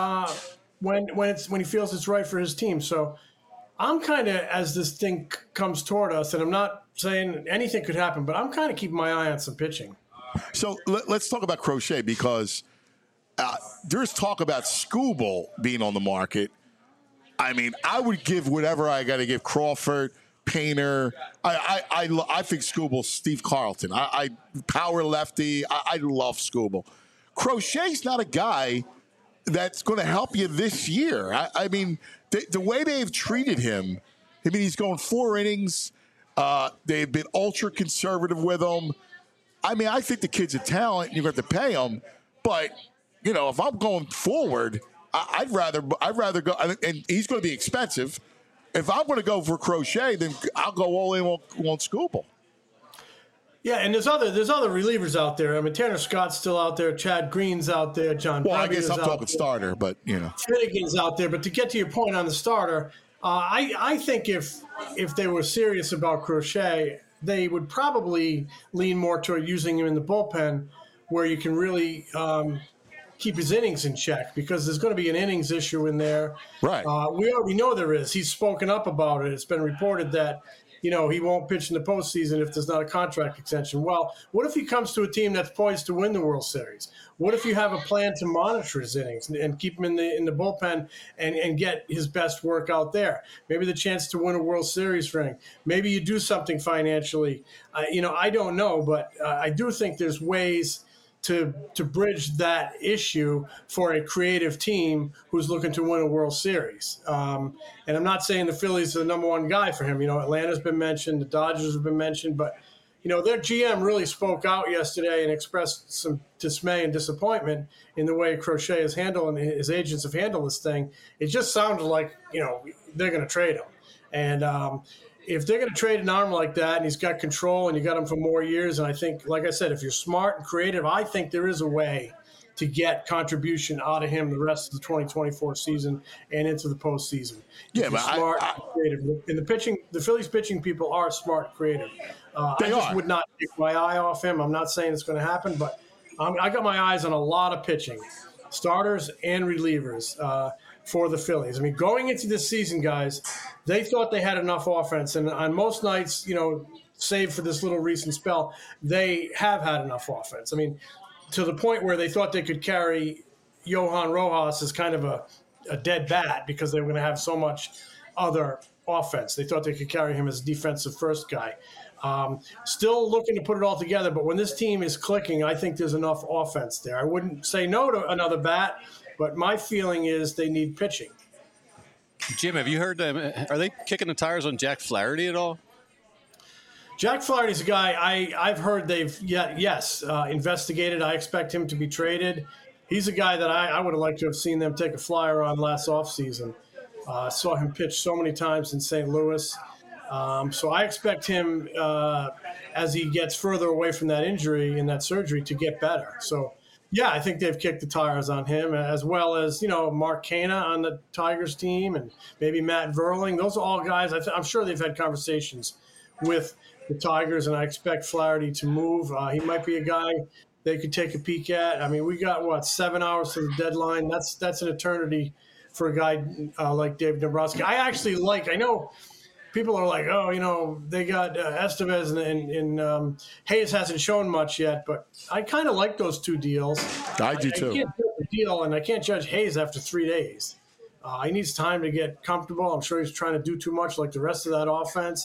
when he feels it's right for his team. So I'm kind of, as this thing comes toward us, and I'm not saying anything could happen, but I'm kind of keeping my eye on some pitching. So let's talk about Crochet, because there's talk about Skubal being on the market. I mean, I would give whatever I got to give Crawford, Painter. I think Skubal, Steve Carlton. I power lefty. I love Skubal. Crochet's not a guy that's going to help you this year. I mean, the way they've treated him, I mean, he's going 4 innings. They've been ultra conservative with him. I mean, I think the kid's a talent. You're going to have to pay him. But, you know, if I'm going forward, I'd rather go, and he's going to be expensive. If I'm going to go for Crochet, then I'll go all in on Skubal. Yeah, and there's other relievers out there. I mean, Tanner Scott's still out there. Chad Green's out there. John. Well, Bevy I guess I'm talking there. starter, but you know, Finnegan's out there. But to get to your point on the starter, I think if they were serious about Crochet, they would probably lean more toward using him in the bullpen, where you can really keep his innings in check, because there's going to be an innings issue in there. Right. We already know there is. He's spoken up about it. It's been reported that, you know, he won't pitch in the postseason if there's not a contract extension. Well, what if he comes to a team that's poised to win the World Series? What if you have a plan to monitor his innings and keep him in the bullpen and get his best work out there? Maybe the chance to win a World Series ring. Maybe you do something financially. You know, I don't know, but I do think there's ways to bridge that issue for a creative team who's looking to win a World Series. And I'm not saying the Phillies are the number one guy for him. You know, Atlanta's been mentioned, the Dodgers have been mentioned, but, you know, their GM really spoke out yesterday and expressed some dismay and disappointment in the way Crochet is handling, his agents have handled this thing. It just sounded like, you know, they're going to trade him. And if they're going to trade an arm like that, and he's got control and you got him for more years, and I think, like I said, if you're smart and creative, I think there is a way to get contribution out of him the rest of the 2024 season and into the postseason. Yeah, but smart and creative. And the Phillies pitching people are smart and creative. I just would not take my eye off him. I'm not saying it's going to happen, but I got my eyes on a lot of pitching, starters and relievers for the Phillies. I mean, going into this season, guys, they thought they had enough offense. And on most nights, you know, save for this little recent spell, they have had enough offense. I mean, to the point where they thought they could carry Johan Rojas as kind of a dead bat because they were going to have so much other offense. They thought they could carry him as a defensive first guy. Still looking to put it all together, but when this team is clicking, I think there's enough offense there. I wouldn't say no to another bat, but my feeling is they need pitching. Jim, have you heard them? Are they kicking the tires on Jack Flaherty at all? Jack Flaherty's a guy I've heard they've investigated. I expect him to be traded. He's a guy that I would have liked to have seen them take a flyer on last offseason. Saw him pitch so many times in St. Louis. So I expect him, as he gets further away from that injury and that surgery, to get better. So, yeah, I think they've kicked the tires on him, as well as, you know, Mark Canha on the Tigers team and maybe Matt Verling. Those are all guys I'm sure they've had conversations with the Tigers, and I expect Flaherty to move. He might be a guy they could take a peek at. I mean, we got, 7 hours to the deadline. That's an eternity for a guy like Dave Dombrowski. I know people are like, oh, you know, they got Estevez and Hayes hasn't shown much yet, but I kind of like those two deals. I do too. I can't judge the deal, and I can't judge Hayes after 3 days. He needs time to get comfortable. I'm sure he's trying to do too much like the rest of that offense.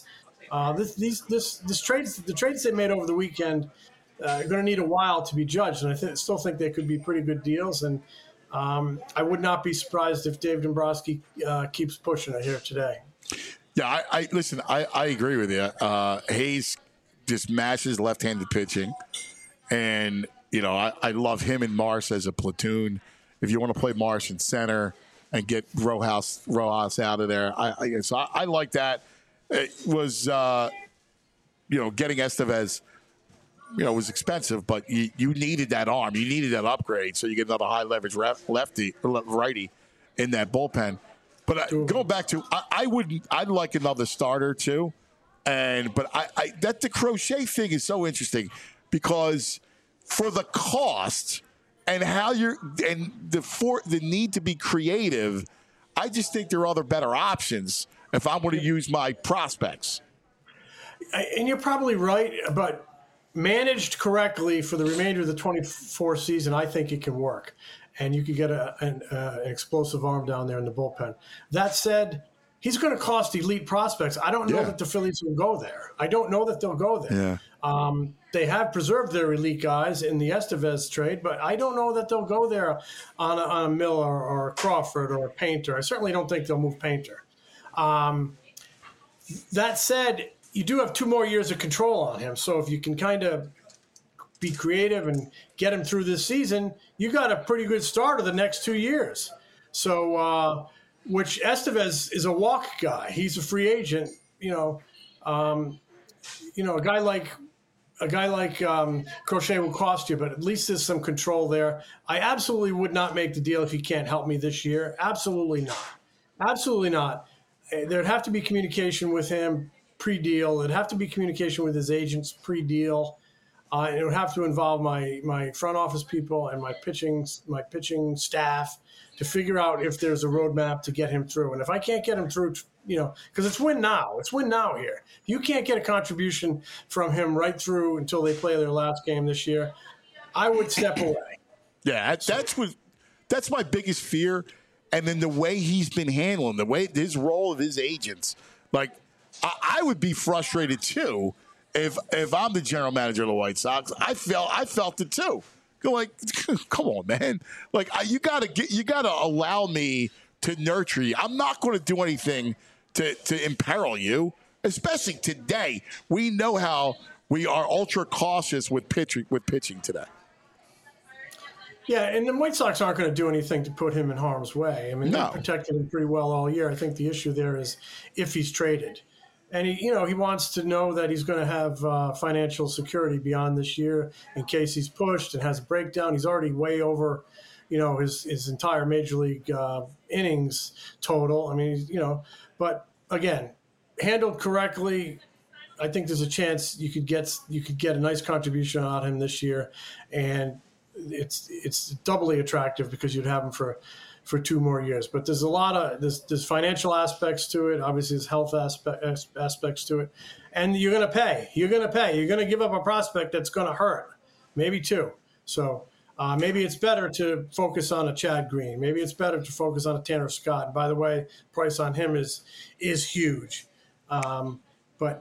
The trades they made over the weekend are going to need a while to be judged, and I still think they could be pretty good deals. And I would not be surprised if Dave Dombrowski keeps pushing it here today. Yeah, I agree with you. Hayes just mashes left-handed pitching, and you know I love him and Marsh as a platoon. If you want to play Marsh in center and get Rojas out of there, I like that. It was getting Estevez, was expensive, but you needed that arm, you needed that upgrade, so you get another high leverage righty in that bullpen. But going back to, I'd like another starter too, But that the Crochet thing is so interesting because for the cost and how the need to be creative, I just think there are other better options if I'm going to use my prospects. And you're probably right, but managed correctly for the remainder of the 24 season, I think it can work. And you could get an explosive arm down there in the bullpen. That said, he's going to cost elite prospects. I don't know that the Phillies will go there. I don't know that they'll go there. Yeah. They have preserved their elite guys in the Estevez trade, but I don't know that they'll go there on a Miller or a Crawford or a Painter. I certainly don't think they'll move Painter. That said, you do have 2 more years of control on him. So if you can kind of be creative and get him through this season, you got a pretty good start of the next 2 years. So, which Estevez is a walk guy. He's a free agent. A guy like Crochet will cost you, but at least there's some control there. I absolutely would not make the deal if he can't help me this year. Absolutely not. Absolutely not. There'd have to be communication with him pre-deal. It'd have to be communication with his agents pre-deal. It would have to involve my front office people and my pitching staff to figure out if there's a roadmap to get him through. And if I can't get him through, because it's win now. It's win now here. You can't get a contribution from him right through until they play their last game this year. I would step away. Yeah, that's my biggest fear. And then the way he's been handling, his role of his agents, like I would be frustrated too if I'm the general manager of the White Sox. I felt it too. Go like, come on, man. Like you gotta allow me to nurture you. I'm not going to do anything to imperil you, especially today. We know how we are ultra cautious with pitching today. Yeah, and the White Sox aren't going to do anything to put him in harm's way. I mean, They protected him pretty well all year. I think the issue there is if he's traded. And he wants to know that he's going to have financial security beyond this year in case he's pushed and has a breakdown. He's already way over, his entire major league innings total. I mean, but again, handled correctly, I think there's a chance you could get a nice contribution out of him this year, and it's doubly attractive because you'd have him for 2 more years. But there's a lot of there's financial aspects to it. Obviously, there's health aspects to it, and you're going to pay. You're going to give up a prospect that's going to hurt, maybe 2. So maybe it's better to focus on a Chad Green. Maybe it's better to focus on a Tanner Scott. And by the way, price on him is huge. But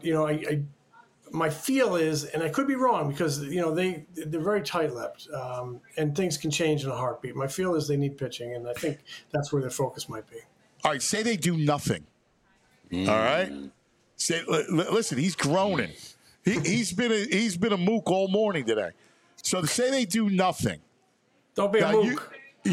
my feel is, and I could be wrong because they're very tight-lipped, and things can change in a heartbeat. My feel is they need pitching, and I think that's where their focus might be. All right, say they do nothing. All right, listen, he's groaning. He's been a mook all morning today. So to say they do nothing. Don't be a mook.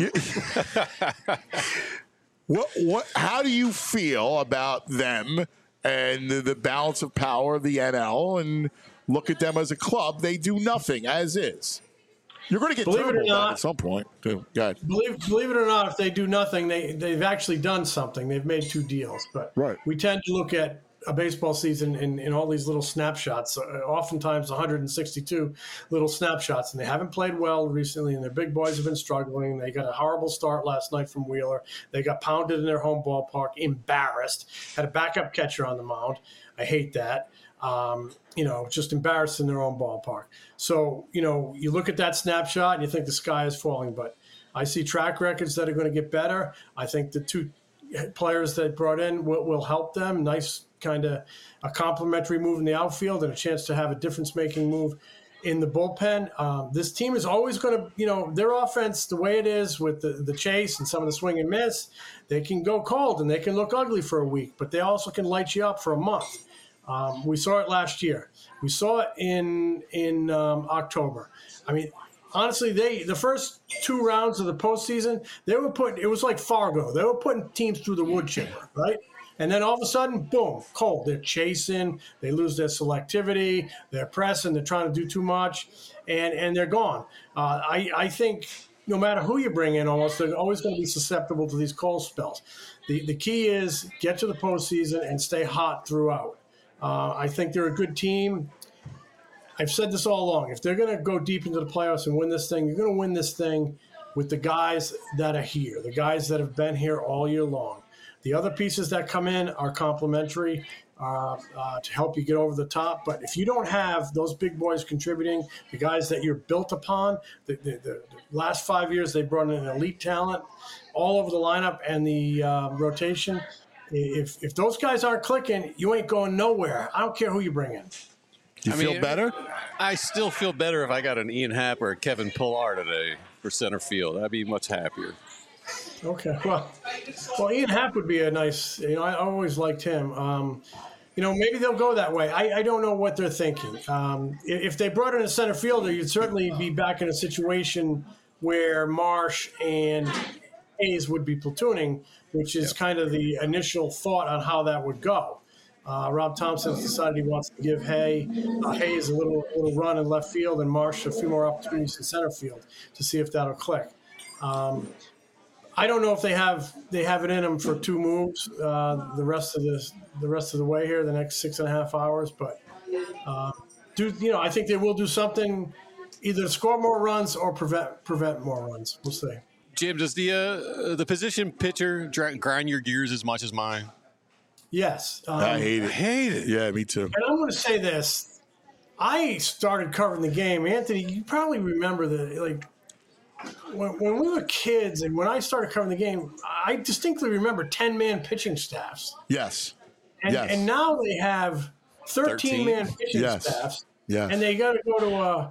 What? How do you feel about them? And the balance of power of the NL, and look at them as a club. They do nothing as is. You're going to get Turnbull back at some point, too. Believe it or not, if they do nothing, they've actually done something. They've made 2 deals. But we tend to look at a baseball season in all these little snapshots, oftentimes 162 little snapshots, and they haven't played well recently, and their big boys have been struggling. They got a horrible start last night from Wheeler. They got pounded in their home ballpark, embarrassed, had a backup catcher on the mound. I hate that. Just embarrassed in their own ballpark. So, you look at that snapshot and you think the sky is falling, but I see track records that are going to get better. I think the 2 players that brought in will help them. Nice kind of a complimentary move in the outfield and a chance to have a difference-making move in the bullpen. This team is always going to, their offense, the way it is with the chase and some of the swing and miss, they can go cold and they can look ugly for a week, but they also can light you up for a month. We saw it last year. We saw it in October. I mean, honestly, the first 2 rounds of the postseason, it was like Fargo. They were putting teams through the wood chipper, right? And then all of a sudden, boom, cold. They're chasing. They lose their selectivity. They're pressing. They're trying to do too much, and they're gone. I think no matter who you bring in, they're always going to be susceptible to these cold spells. The key is get to the postseason and stay hot throughout. I think they're a good team. I've said this all along. If they're going to go deep into the playoffs and win this thing, you're going to win this thing with the guys that are here, the guys that have been here all year long. The other pieces that come in are complementary to help you get over the top. But if you don't have those big boys contributing, the guys that you're built upon, the last 5 years they brought in an elite talent all over the lineup and the rotation. If those guys aren't clicking, you ain't going nowhere. I don't care who you bring in. Do you feel better? I still feel better if I got an Ian Happ or a Kevin Pillar today for center field. I'd be much happier. Okay, well, Ian Happ would be a nice. I always liked him. Maybe they'll go that way. I don't know what they're thinking. If they brought in a center fielder, you'd certainly be back in a situation where Marsh and Hayes would be platooning, which is kind of the initial thought on how that would go. Rob Thompson has decided he wants to give Hayes a little run in left field and Marsh a few more opportunities in center field to see if that'll click. I don't know if they have it in them for two moves the rest of the way here, the next 6.5 hours. But I think they will do something, either score more runs or prevent more runs. We'll see. Jim, does the position pitcher grind your gears as much as mine? Yes. I hate it. Yeah, me too. And I'm going to say this. I started covering the game. Anthony, you probably remember that, when we were kids and when I started covering the game, I distinctly remember 10-man pitching staffs. Yes. And now they have 13-man pitching staffs. Yeah. And they got to go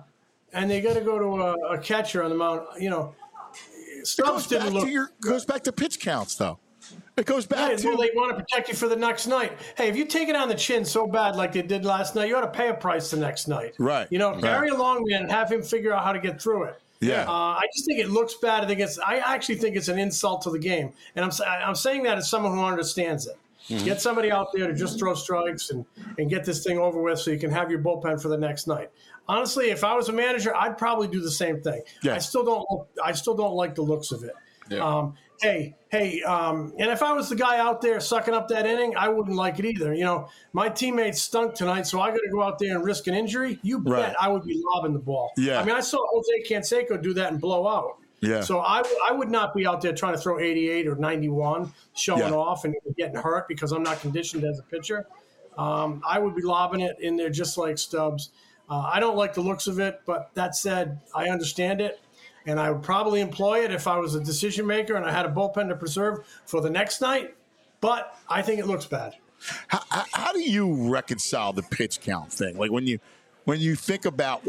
to a catcher on the mound. Stubbs didn't look. Goes back to pitch counts, though. It goes back to. Well, they want to protect you for the next night. Hey, if you take it on the chin so bad like they did last night, you ought to pay a price the next night. Right. Carry a long man and have him figure out how to get through it. Yeah. I just think it looks bad. I actually think it's an insult to the game, and I'm saying that as someone who understands it. Mm-hmm. Get somebody out there to just throw strikes and get this thing over with, so you can have your bullpen for the next night. Honestly, if I was a manager, I'd probably do the same thing. Yeah. I still don't like the looks of it. Yeah. And if I was the guy out there sucking up that inning, I wouldn't like it either. My teammates stunk tonight, so I got to go out there and risk an injury. You bet I would be lobbing the ball. Yeah. I mean, I saw Jose Canseco do that and blow out. Yeah. So I would not be out there trying to throw 88 or 91, showing off and getting hurt because I'm not conditioned as a pitcher. I would be lobbing it in there just like Stubbs. I don't like the looks of it, but that said, I understand it. And I would probably employ it if I was a decision maker and I had a bullpen to preserve for the next night. But I think it looks bad. How do you reconcile the pitch count thing? Like when you think about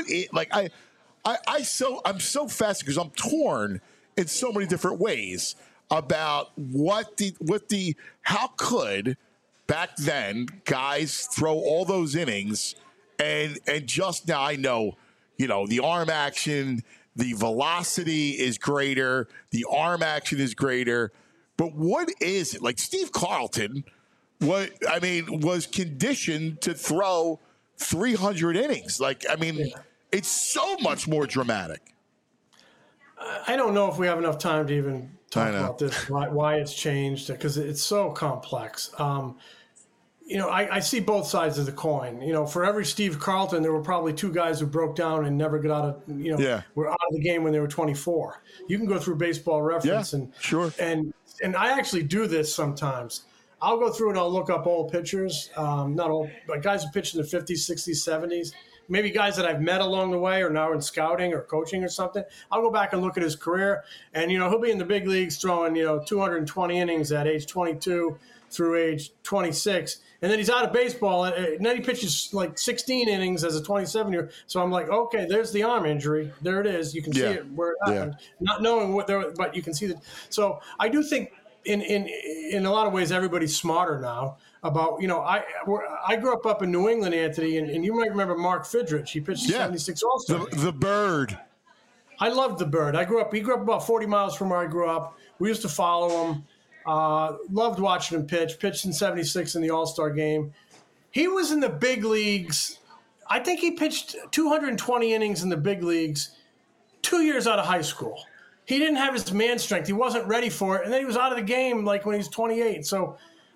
I'm so fascinated because I'm torn in so many different ways about how could back then guys throw all those innings and just now I know the arm action. The velocity is greater. The arm action is greater. But what is it? Like Steve Carlton, was conditioned to throw 300 innings. It's so much more dramatic. I don't know if we have enough time to even talk about this, why it's changed, because it's so complex. I see both sides of the coin. For every Steve Carlton, there were probably two guys who broke down and never got out of, were out of the game when they were 24. You can go through Baseball Reference and I actually do this sometimes. I'll go through and I'll look up old pitchers, not old, but guys who pitched in the 50s, 60s, 70s, maybe guys that I've met along the way or now in scouting or coaching or something. I'll go back and look at his career, and he'll be in the big leagues throwing 220 innings at age 22 through age 26. And then he's out of baseball, and then he pitches like 16 innings as a 27-year. So I'm like, okay, there's the arm injury. There it is. You can see it where it happened. Not knowing what there, but you can see that. So I do think in a lot of ways everybody's smarter now about, I grew up in New England, Anthony, and you might remember Mark Fidrich. He pitched the 76 All-Star. The Bird. I loved the Bird. He grew up about 40 miles from where I grew up. We used to follow him. Loved watching him pitch. Pitched in 76 in the All-Star game. He was in the big leagues. I think he pitched 220 innings in the big leagues 2 years out of high school. He didn't have his man strength. He wasn't ready for it. And then he was out of the game like when he was 28. So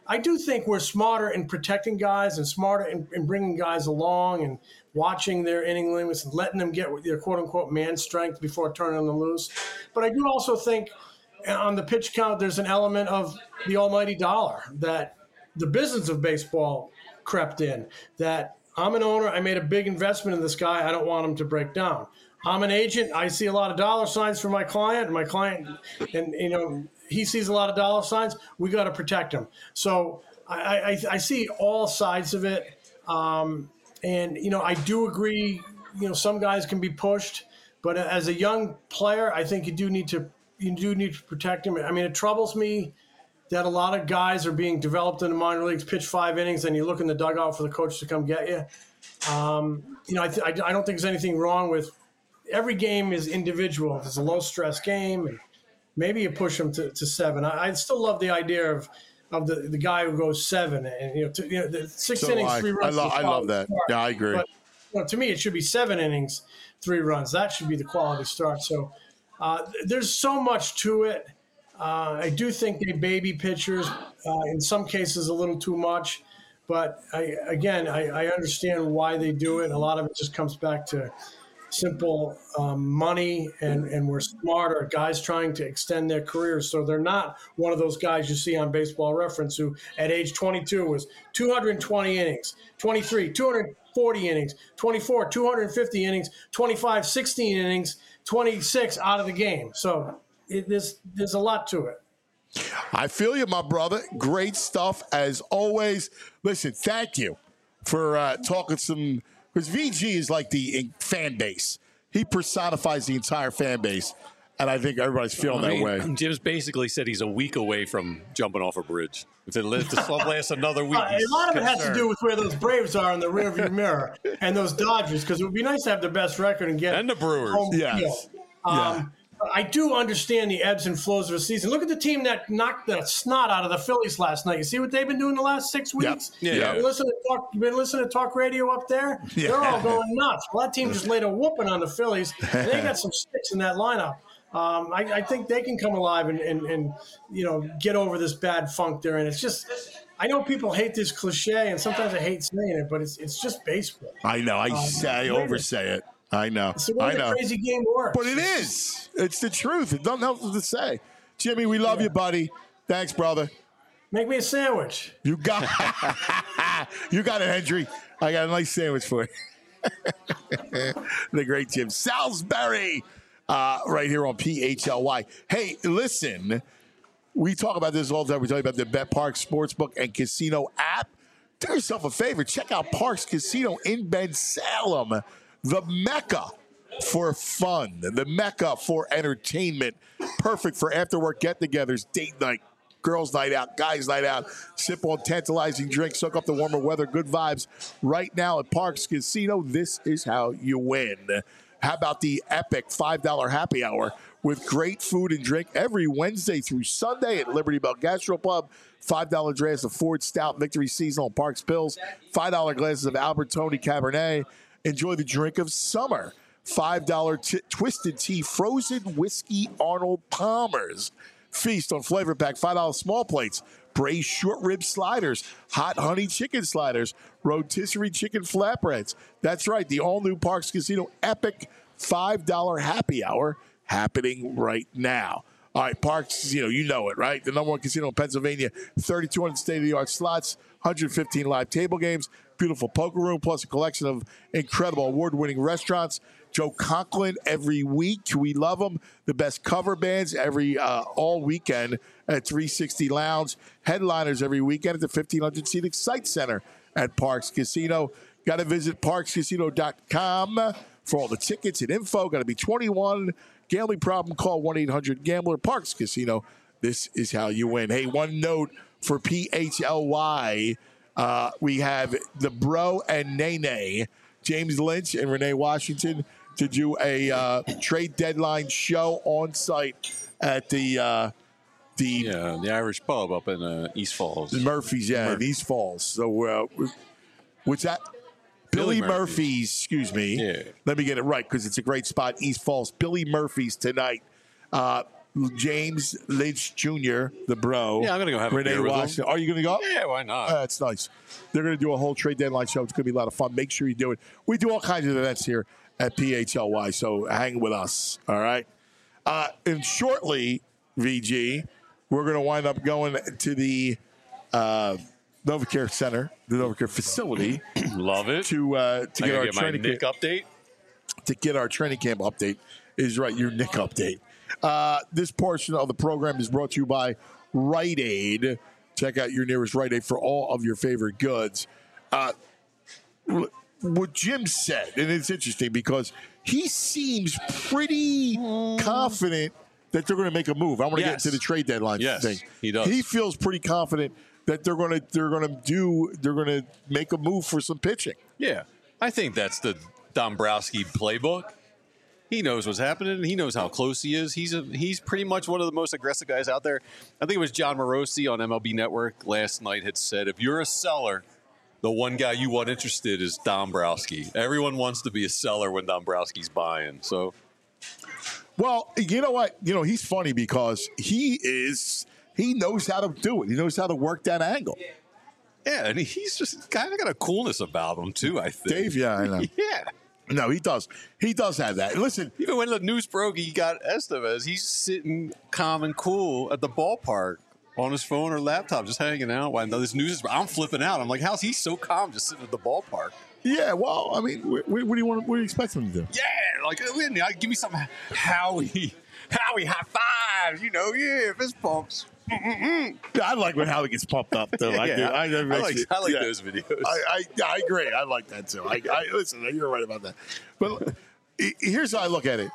I do think we're smarter in protecting guys and smarter in bringing guys along and watching their inning limits and letting them get their quote-unquote man strength before turning them loose. But I do also think on the pitch count, there's an element of the almighty dollar that the business of baseball crept in, that I'm an owner, I made a big investment in this guy, I don't want him to break down. I'm an agent, I see a lot of dollar signs for my client, and he sees a lot of dollar signs, we got to protect him. So I see all sides of it. And I do agree, some guys can be pushed, but as a young player, I think you do need to protect him. I mean, it troubles me that a lot of guys are being developed in the minor leagues, pitch 5 innings, and you look in the dugout for the coach to come get you. I don't think there's anything wrong with every game is individual. If it's a low-stress game, and maybe you push them to 7. I still love the idea of the guy who goes 7 and the 6 innings, 3 runs. I love that. Yeah, I agree. But to me, it should be 7 innings, 3 runs. That should be the quality start. So there's so much to it. I do think they baby pitchers in some cases a little too much, but I understand why they do it. A lot of it just comes back to simple money, and we're smarter guys trying to extend their careers. So they're not one of those guys you see on Baseball Reference who at age 22 was 220 innings, 23, 240 innings, 24, 250 innings, 25, 16 innings, 26 out of the game. So there's a lot to it. I feel you, my brother. Great stuff as always. Listen, thank you for talking some. Because VG is like the fan base. He personifies the entire fan base. And I think everybody's feeling that way. Jim's basically said he's a week away from jumping off a bridge. If it lasts another week. A lot of it has to do with where those Braves are in the rearview mirror and those Dodgers, because it would be nice to have the best record and get the Brewers. Home yes. field. I do understand the ebbs and flows of a season. Look at the team that knocked the snot out of the Phillies last night. You see what they've been doing the last 6 weeks? Yep. Yeah. You've been listening to talk radio up there? Yeah. They're all going nuts. Well, that team just laid a whooping on the Phillies, and they got some sticks in that lineup. I think they can come alive and get over this bad funk they're in. It's just, I know people hate this cliche, and sometimes I hate saying it, but it's just baseball. I know. I oversay it. I know. It's the way the crazy game works. But it is. It's the truth. It doesn't help to say. Jimmy, we love you, buddy. Thanks, brother. Make me a sandwich. You got you got it, Hendry. I got a nice sandwich for you. The great Jim Salisbury right here on PHLY. Hey, listen, we talk about this all the time. We talk about the BetParx Sportsbook and Casino app. Do yourself a favor. Check out Parx Casino in Ben Salem. The Mecca for fun, the Mecca for entertainment. Perfect for after-work get-togethers, date night, girls' night out, guys' night out. Sip on tantalizing drinks, soak up the warmer weather, good vibes. Right now at Parx Casino, this is how you win. How about the epic $5 happy hour with great food and drink every Wednesday through Sunday at Liberty Bell Gastropub? $5 draft of Ford Stout Victory Seasonal Parks Pills. $5 glasses of Albertoni Cabernet. Enjoy the drink of summer. $5 Twisted Tea Frozen Whiskey Arnold Palmer's. Feast on Flavor Pack. $5 small plates. Braised short rib sliders. Hot honey chicken sliders. Rotisserie chicken flatbreads. That's right. The all-new Parx Casino epic $5 happy hour happening right now. All right, Parx, you know it, right? The number one casino in Pennsylvania. 3,200 state-of-the-art slots. 115 live table games. Beautiful poker room, plus a collection of incredible award-winning restaurants. Joe Conklin every week. We love him. The best cover bands all weekend at 360 Lounge. Headliners every weekend at the 1,500-seat Excite Center at Parx Casino. Got to visit parxcasino.com for all the tickets and info. Got to be 21. Gambling problem, call 1-800-GAMBLER. Parx Casino. This is how you win. Hey, one note for PHLY. We have the Bro and Nene, James Lynch and Renee Washington, to do a trade deadline show on site at the Irish pub up in East Falls. Murphy's, in East Falls. So what's that? Billy Murphy's, excuse me. Yeah. Let me get it right because it's a great spot, East Falls. Billy Murphy's tonight. James Lynch Jr., the bro. Yeah, I'm going to go have a Renee beer with Washington. him. Are you going to go? Yeah, why not? That's nice. They're going to do a whole trade deadline show. It's going to be a lot of fun. Make sure you do it. We do all kinds of events here at PHLY, so hang with us, all right? And shortly, VG, we're going to wind up going to the NovaCare Center, the NovaCare facility. Love it. To get our training Nick update. To get our training camp update is right, your Nick update. This portion of the program is brought to you by Rite Aid. Check out your nearest Rite Aid for all of your favorite goods. What Jim said, and it's interesting because he seems pretty confident that they're going to make a move. I want to get into the trade deadline thing. He does. He feels pretty confident that they're going to make a move for some pitching. Yeah, I think that's the Dombrowski playbook. He knows what's happening. He knows how close he is. He's pretty much one of the most aggressive guys out there. I think it was John Morosi on MLB Network last night had said, if you're a seller, the one guy you want interested is Dombrowski. Everyone wants to be a seller when Dombrowski's buying. So, well, you know what? You know, he's funny because he knows how to do it. He knows how to work that angle. Yeah, and he's just kind of got a coolness about him, too, I think. Dave, yeah, I know. Yeah. No, he does. He does have that. Listen. Even when the news broke, he got Estevez. He's sitting calm and cool at the ballpark on his phone or laptop, just hanging out. While this news is, I'm flipping out. I'm like, how's he so calm just sitting at the ballpark? Yeah, well, I mean, what do you expect him to do? Yeah, like, give me some Howie high fives, fist bumps. Yeah, I like when Howie gets pumped up, though. I do. I like those videos. I agree. I like that, too. Listen, you're right about that. But here's how I look at it.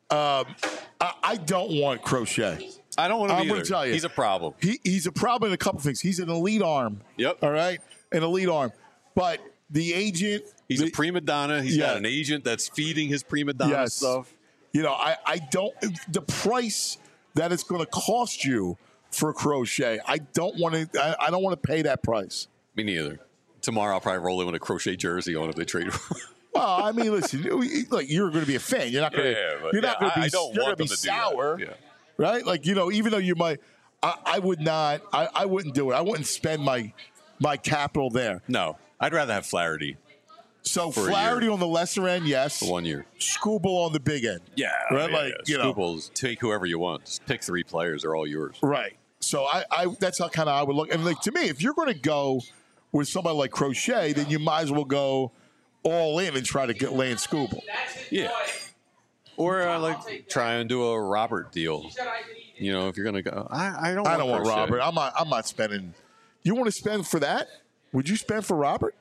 I don't want Crochet. I don't want to be I'm going to tell you. He's a problem. He's a problem in a couple things. He's an elite arm. Yep. All right? An elite arm. But the agent. He's a prima donna. He's got an agent that's feeding his prima donna stuff. You know, I don't. The price that it's going to cost you for Crochet, I don't want to pay that price. Me neither. Tomorrow I'll probably roll in with a Crochet jersey on if they trade. Well, I mean, listen, like you're going to be a fan. You're not going to. You're not going to be. You're going to be sour, right? Like even though you might, I would not. I wouldn't do it. I wouldn't spend my capital there. No, I'd rather have Flaherty. So Flaherty on the lesser end, yes. For 1 year. Skubal on the big end. Yeah. Right? Yeah, like, Skubal's take whoever you want. Just pick 3 players. They're all yours. Right. So I that's how kind of I would look. And like to me, if you're going to go with somebody like Crochet, then you might as well go all in and try to get Lance Skubal. Yeah. Or try and do a Robert deal. If you're going to go. I don't want Robert. I'm not spending. You want to spend for that? Would you spend for Robert?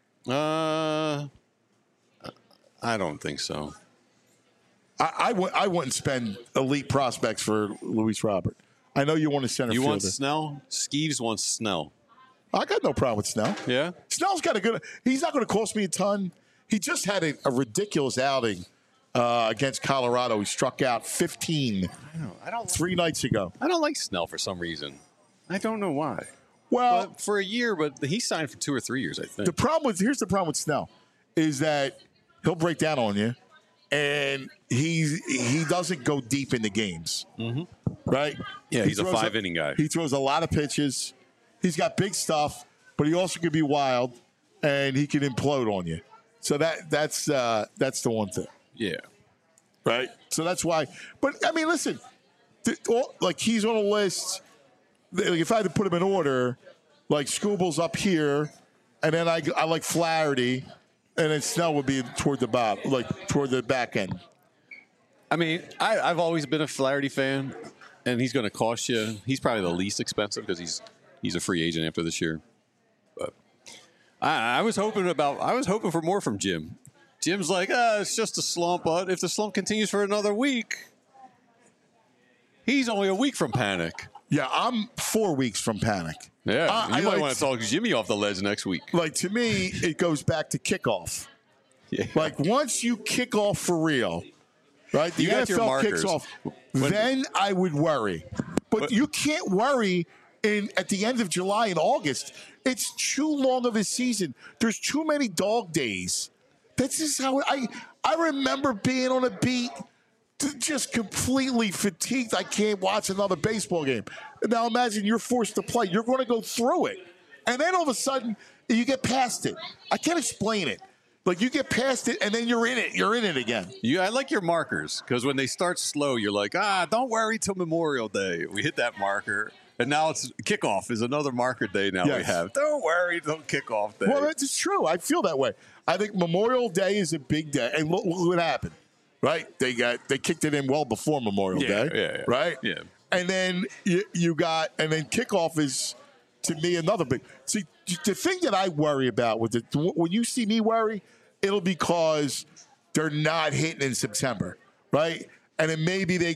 I don't think so. I wouldn't spend elite prospects for Luis Robert. I know you want a center fielder. You want Snell? Skeeves wants Snell. I got no problem with Snell. Yeah? Snell's got a good – he's not going to cost me a ton. He just had a ridiculous outing against Colorado. He struck out 15 3 nights ago. I don't like Snell for some reason. I don't know why. Well, for a year, but he signed for 2 or 3 years, I think. Here's the problem with Snell is that he'll break down on you, and he doesn't go deep in the games. Mm-hmm. Right? Yeah, he's a 5-inning guy. He throws a lot of pitches. He's got big stuff, but he also can be wild, and he can implode on you. So that's the one thing. Yeah. Right? So that's why. But, I mean, listen, he's on a list. If I had to put him in order, like Skubal's up here, and then I like Flaherty, and then Snell would be toward the bottom, like toward the back end. I mean, I've always been a Flaherty fan, and he's going to cost you. He's probably the least expensive because he's a free agent after this year. But I was hoping for more from Jim. Jim's like, it's just a slump, but if the slump continues for another week, he's only a week from panic. Yeah, I'm 4 weeks from panic. Yeah, you might want to talk Jimmy off the ledge next week. Like, to me, it goes back to kickoff. Yeah. Like, once you kick off for real, right, the NFL kicks off, then I would worry. But you can't worry at the end of July and August. It's too long of a season. There's too many dog days. This is how I remember being on a beat just completely fatigued. I can't watch another baseball game. Now imagine you're forced to play. You're going to go through it. And then all of a sudden, you get past it. I can't explain it. Like, you get past it, and then you're in it. You're in it again. I like your markers, because when they start slow, you're like, don't worry till Memorial Day. We hit that marker. And now it's kickoff is another marker day now we have. Don't worry till kickoff day. Well, that's true. I feel that way. I think Memorial Day is a big day. And look what happened, right? They kicked it in well before Memorial Day, right? Yeah. And then and then kickoff is, to me, another big. See, the thing that I worry about with it, when you see me worry, it'll be because they're not hitting in September, right? And then maybe they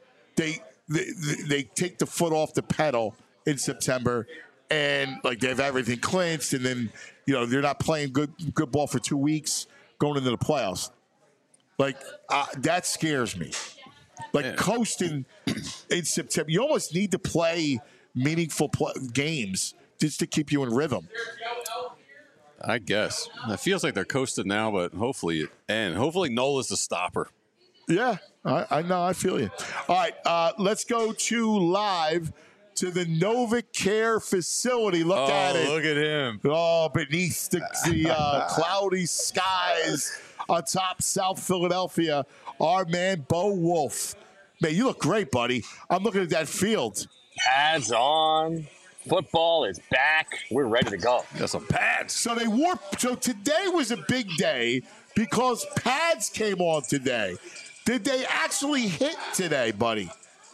take the foot off the pedal in September, and like they have everything clinched, and then they're not playing good ball for 2 weeks going into the playoffs. Like that scares me. Like coasting in September, you almost need to play meaningful games just to keep you in rhythm. I guess it feels like they're coasting now, but hopefully Nola's the stopper. Yeah, I know. I feel you. All right, let's go live to the NovaCare facility. Look at it. Look at him. Oh, beneath the cloudy skies atop South Philadelphia, our man Bo Wolf. Man, you look great, buddy. I'm looking at that field. Pads on. Football is back. We're ready to go. Got some pads. So So today was a big day because pads came on today. Did they actually hit today, buddy?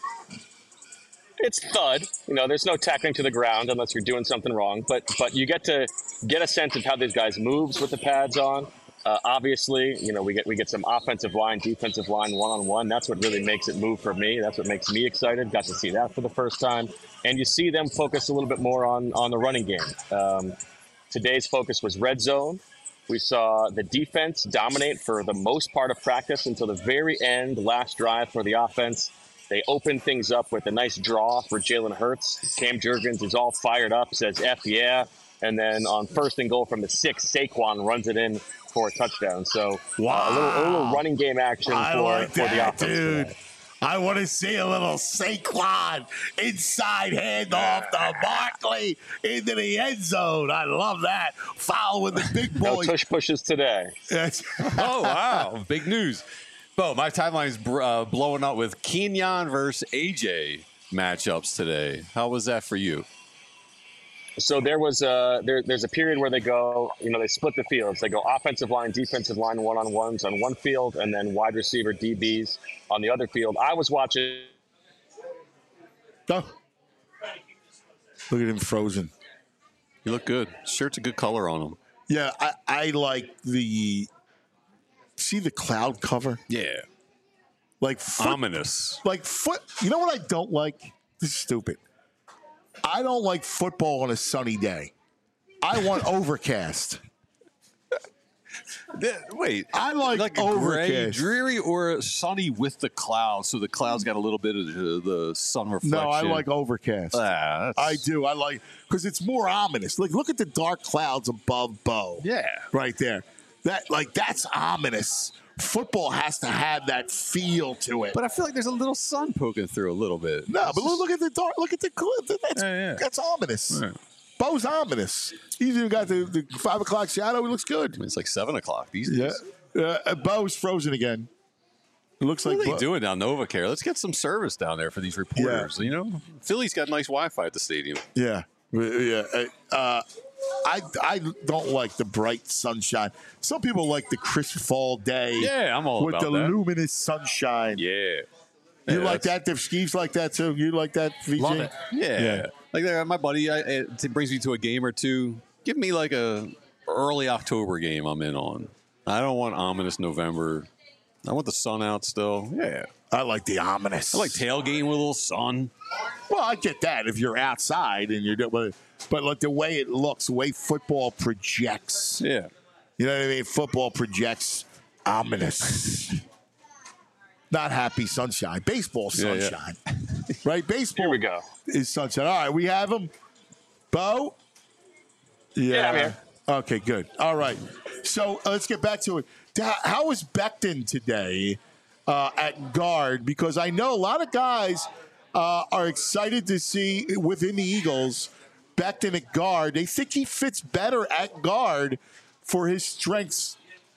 It's thud. There's no tackling to the ground unless you're doing something wrong. But you get to get a sense of how these guys moves with the pads on. Obviously, we get some offensive line, defensive line, one-on-one. That's what really makes it move for me. That's what makes me excited. Got to see that for the first time. And you see them focus a little bit more on the running game. Today's focus was red zone. We saw the defense dominate for the most part of practice until the very end, last drive for the offense. They opened things up with a nice draw for Jalen Hurts. Cam Jurgens is all fired up, says F yeah. And then on 1st and goal from the 6, Saquon runs it in for a touchdown. So a little running game action for the offense. Dude. Today. I want to see a little Saquon inside handoff to Barkley into the end zone. I love that. Foul with the big boy. No tush pushes today. Oh, wow. Big news. Bo, my timeline is blowing up with Kenyon versus AJ matchups today. How was that for you? So there was there's a period where they go, they split the fields. They go offensive line, defensive line, one-on-ones on one field, and then wide receiver DBs on the other field. I was watching. Oh. Look at him frozen. You look good. Shirt's a good color on him. Yeah, I like see the cloud cover? Yeah. Like ominous. Like you know what I don't like? This is stupid. I don't like football on a sunny day. I want overcast. Wait, I like a overcast. gray, dreary, or sunny with the clouds, so the clouds got a little bit of the sun reflection. No, I like overcast. I do. I like because it's more ominous. Like, look at the dark clouds above Bo. Yeah, right there. That's ominous. Football has to have that feel to it. But I feel like there's a little sun poking through a little bit. No, but look at the dark. Look at the cliff. That's ominous. Right. Bo's ominous. He's even got the 5 o'clock shadow. He looks good. It's like 7 o'clock these days. Bo's frozen again. It looks what like are they doing down NovaCare? Let's get some service down there for these reporters. Yeah. Philly's got nice Wi-Fi at the stadium. Yeah. I don't like the bright sunshine. Some people like the crisp fall day. Yeah, I'm all with about the that. luminous sunshine. Yeah. You like that? If Skeeves like that too? You like that, VJ? Love it. Yeah. Like my buddy, it brings me to a game or two. Give me like a early October game I'm in on. I don't want ominous November. I want the sun out still. Yeah. I like the ominous. I like tailgating with a little sun. Well, I get that if you're outside and you're doing, but like the way it looks, the way football projects. Yeah. You know what I mean? Football projects ominous. Not happy sunshine. Baseball sunshine. Yeah. Right? Baseball Here we go. Is sunshine. All right, we have him. Bo? Yeah, I'm here. Okay, good. All right. So let's get back to it. How was Becton today? at guard, because I know a lot of guys are excited to see within the Eagles Becton at guard. They think he fits better at guard for his strengths.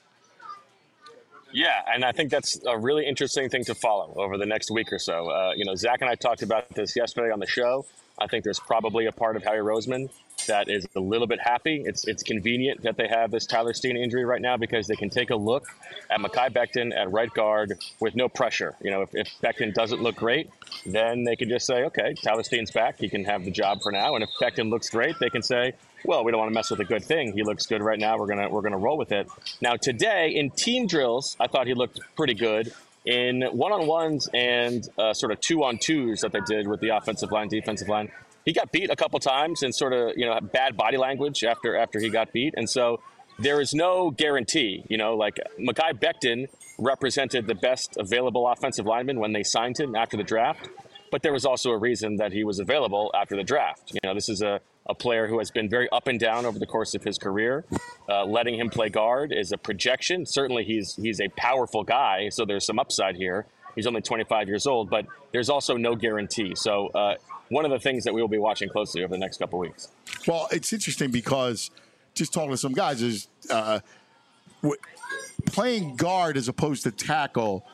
Yeah, and I think that's a really interesting thing to follow over the next week or so. Zach and I talked about this yesterday on the show. I think there's probably a part of Howie Roseman that is a little bit happy. It's convenient that they have this Tyler Steen injury right now because they can take a look at Mekhi Becton at right guard with no pressure. If Becton doesn't look great, then they can just say, okay, Tyler Steen's back. He can have the job for now. And if Becton looks great, they can say, well, we don't want to mess with a good thing. He looks good right now. We're gonna roll with it. Now today in team drills, I thought he looked pretty good. In one-on-ones and sort of two-on-twos that they did with the offensive line, defensive line, he got beat a couple times and sort of, bad body language after he got beat. And so there is no guarantee, like Mekhi Becton represented the best available offensive lineman when they signed him after the draft. But there was also a reason that he was available after the draft. This is a player who has been very up and down over the course of his career. Letting him play guard is a projection. Certainly he's a powerful guy, so there's some upside here. He's only 25 years old, but there's also no guarantee. So one of the things that we will be watching closely over the next couple of weeks. Well, it's interesting because just talking to some guys is playing guard as opposed to tackle,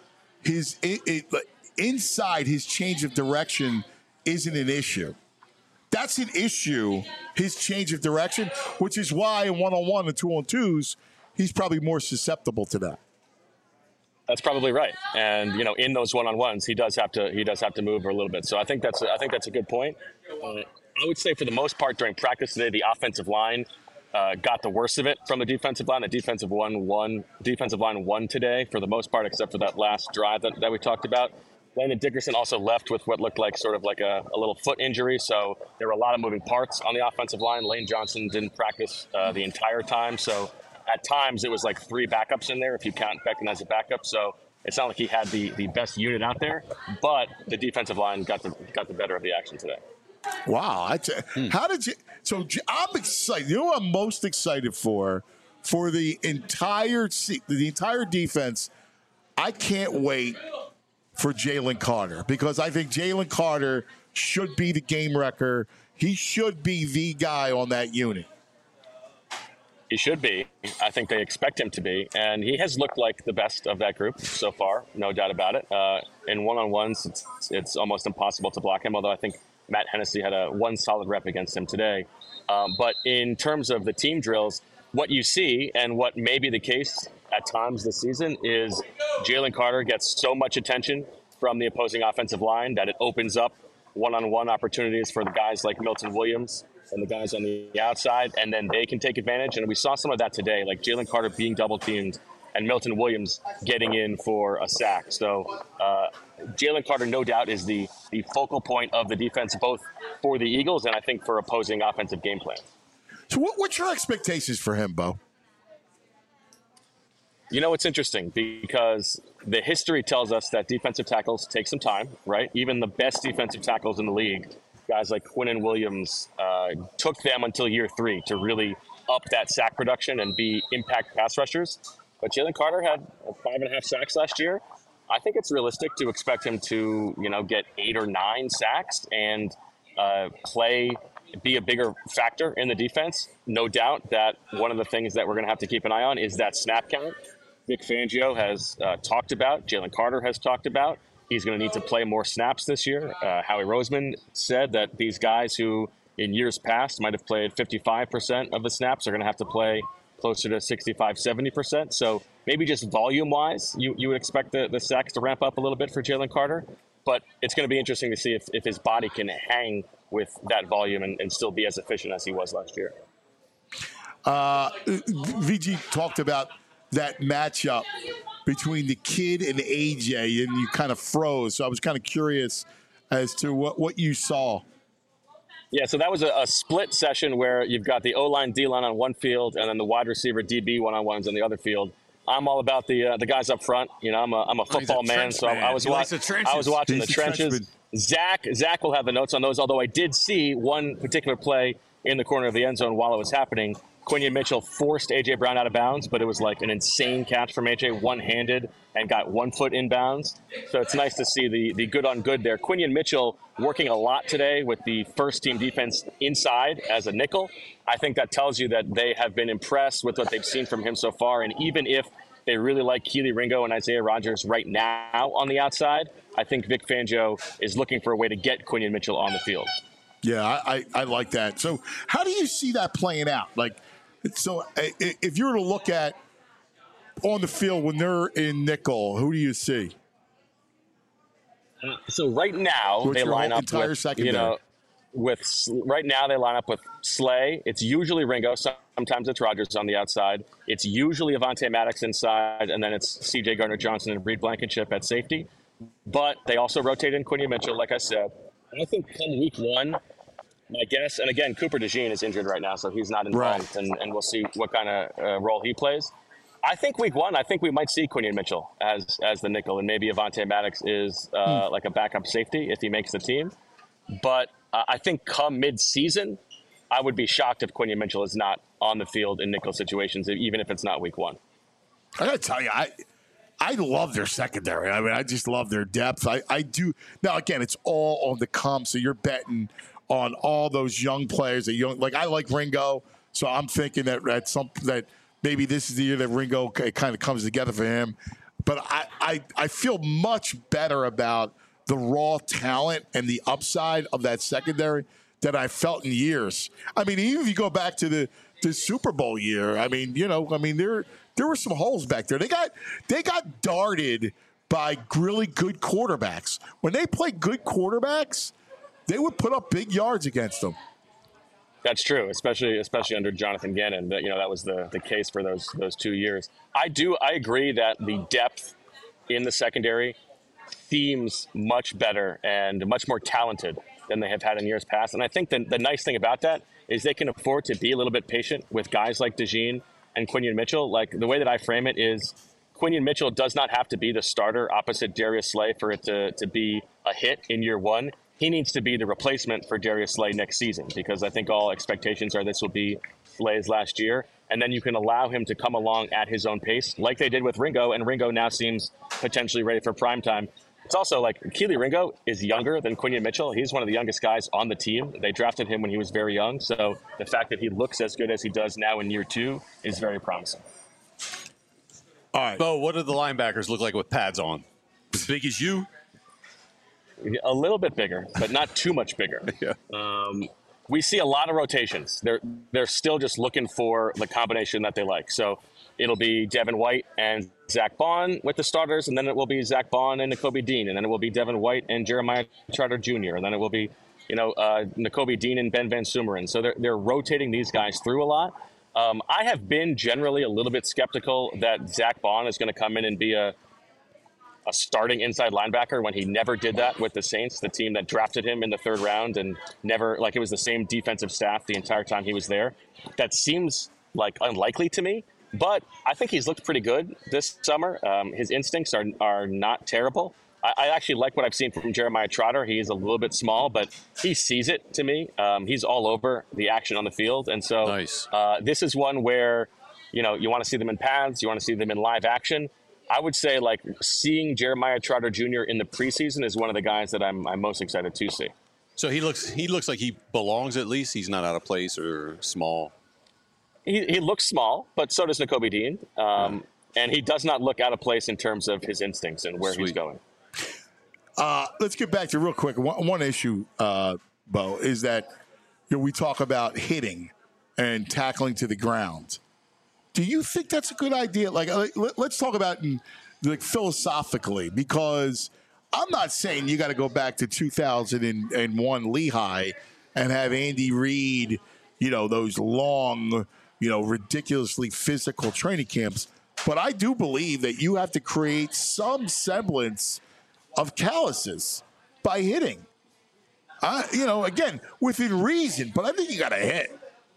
inside his change of direction isn't an issue. That's an issue, his change of direction, which is why in one-on-one and two-on-twos, he's probably more susceptible to that. That's probably right. And in those one-on-ones, he does have to move a little bit. So I think that's a good point. I would say for the most part during practice today, the offensive line got the worst of it from the defensive line. The defensive line won today for the most part, except for that last drive that we talked about. Landon Dickerson also left with what looked like sort of like a little foot injury. So there were a lot of moving parts on the offensive line. Lane Johnson didn't practice the entire time. So at times it was like 3 backups in there if you count Becton as a backup. So it's not like he had the best unit out there, but the defensive line got the better of the action today. Wow. How did you – so I'm excited. You know what I'm most excited for the entire defense? I can't wait for Jalen Carter because I think Jalen Carter should be the game wrecker. He should be the guy on that unit. He should be. I think they expect him to be. And he has looked like the best of that group so far, no doubt about it. In one-on-ones, it's almost impossible to block him, although I think Matt Hennessy had one solid rep against him today. But in terms of the team drills, what you see and what may be the case at times this season is Jalen Carter gets so much attention from the opposing offensive line that it opens up one-on-one opportunities for the guys like Milton Williams and the guys on the outside, and then they can take advantage. And we saw some of that today, like Jalen Carter being double-teamed and Milton Williams getting in for a sack. So Jalen Carter, no doubt, is the focal point of the defense, both for the Eagles and I think for opposing offensive game plans. So what's your expectations for him, Bo? It's interesting because the history tells us that defensive tackles take some time, right? Even the best defensive tackles in the league, guys like Quinnen Williams, took them until year 3 to really up that sack production and be impact pass rushers. But Jalen Carter had 5.5 sacks last year. I think it's realistic to expect him to, get 8 or 9 sacks and be a bigger factor in the defense. No doubt that one of the things that we're going to have to keep an eye on is that snap count. Vic Fangio has talked about, Jalen Carter has talked about. He's going to need to play more snaps this year. Howie Roseman said that these guys who in years past might have played 55% of the snaps are going to have to play closer to 65, 70%. So maybe just volume-wise, you would expect the sacks to ramp up a little bit for Jalen Carter. But it's going to be interesting to see if his body can hang with that volume and still be as efficient as he was last year. VG talked about that matchup between the kid and AJ, and you kind of froze. So I was kind of curious as to what you saw. Yeah, so that was a split session where you've got the O-line, D-line on one field, and then the wide receiver DB one-on-ones on the other field. I'm all about the guys up front. I'm a football man, so I was watching the trenches. Zach will have the notes on those, although I did see one particular play in the corner of the end zone while it was happening. Quinion Mitchell forced A.J. Brown out of bounds, but it was like an insane catch from A.J., one-handed, and got 1 foot in bounds. So it's nice to see the good on good there. Quinion Mitchell working a lot today with the first-team defense inside as a nickel. I think that tells you that they have been impressed with what they've seen from him so far, and even if they really like Kelee Ringo and Isaiah Rodgers right now on the outside, I think Vic Fangio is looking for a way to get Quinion Mitchell on the field. Yeah, I like that. So how do you see that playing out? Like, so if you were to look at on the field when they're in nickel, who do you see? So right now they line up with, secondary? Right now they line up with Slay. It's usually Ringo. Sometimes it's Rodgers on the outside. It's usually Avonte Maddox inside, and then it's C.J. Gardner-Johnson and Reed Blankenship at safety. But they also rotate in Quinion Mitchell, like I said. I think come week 1, my guess, and again, Cooper DeJean is injured right now, so he's not involved, and we'll see what kind of role he plays. I think week 1, I think we might see Quinion Mitchell as the nickel, and maybe Avonte Maddox is like a backup safety if he makes the team. But I think come mid-season, I would be shocked if Quinion Mitchell is not on the field in nickel situations, even if it's not week 1. I got to tell you, I love their secondary. I mean, I just love their depth. I do. Now, again, it's all on the come, so you're betting on all those young players. Like I like Ringo, so I'm thinking that maybe this is the year that Ringo kind of comes together for him. But I feel much better about the raw talent and the upside of that secondary than I felt in years. I mean, even if you go back to the Super Bowl year, there were some holes back there. They got darted by really good quarterbacks. When they play good quarterbacks, they would put up big yards against them. That's true, especially under Jonathan Gannon. That was the case for those 2 years. I agree that the depth in the secondary seems much better and much more talented than they have had in years past. And I think the nice thing about that is they can afford to be a little bit patient with guys like DeJean and Quinion Mitchell. Like, the way that I frame it is Quinion Mitchell does not have to be the starter opposite Darius Slay for it to be a hit in year 1. He needs to be the replacement for Darius Slay next season, because I think all expectations are this will be Slay's last year. And then you can allow him to come along at his own pace, like they did with Ringo, and Ringo now seems potentially ready for prime time. It's also like Kelee Ringo is younger than Quinion Mitchell. He's one of the youngest guys on the team. They drafted him when he was very young. So the fact that he looks as good as he does now in year 2 is very promising. All right. Bo, what do the linebackers look like with pads on? As big as you? A little bit bigger, but not too much bigger. Yeah. We see a lot of rotations. They're still just looking for the combination that they like. So it'll be Devin White and Zach Bond with the starters, and then it will be Zach Bond and Nakobe Dean, and then it will be Devin White and Jeremiah Trotter Jr., and then it will be Nakobe Dean and Ben Van Sumeren. So they're rotating these guys through a lot. I have been generally a little bit skeptical that Zach Bond is going to come in and be a starting inside linebacker when he never did that with the Saints, the team that drafted him in the 3rd round, and never, like, it was the same defensive staff the entire time he was there. That seems like unlikely to me, but I think he's looked pretty good this summer. His instincts are not terrible. I actually like what I've seen from Jeremiah Trotter. He is a little bit small, but he sees it to me. He's all over the action on the field. And so nice. This is one where, you want to see them in pads, you want to see them in live action. I would say, like, seeing Jeremiah Trotter Jr. in the preseason is one of the guys that I'm most excited to see. So he looks like he belongs, at least. He's not out of place or small. He looks small, but so does Nakobe Dean. And he does not look out of place in terms of his instincts and where he's going. Let's get back to real quick. One issue, Bo, is that we talk about hitting and tackling to the ground. Do you think that's a good idea? Like let's talk about philosophically, because I'm not saying you got to go back to 2001 Lehigh and have Andy Reid, those long, ridiculously physical training camps. But I do believe that you have to create some semblance of calluses by hitting. Again, within reason, but I think you got to hit.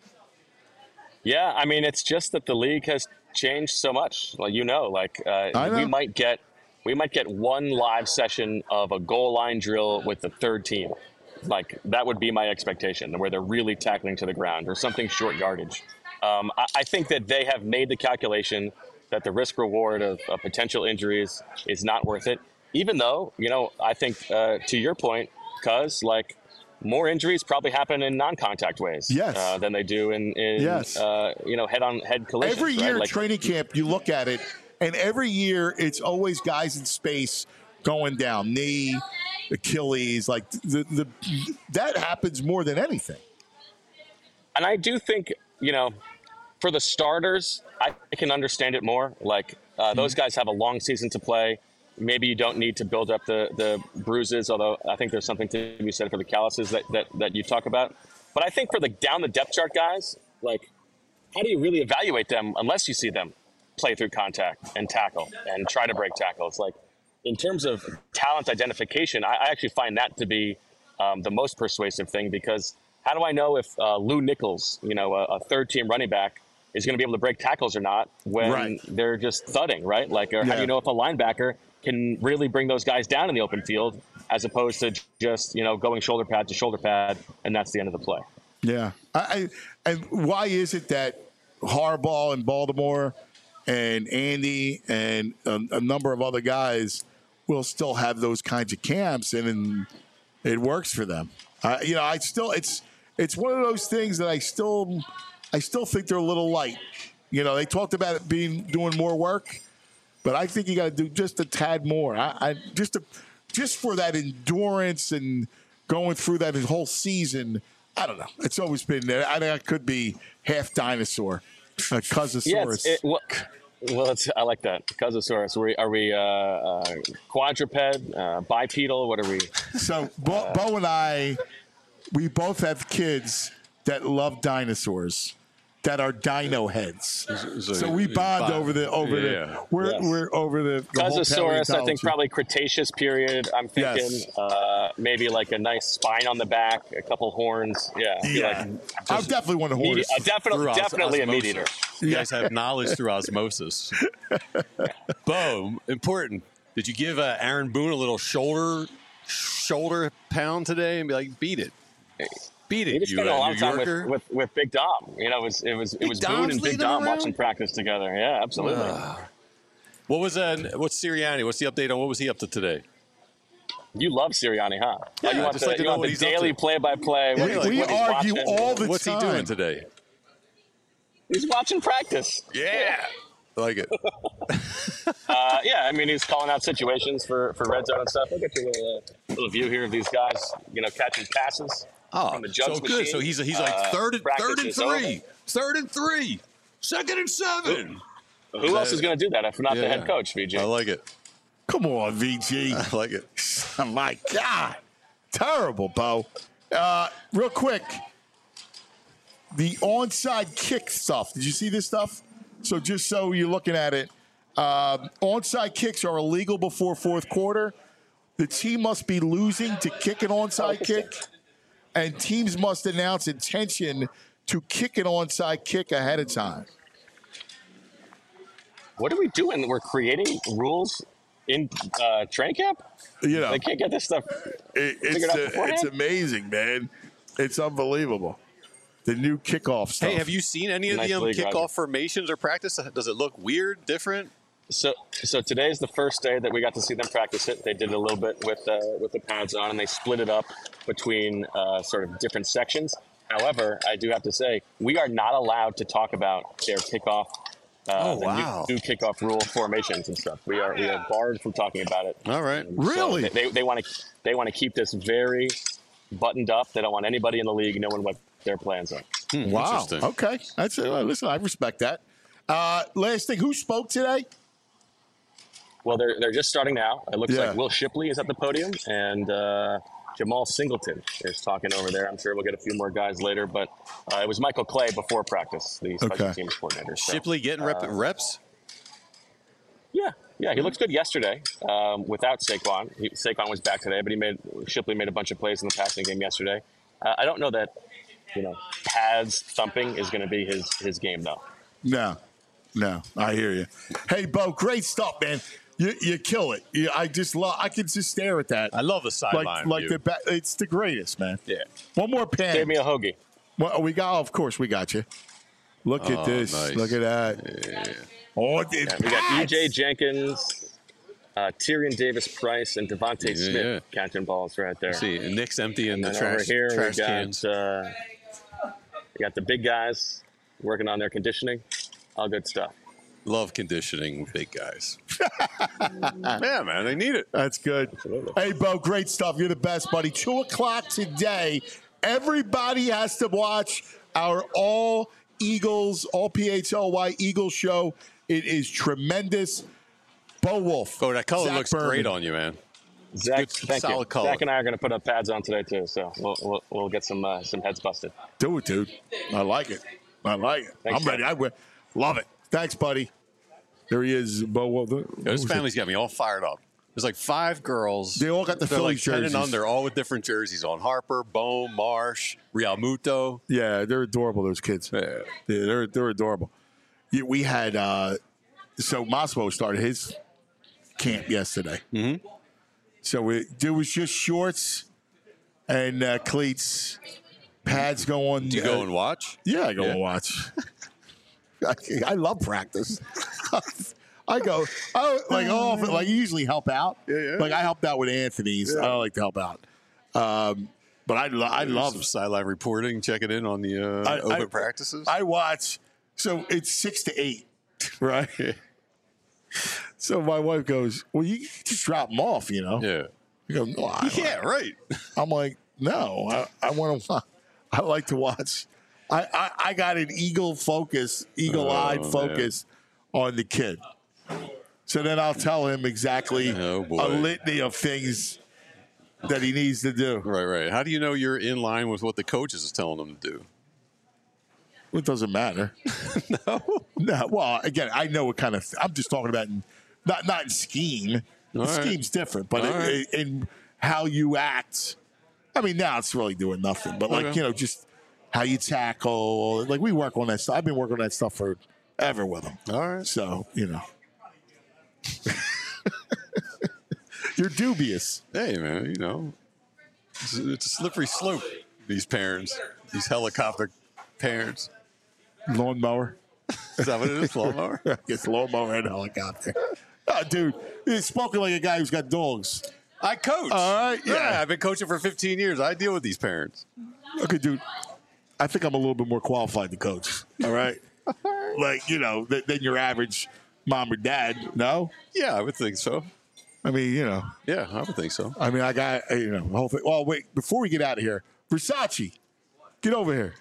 Yeah, I mean, it's just that the league has changed so much. Well, we might get one live session of a goal line drill with the 3rd team, Like, that would be my expectation, where they're really tackling to the ground or something short yardage. I think that they have made the calculation that the risk reward of potential injuries is not worth it. Even though, I think to your point, Cuz, like, more injuries probably happen in non-contact ways than they do in head-on-head collisions. Every year, right? training camp, you look at it, and every year it's always guys in space going down, knee, Achilles, like that happens more than anything. And I do think, for the starters, I can understand it more. Like, those guys have a long season to play. Maybe you don't need to build up the bruises, although I think there's something to be said for the calluses that you talk about. But I think for the down the depth chart guys, like, how do you really evaluate them unless you see them play through contact and tackle and try to break tackles? Like, in terms of talent identification, I actually find that to be the most persuasive thing, because how do I know if Lou Nichols, a third-team running back, is going to be able to break tackles or not when they're just thudding, right? Like, or how do you know if a linebacker can really bring those guys down in the open field as opposed to just, going shoulder pad to shoulder pad, and that's the end of the play. Yeah. And why is it that Harbaugh in Baltimore and Andy and a number of other guys will still have those kinds of camps, and it works for them? It's one of those things that I still think they're a little light. They talked about it doing more work, but I think you got to do just a tad more. Just for that endurance and going through that whole season. I don't know. It's always been there. I think I could be half dinosaur, Cousosaurus. I like that. Cousosaurus. Are we quadruped, bipedal? What are we? So Bo and I, we both have kids that love dinosaurs, that are dino heads. So we bond over the over the Cousosaurus. I think probably Cretaceous period. I'm thinking maybe like a nice spine on the back, a couple horns. Yeah. I definitely want a horse. Definitely a meat eater. You guys have knowledge through osmosis. Bo, important. Did you give Aaron Boone a little shoulder pound today and be like, beat it? Beat it. We just spent a lot of time with Big Dom. It was Boone and Big Dom watching practice together. Yeah, absolutely. What's Sirianni? What's the update on what was he up to today? You love Sirianni, huh? Yeah, you want the daily play-by-play. We argue all the time. What's he doing today? He's watching practice. Yeah. I like it. He's calling out situations for red zone and stuff. Look at your little view here of these guys, catching passes. From the Jugs so good. Machine. So he's like third and 3. 3rd and 3. 2nd and 7. Who else is going to do that if not the head coach, VG? I like it. Come on, VG. I like it. Oh, my God. Terrible, Bo. Real quick, the onside kick stuff. Did you see this stuff? So just so you're looking at it, onside kicks are illegal before fourth quarter. The team must be losing to kick an onside kick, and teams must announce intention to kick an onside kick ahead of time. What are we doing? We're creating rules in training camp? They can't get this stuff figured out beforehand? It's amazing, man. It's unbelievable. The new kickoff stuff. Hey, have you seen any of the kickoff formations or practice? Does it look weird, different? So today's the first day that we got to see them practice it. They did a little bit with the pads on, and they split it up between sort of different sections. However, I do have to say, we are not allowed to talk about their kickoff, new kickoff rule formations and stuff. We are barred from talking about it. All right, really? So they want to keep this very buttoned up. They don't want anybody in the league knowing what their plans are. Wow. Okay. That's it. Listen, I respect that. Last thing, who spoke today? Well, they're just starting now. It looks like Will Shipley is at the podium, and Jamal Singleton is talking over there. I'm sure we'll get a few more guys later, but it was Michael Clay before practice, the special teams coordinator. So, Shipley getting reps? Yeah, he looked good yesterday without Saquon. Saquon was back today, but Shipley made a bunch of plays in the passing game yesterday. I don't know that pads thumping is going to be his game, though. No, I hear you. Hey, Bo, great stuff, man. You kill it. I just love. I can just stare at that. I love the sideline like view. it's the greatest, man. Yeah. One more pan. Give me a hoagie. Well, we got. Of course, we got you. Look at this. Nice. Look at that. Yeah. Oh, We got E.J. Jenkins, Tyrion Davis-Price, and Devontae Smith catching balls right there. See, and Nick's emptying the Over trash here, we cans. got the big guys working on their conditioning. All good stuff. Love conditioning big guys. Yeah, man, they need it. That's good. Absolutely. Hey, Bo, great stuff. You're the best, buddy. 2 o'clock today. Everybody has to watch our all Eagles, all PHLY Eagles show. It is tremendous. Bo Wolf. Oh, that color Zach looks Berman. great on you, man. Zach, Good, thank solid you. color. Zach and I are going to put up pads on today too, so we'll get some heads busted. Do it, dude. I like it. Thanks, I'm ready. I will. Love it. Thanks, buddy. There he is, Bo Wolf. This family's got me all fired up. There's like 5 girls. They all got the They're Phillies like 10 jerseys. and under, all with different jerseys on. Harper, Bohm, Marsh, Real Muto. Yeah, they're adorable, those kids. Yeah. They're adorable. Yeah, we had so Massimo started his camp yesterday. Mm-hmm. So there was just shorts and cleats, pads going. Do you go and watch? Yeah, I go and watch. I love practice. I go, I usually help out. Yeah. Like I helped out with Anthony's. I don't like to help out. But I love some sideline reporting, checking in on the open practices. I watch. So it's 6 to 8, right? So my wife goes, "Well, you just drop them off, you know?" Yeah. I go, "No, right." I'm like, "No, I want to. I like to watch. I got an eagle-eyed focus on the kid. So then I'll tell him exactly a litany of things that he needs to do. Right. How do you know you're in line with what the coaches is telling him to do? It doesn't matter. No. Well, again, I know what kind of. I'm just talking about not in scheme. All The right. scheme's different, but All right. in how you act. I mean, now it's really doing nothing, but just how you tackle. Like we work on that stuff. I've been working on that stuff forever with him. All right. So you're dubious. Hey, man, it's a slippery slope, these parents, these helicopter parents. Lawnmower. Is that what it is, lawnmower? It's lawnmower and helicopter. Oh, dude, he's spoken like a guy who's got dogs. I coach. All right, yeah. I've been coaching for 15 years. I deal with these parents. Okay, dude, I think I'm a little bit more qualified to coach. All right? Than your average mom or dad. No? Yeah, I would think so. I mean, Yeah, I would think so. I mean, I got, the whole thing. Oh, wait, before we get out of here, Versace, get over here.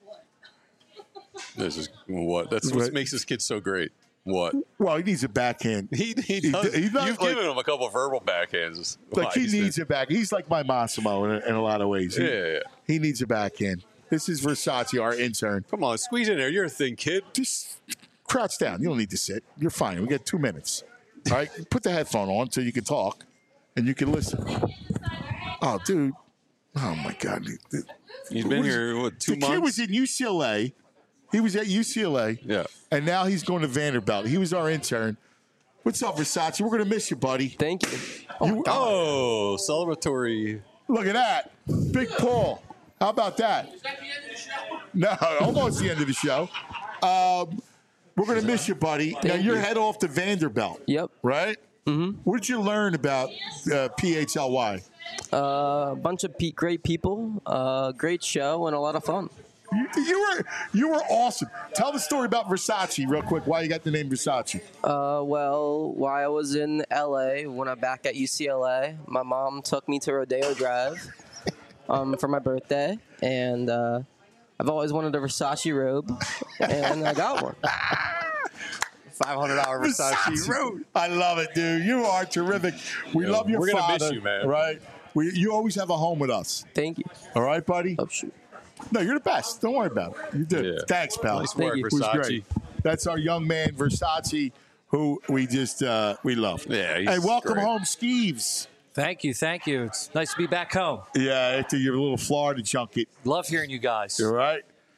This is what? That's what makes this kid so great. What? Well, he needs a backhand. He does. He's not You've given him a couple of verbal backhands. Like, he needs a back. He's like my Massimo in a lot of ways. Yeah. He needs a backhand. This is Versace, our intern. Come on, squeeze in there. You're a thin kid. Just crouch down. You don't need to sit. You're fine. We got 2 minutes. All right? Put the headphone on so you can talk and you can listen. Oh, dude. Oh, my God. He's been here, 2 months? The kid was in UCLA. He was at UCLA. Yeah. And now he's going to Vanderbilt. He was our intern. What's up, Versace? We're going to miss you, buddy. Thank you. Celebratory. Look at that. Big Paul. How about that? No, hold on. It's the end of the show. We're going to miss you, buddy. Now, you're head off to Vanderbilt. Yep. Right? Mm-hmm. What did you learn about PHLY? A bunch of great people, great show, and a lot of fun. You were awesome. Tell the story about Versace real quick. Why you got the name Versace? Well, while I was in LA, when I'm back at UCLA, my mom took me to Rodeo Drive for my birthday, and I've always wanted a Versace robe, and I got one. $500 Versace robe. I love it, dude. You are terrific. We love your we're father. We're gonna miss you, man. Right? You always have a home with us. Thank you. All right, buddy? Oh, shoot. No, you're the best. Don't worry about it. You did. Yeah. Thanks, pal. Nice work, It was Versace. great. That's our young man, Versace, who we just we love. Yeah, he's hey, welcome great. home, Skeeves. Thank you. It's nice to be back home. Yeah, after your little Florida junket. Love hearing you guys. All right.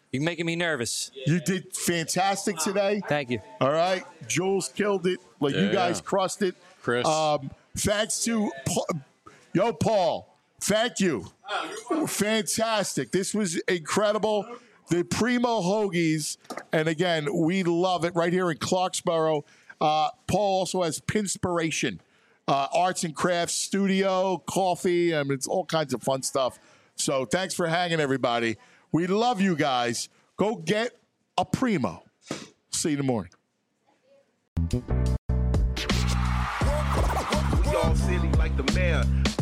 You're making me nervous. You did fantastic today. Thank you. All right. Jules killed it. Like, you Yeah. guys crushed it. Chris. Thanks to Paul. Thank you. Fantastic. This was incredible. The Primo Hoagies. And again, we love it right here in Clarksboro. Paul also has Pinspiration, arts and crafts studio, coffee. I mean, it's all kinds of fun stuff. So thanks for hanging, everybody. We love you guys. Go get a Primo. See you in the morning. Y'all silly like the mayor.